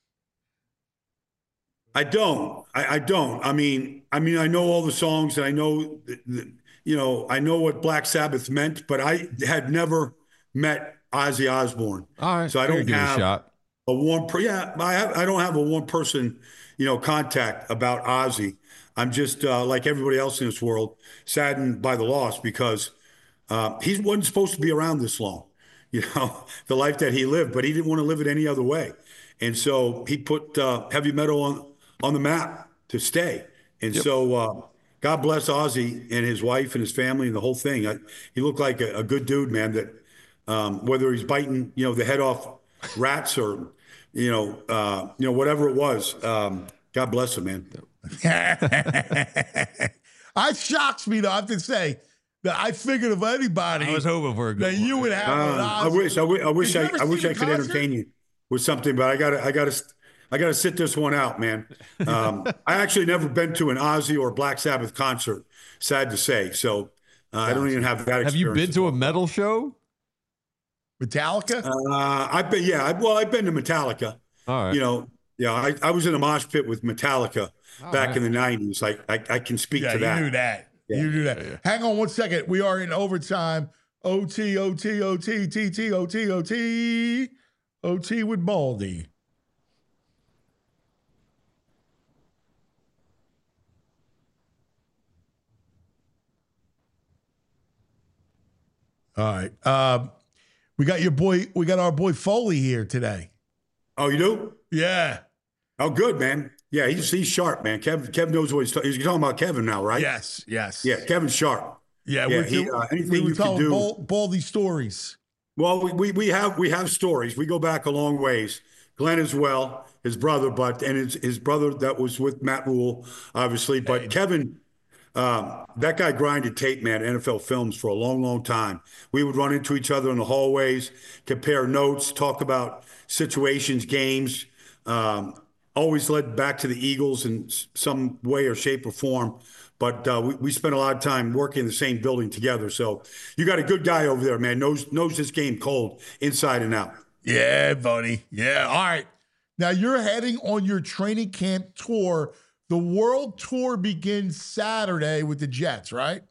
I don't. I, I don't. I mean, I mean, I know all the songs and I know, the, the, you know, I know what Black Sabbath meant, but I had never met Ozzy Osbourne. All right. So I don't have a, shot. a warm, per- yeah, I, have, I don't have a one person, you know, contact about Ozzy. I'm just uh, like everybody else in this world, saddened by the loss because uh, he wasn't supposed to be around this long, you know, the life that he lived, but he didn't want to live it any other way. And so he put uh, heavy metal on, on the map to stay. And yep. so uh, God bless Ozzy and his wife and his family and the whole thing. I, he looked like a, a good dude, man, that, Um, whether he's biting, you know, the head off rats or, you know, uh, you know, whatever it was. Um, God bless him, man. It shocks me, though, I have to say, that I figured of anybody. I was hoping for a good that one. you would have. Uh, I wish, I wish, I wish, I, I wish I could concert? entertain you with something, but I gotta, I gotta, I gotta sit this one out, man. Um, I actually never been to an Ozzy or Black Sabbath concert. Sad to say, so uh, I don't even have that. Have you been to a metal show? Metallica? Uh, I've been, yeah. I, well, I've been to Metallica. All right. You know, yeah. I, I was in a mosh pit with Metallica All back right. in the nineties. Like I, I can speak yeah, to that. You knew that. You do that. Yeah, yeah. Hang on one second. We are in overtime. O T, O T, O T, T T, O T, O T, O T with Baldy. All right. Uh, we got your boy, we got our boy Foley here today. Oh, you do? Yeah. Oh, good, man. Yeah, he's he's sharp, man. Kevin Kevin knows what he's talking. He's talking about Kevin now, right? Yes, yes. Yeah, Kevin's sharp. Yeah, Yeah, we're, he, uh, anything we were you can telling do- Bal- Baldy stories. Well, we, we we have we have stories. We go back a long ways. Glenn as well, his brother, but and his his brother that was with Matt Rule, obviously. But Kevin, um, that guy grinded tape, man, N F L films for a long, long time. We would run into each other in the hallways, compare notes, talk about situations, games. Um, always led back to the Eagles in s- some way or shape or form. But uh, we, we spent a lot of time working in the same building together. So you got a good guy over there, man. Knows knows this game cold, inside and out. Yeah, buddy. Yeah. All right. Now you're heading on your training camp tour. The World Tour begins Saturday with the Jets, right?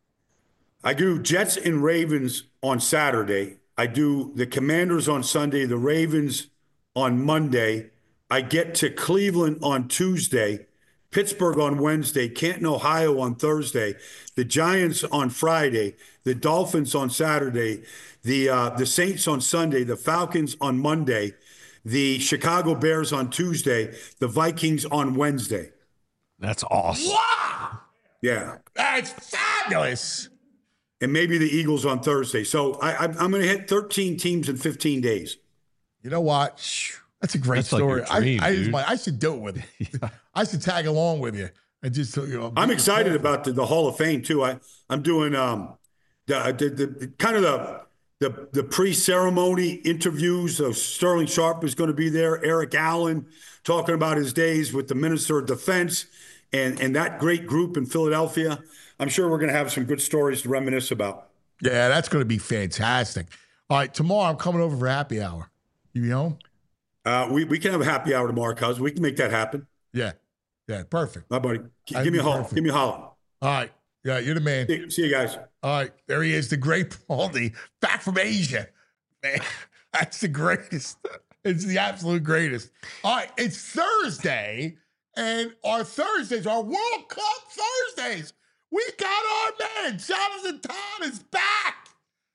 I do Jets and Ravens on Saturday. I do the Commanders on Sunday, the Ravens on Monday. I get to Cleveland on Tuesday, Pittsburgh on Wednesday, Canton, Ohio on Thursday, the Giants on Friday, the Dolphins on Saturday, the uh, the Saints on Sunday, the Falcons on Monday, the Chicago Bears on Tuesday, the Vikings on Wednesday. That's awesome. Wow. Yeah. That's fabulous. And maybe the Eagles on Thursday. So I, I'm, I'm going to hit thirteen teams in fifteen days. You know what? That's a great That's like story. your dream, I, I, dude. I should do it with you. I should tag along with you. I just, you know, I'm excited about the, the Hall of Fame too. I I'm doing um the the, the, the kind of the the the pre-ceremony interviews. So Sterling Sharp is going to be there. Eric Allen talking about his days with the Minister of Defense and and that great group in Philadelphia. I'm sure we're going to have some good stories to reminisce about. Yeah, that's going to be fantastic. All right, tomorrow I'm coming over for happy hour. You be home? Uh, we we can have a happy hour tomorrow, cuz we can make that happen. Yeah. Yeah, perfect. My buddy, G- That'd give me a be holler. perfect. Give me a holler. All right. Yeah, you're the man. See, see you guys. All right, there he is, the great Baldy, back from Asia. Man, that's the greatest. It's the absolute greatest. All right, it's Thursday, and our Thursdays, our World Cup Thursdays. We got our man, Jonathan Todd is back.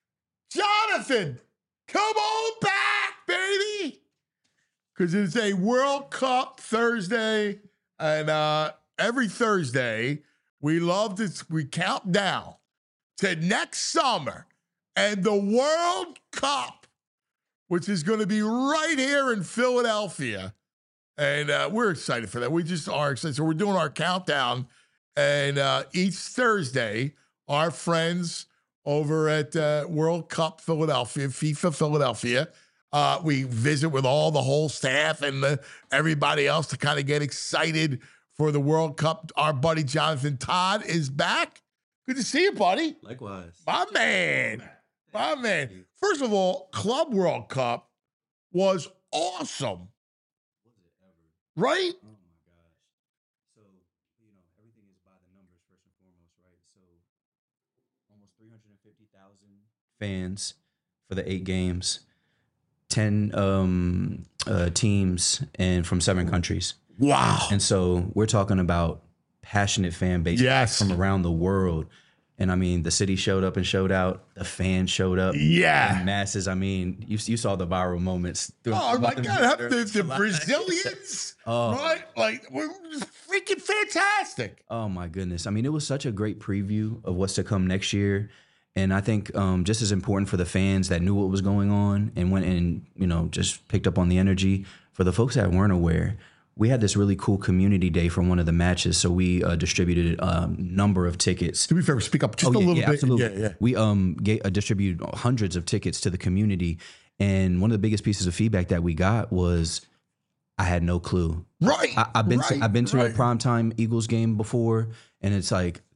Jonathan, come on back, baby. Because it's a World Cup Thursday, and uh, every Thursday, we love to, we count down to next summer and the World Cup, which is going to be right here in Philadelphia. And uh, we're excited for that. We just are excited. So we're doing our countdown. And uh, each Thursday, our friends over at uh, World Cup Philadelphia, FIFA Philadelphia, uh, we visit with all the whole staff and the, everybody else to kind of get excited for the World Cup. Our buddy Jonathan Todd is back. Good to see you, buddy. Likewise. My man. My man. First of all, Club World Cup was awesome. Was it ever? Right? Oh my gosh. So, you know, everything is by the numbers first and foremost, right? So, almost three hundred fifty thousand fans for the eight games, ten um, uh, teams, and from seven countries. Wow. And so we're talking about passionate fan base Yes. from around the world. And I mean, the city showed up and showed out. The fans showed up. Yeah. in masses. I mean, you you saw the viral moments. Oh my God. The, the Brazilians, Oh. right? Like, we're just freaking fantastic. Oh my goodness. I mean, it was such a great preview of what's to come next year. And I think um, just as important for the fans that knew what was going on and went and, you know, just picked up on the energy, for the folks that weren't aware, we had this really cool community day for one of the matches. So we uh, distributed a um, number of tickets. To be fair, speak up just Oh, a yeah, little yeah, bit. absolutely. Yeah, yeah. We um ga- uh, distributed hundreds of tickets to the community. And one of the biggest pieces of feedback that we got was, I had no clue. Right. I, I've been right, to, I've been to right. a primetime Eagles game before, and it's like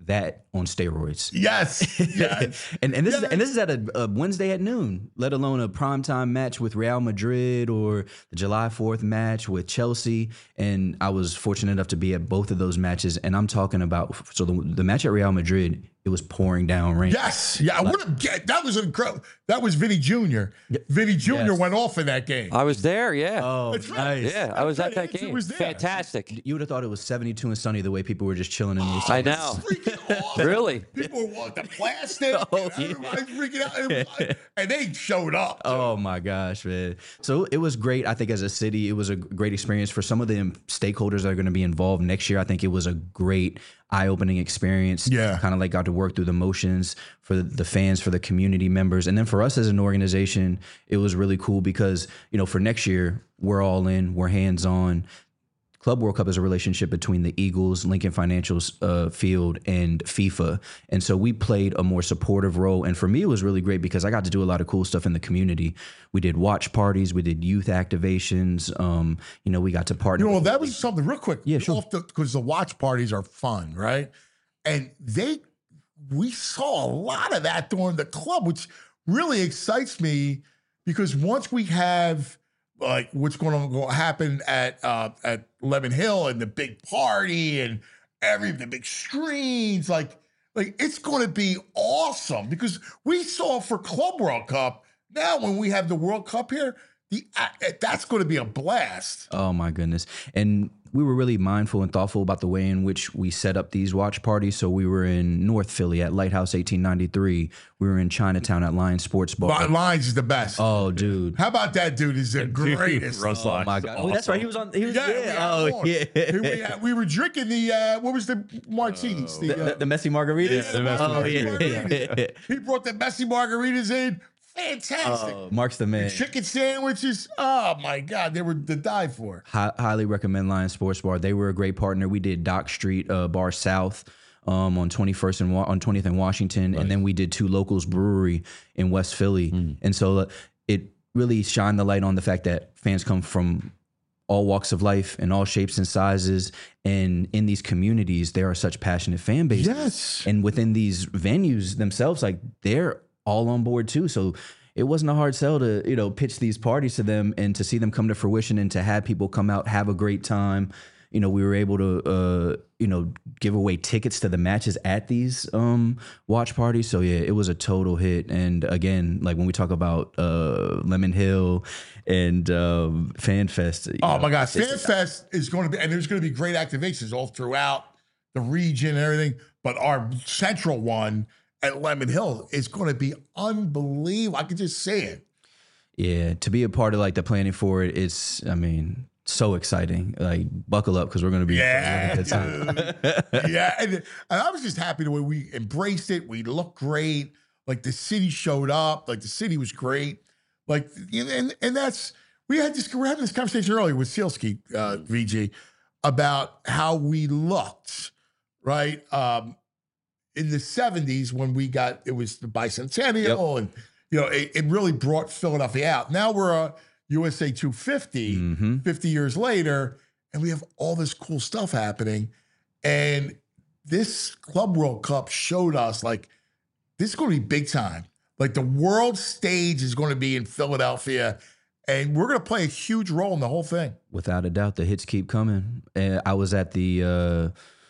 that on steroids. Yes, yes. and and this yes. is and this is at a, a Wednesday at noon, let alone a primetime match with Real Madrid or the July fourth match with Chelsea. And I was fortunate enough to be at both of those matches. And I'm talking about so the, the match at Real Madrid, it was pouring down rain. Yes, yeah. I would have. That was incredible. That was Vinny Junior Vinny Junior Yes. went off in that game. I was there. Yeah. Oh, That's right. nice. yeah, I was at that It game. was there. Fantastic. You would have thought it was seventy-two and sunny the way people were just chilling in those. I know. Freaking awesome. Really? People want the plastic. Oh, and everybody's freaking out. It was like- and they showed up. too. Oh my gosh, man. So it was great. I think as a city, it was a great experience for some of the stakeholders that are going to be involved next year. I think it was a great eye-opening experience. Yeah. Kind of like got to work through the motions for the fans, for the community members. And then for us as an organization, it was really cool because, you know, for next year, we're all in, we're hands-on. Club World Cup is a relationship between the Eagles, Lincoln Financial's uh, field, and FIFA. And so we played a more supportive role. And for me, it was really great because I got to do a lot of cool stuff in the community. We did watch parties. We did youth activations. Um, you know, we got to partner. You know, with- that was something real quick. Yeah, sure. Because the, the watch parties are fun, right? And they, we saw a lot of that during the club, which really excites me because once we have like what's going to go happen at uh, at Lemon Hill and the big party and every the big screens, like like it's going to be awesome because we saw for Club World Cup. Now when we have the World Cup here, the uh, that's going to be a blast. Oh my goodness. And we were really mindful and thoughtful about the way in which we set up these watch parties. So we were in North Philly at Lighthouse eighteen ninety-three. We were in Chinatown at Lions Sports Bar. Li- Lions is the best. Oh, dude. How about that dude? Is the greatest. Russ Oh Lines my is God. Oh, that's right. He was on. He was. Yeah, Yeah. we had Oh, more. yeah. we, had- we were drinking the uh, what was the martinis? the, The, uh, the, the messy margaritas. the the messy oh, yeah. margaritas. He brought the messy margaritas in. Fantastic. Oh, Mark's the man. Chicken sandwiches. Oh my God, they were to die for. Hi- highly recommend Lions Sports Bar. They were a great partner. We did Dock Street uh, Bar South um, on twenty-first and Wa- on twentieth and Washington, and then we did Two Locals Brewery in West Philly. Mm. And so uh, it really shined the light on the fact that fans come from all walks of life and all shapes and sizes. And in these communities, there are such passionate fan bases. Yes. And within these venues themselves, like they're all on board too. So it wasn't a hard sell to, you know, pitch these parties to them and to see them come to fruition and to have people come out, have a great time. You know, we were able to, uh, you know, give away tickets to the matches at these um, watch parties. So yeah, it was a total hit. And again, like when we talk about uh, Lemon Hill and um, Fan Fest. you Oh know, my God, Fan it's- Fest is going to be, and there's going to be great activations all throughout the region and everything. But our central one at Lemon Hill is going to be unbelievable. I can just say it. Yeah, to be a part of like the planning for it, it's, I mean, so exciting. Like, buckle up because we're going to be Yeah, having a good time. dude. yeah. And, and I was just happy the way we embraced it. We looked great. Like the city showed up. Like the city was great. Like, and and that's we had this. We were having this conversation earlier with Sealski, uh, V G, about how we looked, right? Um, in the seventies when we got it was the bicentennial, and you know it, it really brought Philadelphia out. Now we're a U S A two fifty, Mm-hmm. fifty years later, and we have all this cool stuff happening. And this Club World Cup showed us like this is going to be big time. Like the world stage is going to be in Philadelphia, and we're going to play a huge role in the whole thing. Without a doubt, the hits keep coming. Uh, I was at the uh,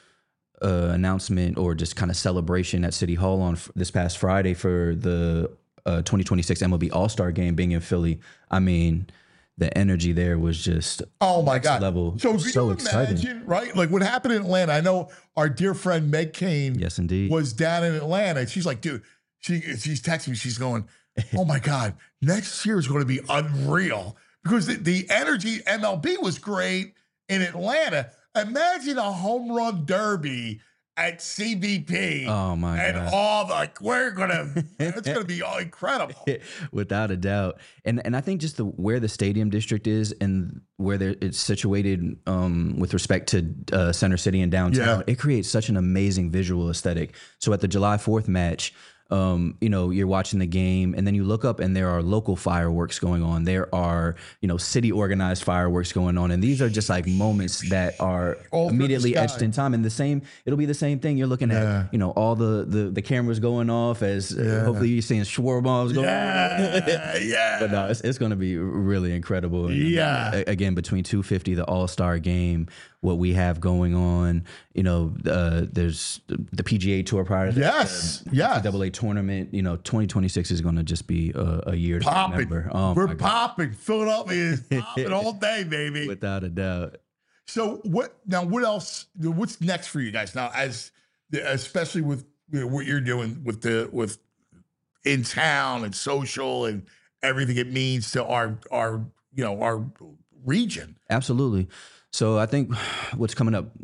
uh, announcement or just kind of celebration at City Hall on f- this past Friday for the uh, twenty twenty-six M L B All-Star Game being in Philly. I mean, the energy there was just Oh my next God! level. So, So can you exciting. imagine, right? Like what happened in Atlanta. I know our dear friend Meg Kane. Yes, indeed. Was down in Atlanta, and she's like, dude, she she's texting me. She's going, oh my God, next year is going to be unreal because the, the energy M L B was great in Atlanta. Imagine a home run derby at C B P. Oh my and God. all the, like we're gonna, it's gonna be all incredible. Without a doubt. And and I think just the where the stadium district is and where there, it's situated um, with respect to uh, Center City and downtown, Yeah. it creates such an amazing visual aesthetic. So at the July fourth match, Um, you know, you're watching the game and then you look up and there are local fireworks going on. There are, you know, city organized fireworks going on. And these are just like moments that are All through the immediately sky. etched in time. And the same, it'll be the same thing. You're looking Yeah. at, you know, all the, the, the cameras going off as uh, Yeah. hopefully you're seeing Schwar bombs going Yeah, yeah. But no, it's, it's going to be really incredible. And, Yeah. uh, again, between two fifty, the All-Star game, what we have going on, you know, uh, there's the, the P G A Tour prior to that, Yes, uh, yes. double A tournament. You know, twenty twenty-six is going to just be a, a year to Popping. remember. Oh, We're my God. popping. Philadelphia is popping all day, baby. Without a doubt. So what now? What else? What's next for you guys now? As especially with you know, what you're doing with the with in town and social and everything it means to our our you know our region. Absolutely. So I think what's coming up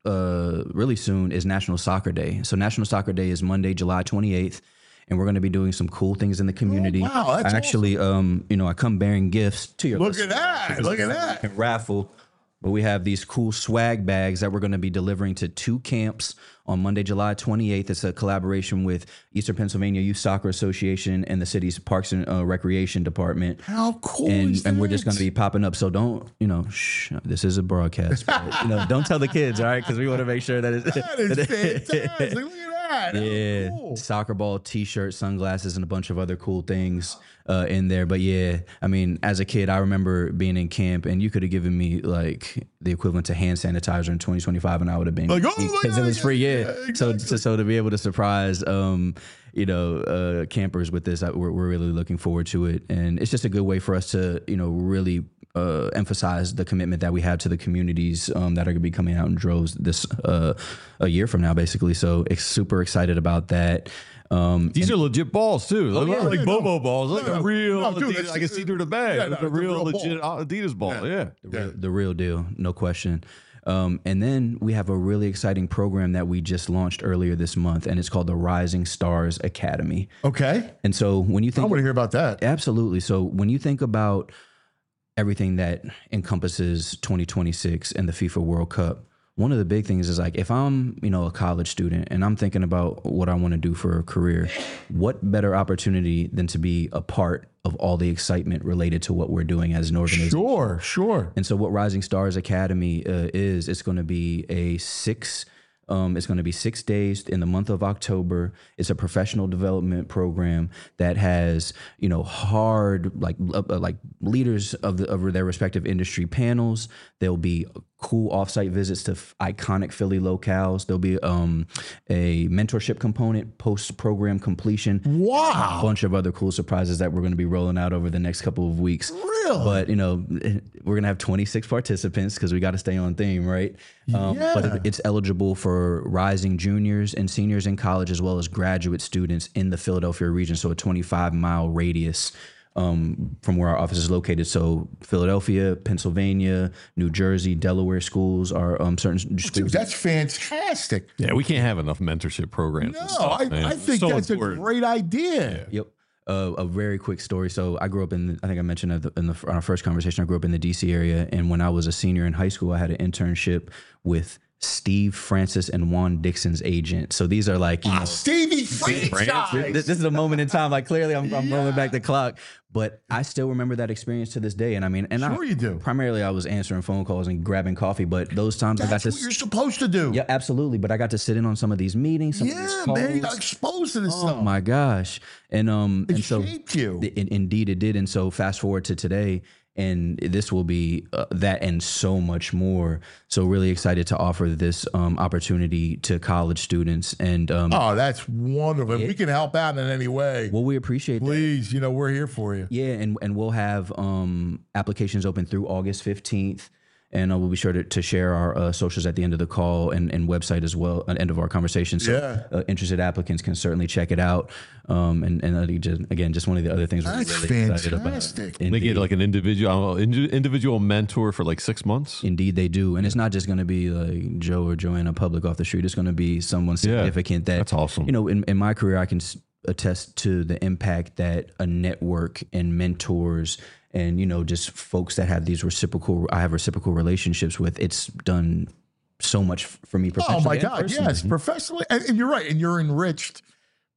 uh, really soon is National Soccer Day. So National Soccer Day is Monday, July twenty-eighth. And we're going to be doing some cool things in the community. Oh, wow, that's I actually, um, you know, I come bearing gifts to your Look at listeners. that. Look at that. And raffle. But we have these cool swag bags that we're going to be delivering to two camps on Monday, July twenty-eighth. It's a collaboration with Eastern Pennsylvania Youth Soccer Association and the city's Parks and uh, Recreation Department. How cool And, is and we're that? just going to be popping up. So don't, you know, shh, this is a broadcast. But, you know, don't tell the kids, all right? Because we want to make sure that it's. That is fantastic. Look at that. Yeah, Cool. soccer ball, t-shirt, sunglasses, and a bunch of other cool things uh, in there. But yeah, I mean, as a kid, I remember being in camp, and you could have given me like the equivalent to hand sanitizer in twenty twenty-five, and I would have been Like, oh, because yeah, it was free. yeah, Yeah, yeah, so exactly. so so to be able to surprise, um, you know, uh, campers with this, I, we're we're really looking forward to it, and it's just a good way for us to, you know, really. Uh, emphasize the commitment that we have to the communities um, that are going to be coming out in droves this uh, a year from now, basically. So ex- super excited about that. Um, These are legit balls too. They look yeah, like yeah, Bobo no. balls, like No, a no. real. No, dude, Adidas. that's- I can see through the bag. Yeah, no, it's a it's a real, real ball. legit Adidas ball. Yeah. the, real, the real deal, no question. Um, and then we have a really exciting program that we just launched earlier this month, and it's called the Rising Stars Academy. Okay. And so when you I think, want to hear about that. absolutely. So when you think about everything that encompasses twenty twenty-six and the FIFA World Cup, one of the big things is like, if I'm, you know, a college student and I'm thinking about what I want to do for a career, what better opportunity than to be a part of all the excitement related to what we're doing as an organization? Sure, sure. And so what Rising Stars Academy uh, is, it's going to be a six, um, it's going to be six days in the month of October. It's a professional development program that has, you know, hard, like, uh, like leaders of the, of their respective industry panels. There'll be cool offsite visits to f- iconic Philly locales. There'll be um, a mentorship component, post-program completion. Wow. A bunch of other cool surprises that we're going to be rolling out over the next couple of weeks. Really? But, you know, we're going to have twenty-six participants because we got to stay on theme, right? Um, Yeah. But it- it's eligible for rising juniors and seniors in college as well as graduate students in the Philadelphia region. So a twenty-five mile radius um, from where our office is located. So Philadelphia, Pennsylvania, New Jersey, Delaware schools are um, certain Dude, schools. that's fantastic. Yeah, we can't have enough mentorship programs. No, and stuff, I, man. I It's think so that's important. a great idea. Yep. Uh, a very quick story. So I grew up in, I think I mentioned at the, in the, on our first conversation, I grew up in the D C area. And when I was a senior in high school, I had an internship with Steve Francis and Juan Dixon's agent. So these are like, you know, Stevie franchise. this, this is a moment in time. Like clearly I'm, I'm rolling back the clock, but I still remember that experience to this day. And I mean, and Sure I, you do. primarily I was answering phone calls and grabbing coffee, but those times I got That's to, what you're supposed to do. yeah, absolutely. But I got to sit in on some of these meetings, some of Yeah, these man, you got calls. exposed to this Oh stuff. my gosh. And um It and so shaped you. in- indeed it did. And so fast forward to today, and this will be uh, that and so much more. So really excited to offer this um, opportunity to college students. And um, Oh, that's wonderful. If we can help out in any way, well, we appreciate that. please, you know, we're here for you. Yeah, and and we'll have um, applications open through August fifteenth. And uh, we'll be sure to, to share our uh, socials at the end of the call and, and website as well, at the end of our conversation. So Yeah. uh, interested applicants can certainly check it out. Um, and and uh, just, again, just one of the other things we're That's really excited about. fantastic. They Indeed. get like an individual indi- individual mentor for like six months. Indeed, they do. And it's not just going to be like Joe or Joanna Public off the street. It's going to be someone significant that, that's awesome. You know, in, in my career, I can s- attest to the impact that a network and mentors and, you know, just folks that have these reciprocal, I have reciprocal relationships with, it's done so much f- for me Oh professionally. my and God, personally. yes, professionally, and, and you're right, and you're enriched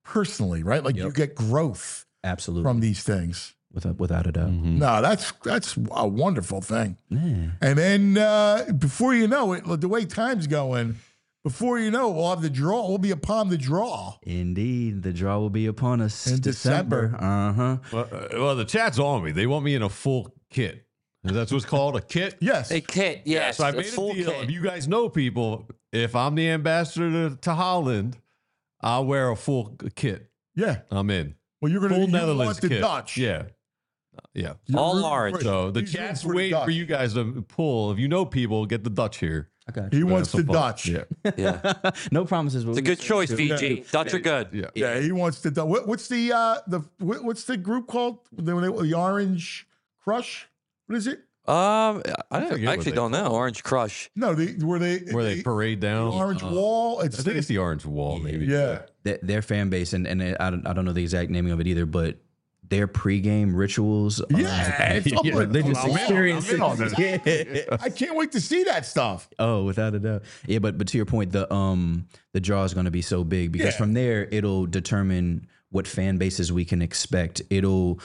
personally, right? Like Yep. you get growth Absolutely. from these things. Without, without a doubt. Mm-hmm. No, that's that's a wonderful thing. Yeah. And then uh, before you know it, the way time's going, before you know it, we'll have the draw. We'll be upon the draw. Indeed. The draw will be upon us. In December. Uh-huh. Well, uh, well, the chat's on me. They want me in a full kit. That's what's called a kit. Yes. A kit, yes. So I a made a full deal. kit. If you guys know people, if I'm the ambassador to, to Holland, I'll wear a full kit. Yeah. I'm in. Well, you're going Full to Netherlands want the kit. Dutch. Yeah. Yeah. You're All rooting orange. for- So the he's rooting chat's for the waiting for Dutch. you guys to pull. If you know people, get the Dutch here. I got He you. wants Have the some fun. Dutch. Yeah. Yeah. No promises. But It's a good choice, Fiji. Dutch are good. Yeah. Yeah, he wants the Dutch. What, what's the uh the what, what's the group called? The, the Orange Crush? What is it? Um, I, don't, forget I what actually they don't know. Orange Crush. No, they were they Where they parade down. the Orange Uh, Wall. It's I think it's the orange wall, maybe. yeah. Their, their fan base, and, and I, don't, I don't know the exact naming of it either, but their pregame rituals. Are, Yeah, it's Yeah, unbelievable. religious I'm in on- experiences. I'm in on this. Yeah. I can't wait to see that stuff. Oh, without a doubt. Yeah, but but to your point, the um the draw is going to be so big because Yeah. from there it'll determine what fan bases we can expect. It'll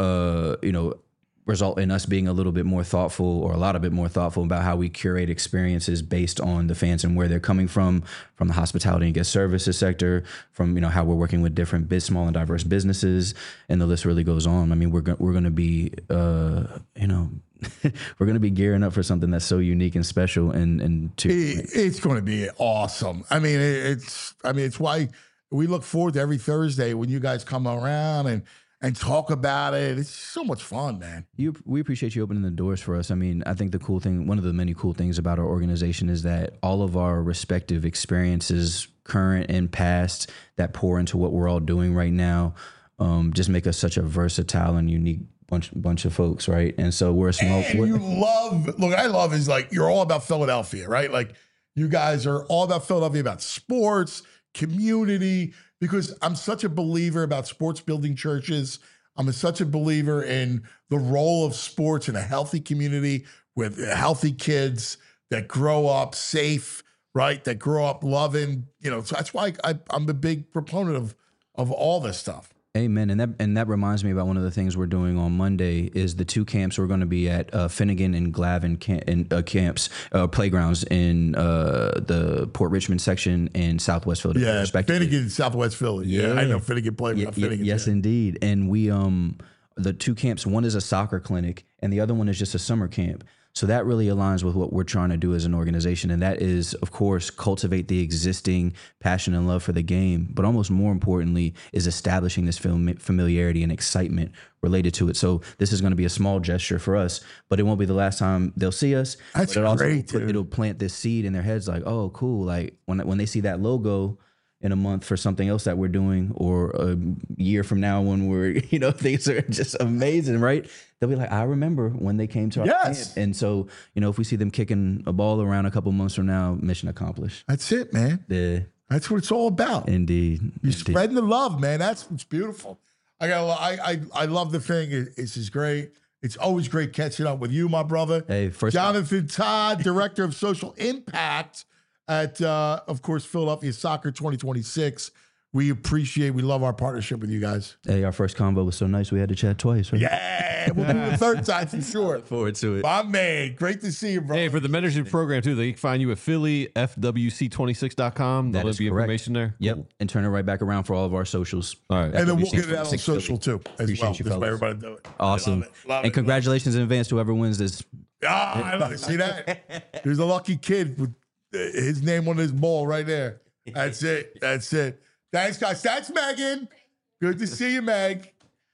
uh you know result in us being a little bit more thoughtful or a lot of bit more thoughtful about how we curate experiences based on the fans and where they're coming from, from the hospitality and guest services sector, from, you know, how we're working with different big, small and diverse businesses. And the list really goes on. I mean, we're, go- we're going to be, uh, you know, we're going to be gearing up for something that's so unique and special. And, and to, It- it's going to be awesome. I mean, it, it's I mean, it's why we look forward to every Thursday when you guys come around and and talk about it. It's so much fun, man. You, we appreciate you opening the doors for us. I mean, I think the cool thing, one of the many cool things about our organization is that all of our respective experiences, current and past, that pour into what we're all doing right now, um, just make us such a versatile and unique bunch bunch of folks, right? And so we're a small. And we're- you love, look, what I love is like, you're all about Philadelphia, right? Like, you guys are all about Philadelphia, about sports, community, because I'm such a believer about sports building churches. I'm a, such a believer in the role of sports in a healthy community with healthy kids that grow up safe, right? That grow up loving, you know, so that's why I, I'm a big proponent of, of all this stuff. Amen. And that and that reminds me about one of the things we're doing on Monday is the two camps we're going to be at uh, Finnegan and Glavin camp, in, uh, camps, uh, playgrounds in uh, the Port Richmond section and Southwest Philadelphia, Yeah, respectively. Finnegan, Southwest Philly. Yeah, I know Finnegan played Ye- with ye- Finnegan. yes, yeah. indeed. And we um the two camps, one is a soccer clinic and the other one is just a summer camp. So that really aligns with what we're trying to do as an organization. And that is, of course, cultivate the existing passion and love for the game. But almost more importantly is establishing this fam- familiarity and excitement related to it. So this is going to be a small gesture for us, but it won't be the last time they'll see us. That's but it also great, put- dude. it'll plant this seed in their heads like, oh, cool. Like when, when they see that logo in a month for something else that we're doing, or a year from now when we're, you know, things are just amazing, right? They'll be like, I remember when they came to our Yes. camp. And so, you know, if we see them kicking a ball around a couple months from now, mission accomplished. That's it, man. Yeah, That's what it's all about. indeed. You're indeed. spreading the love, man. That's what's beautiful. I got. I I I love the thing. It- It's just great. It's always great catching up with you, my brother. Hey, first Jonathan Todd, Director of Social Impact at, uh, of course, Philadelphia Soccer twenty twenty-six. We appreciate, we love our partnership with you guys. Hey, our first convo was so nice. We had to chat twice. Right? Yeah, we'll do it the third time for sure. Look forward to it. My man, great to see you, bro. Hey, for the mentorship program too, they can find you at Philly F W C twenty-six dot com. That There'll is be correct. information there. Yep. Cool. And turn it right back around for all of our socials. All right. And then we'll F W C get it out on twenty-six social too, as Appreciate well. you, That's why fellas. everybody do it. Awesome. Love it, love and it, congratulations in advance to whoever wins this. Ah, I love it. See that? There's a lucky kid with uh, his name on his ball right there. That's it. That's it. Thanks, guys. That's Megan. Good to see you, Meg.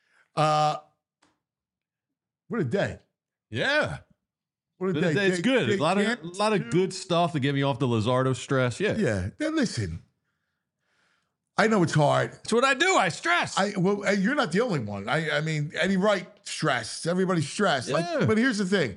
Uh, what a day. Yeah. What a It's, day. it's They- good. they A lot of can't a lot of good stuff to get me off the Lizardo stress. Yeah. Yeah. Now listen, I know it's hard. That's what I do. I stress. I well, and you're not the only one. I I mean, Eddie Wright stressed. Everybody's stressed. Yeah. Like, but here's the thing.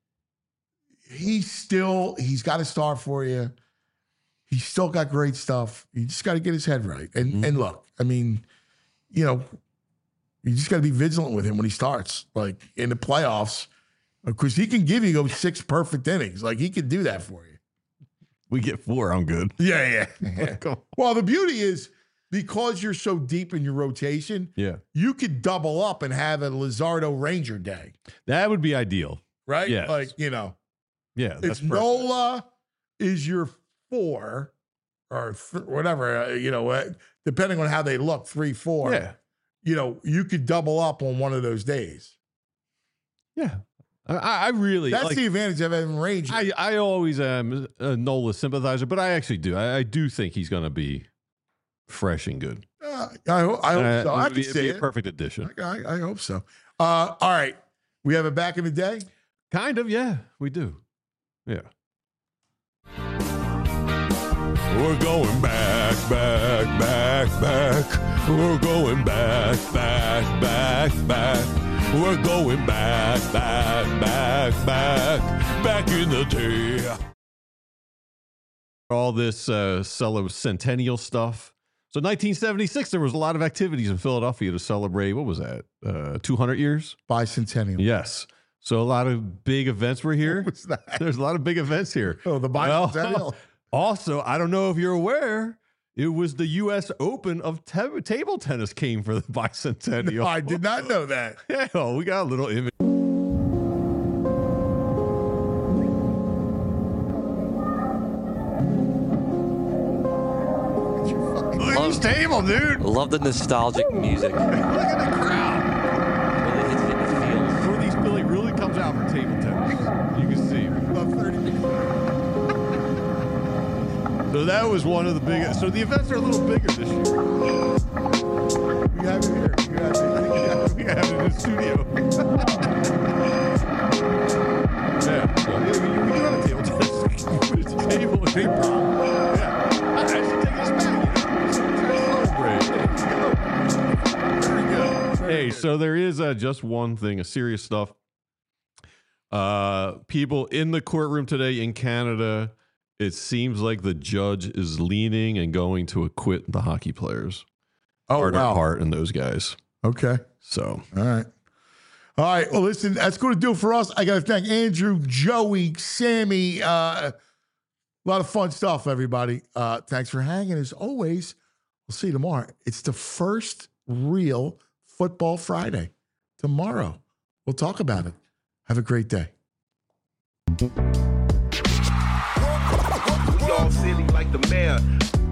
He's still, he's got a star for you. He's still got great stuff. You just got to get his head right. And Mm-hmm. and look, I mean, you know, you just got to be vigilant with him when he starts, like in the playoffs, because he can give you those six perfect innings. Like he can do that for you. we get four. I'm good. Yeah, yeah. Come on. Well, the beauty is because you're so deep in your rotation, Yeah. you could double up and have a Lizardo Ranger day, That would be ideal. right? Yes. Like, you know, Yeah. That's it's perfect. Nola is your four or th- whatever, uh, you know, uh, depending on how they look, three, four. Yeah. You know, you could double up on one of those days. Yeah. I, I really That's like, the advantage of having Ranger. I, I always am a Nola sympathizer, but I actually do. I, I do think he's going to be fresh and good. Uh, I, ho- I hope Uh, so. I it'd can be, it'd see be a it. perfect addition. I, I, I hope so. Uh, all right. We have it back in the day. Kind of, yeah, we do. Yeah. We're going back, back, back, back. We're going back, back, back, back. We're going back, back, back, back. Back in the day. All this uh, cello centennial stuff. So nineteen seventy-six, there was a lot of activities in Philadelphia to celebrate, what was that, uh, two hundred years? Bicentennial. Yes. So a lot of big events were here. What's that? There's a lot of big events here. Oh, the bicentennial. Well, also, I don't know if you're aware, it was the U S Open of te- table tennis came for the bicentennial. No, I did not know that. Yeah, well, we got a little image. Look at this table, dude. Love the nostalgic music. Look at the crowd. Really hits it in the feels. Northeast Philly really comes out for table tennis. You can see. About thirty minutes. So that was one of the biggest. So the events are a little bigger this year. We have it here. We have it, We have it in the studio. Yeah. So, yeah, we, we do have a table tennis. Put it to the table. Big problem. Yeah. I should take us back. You know? Celebrate. Very good. Hey, so there is uh, just one thing, a serious stuff. Uh, people in the courtroom today in Canada, it seems like the judge is leaning and going to acquit the hockey players. Oh, Carter wow. Hart and those guys. Okay. So, All right. All right. Well, listen, that's going to do it for us. I got to thank Andrew, Joey, Sammy. Uh, a lot of fun stuff, everybody. Uh, thanks for hanging. As always, we'll see you tomorrow. It's the first real Football Friday. Tomorrow. We'll talk about it. Have a great day. We all silly like the mayor.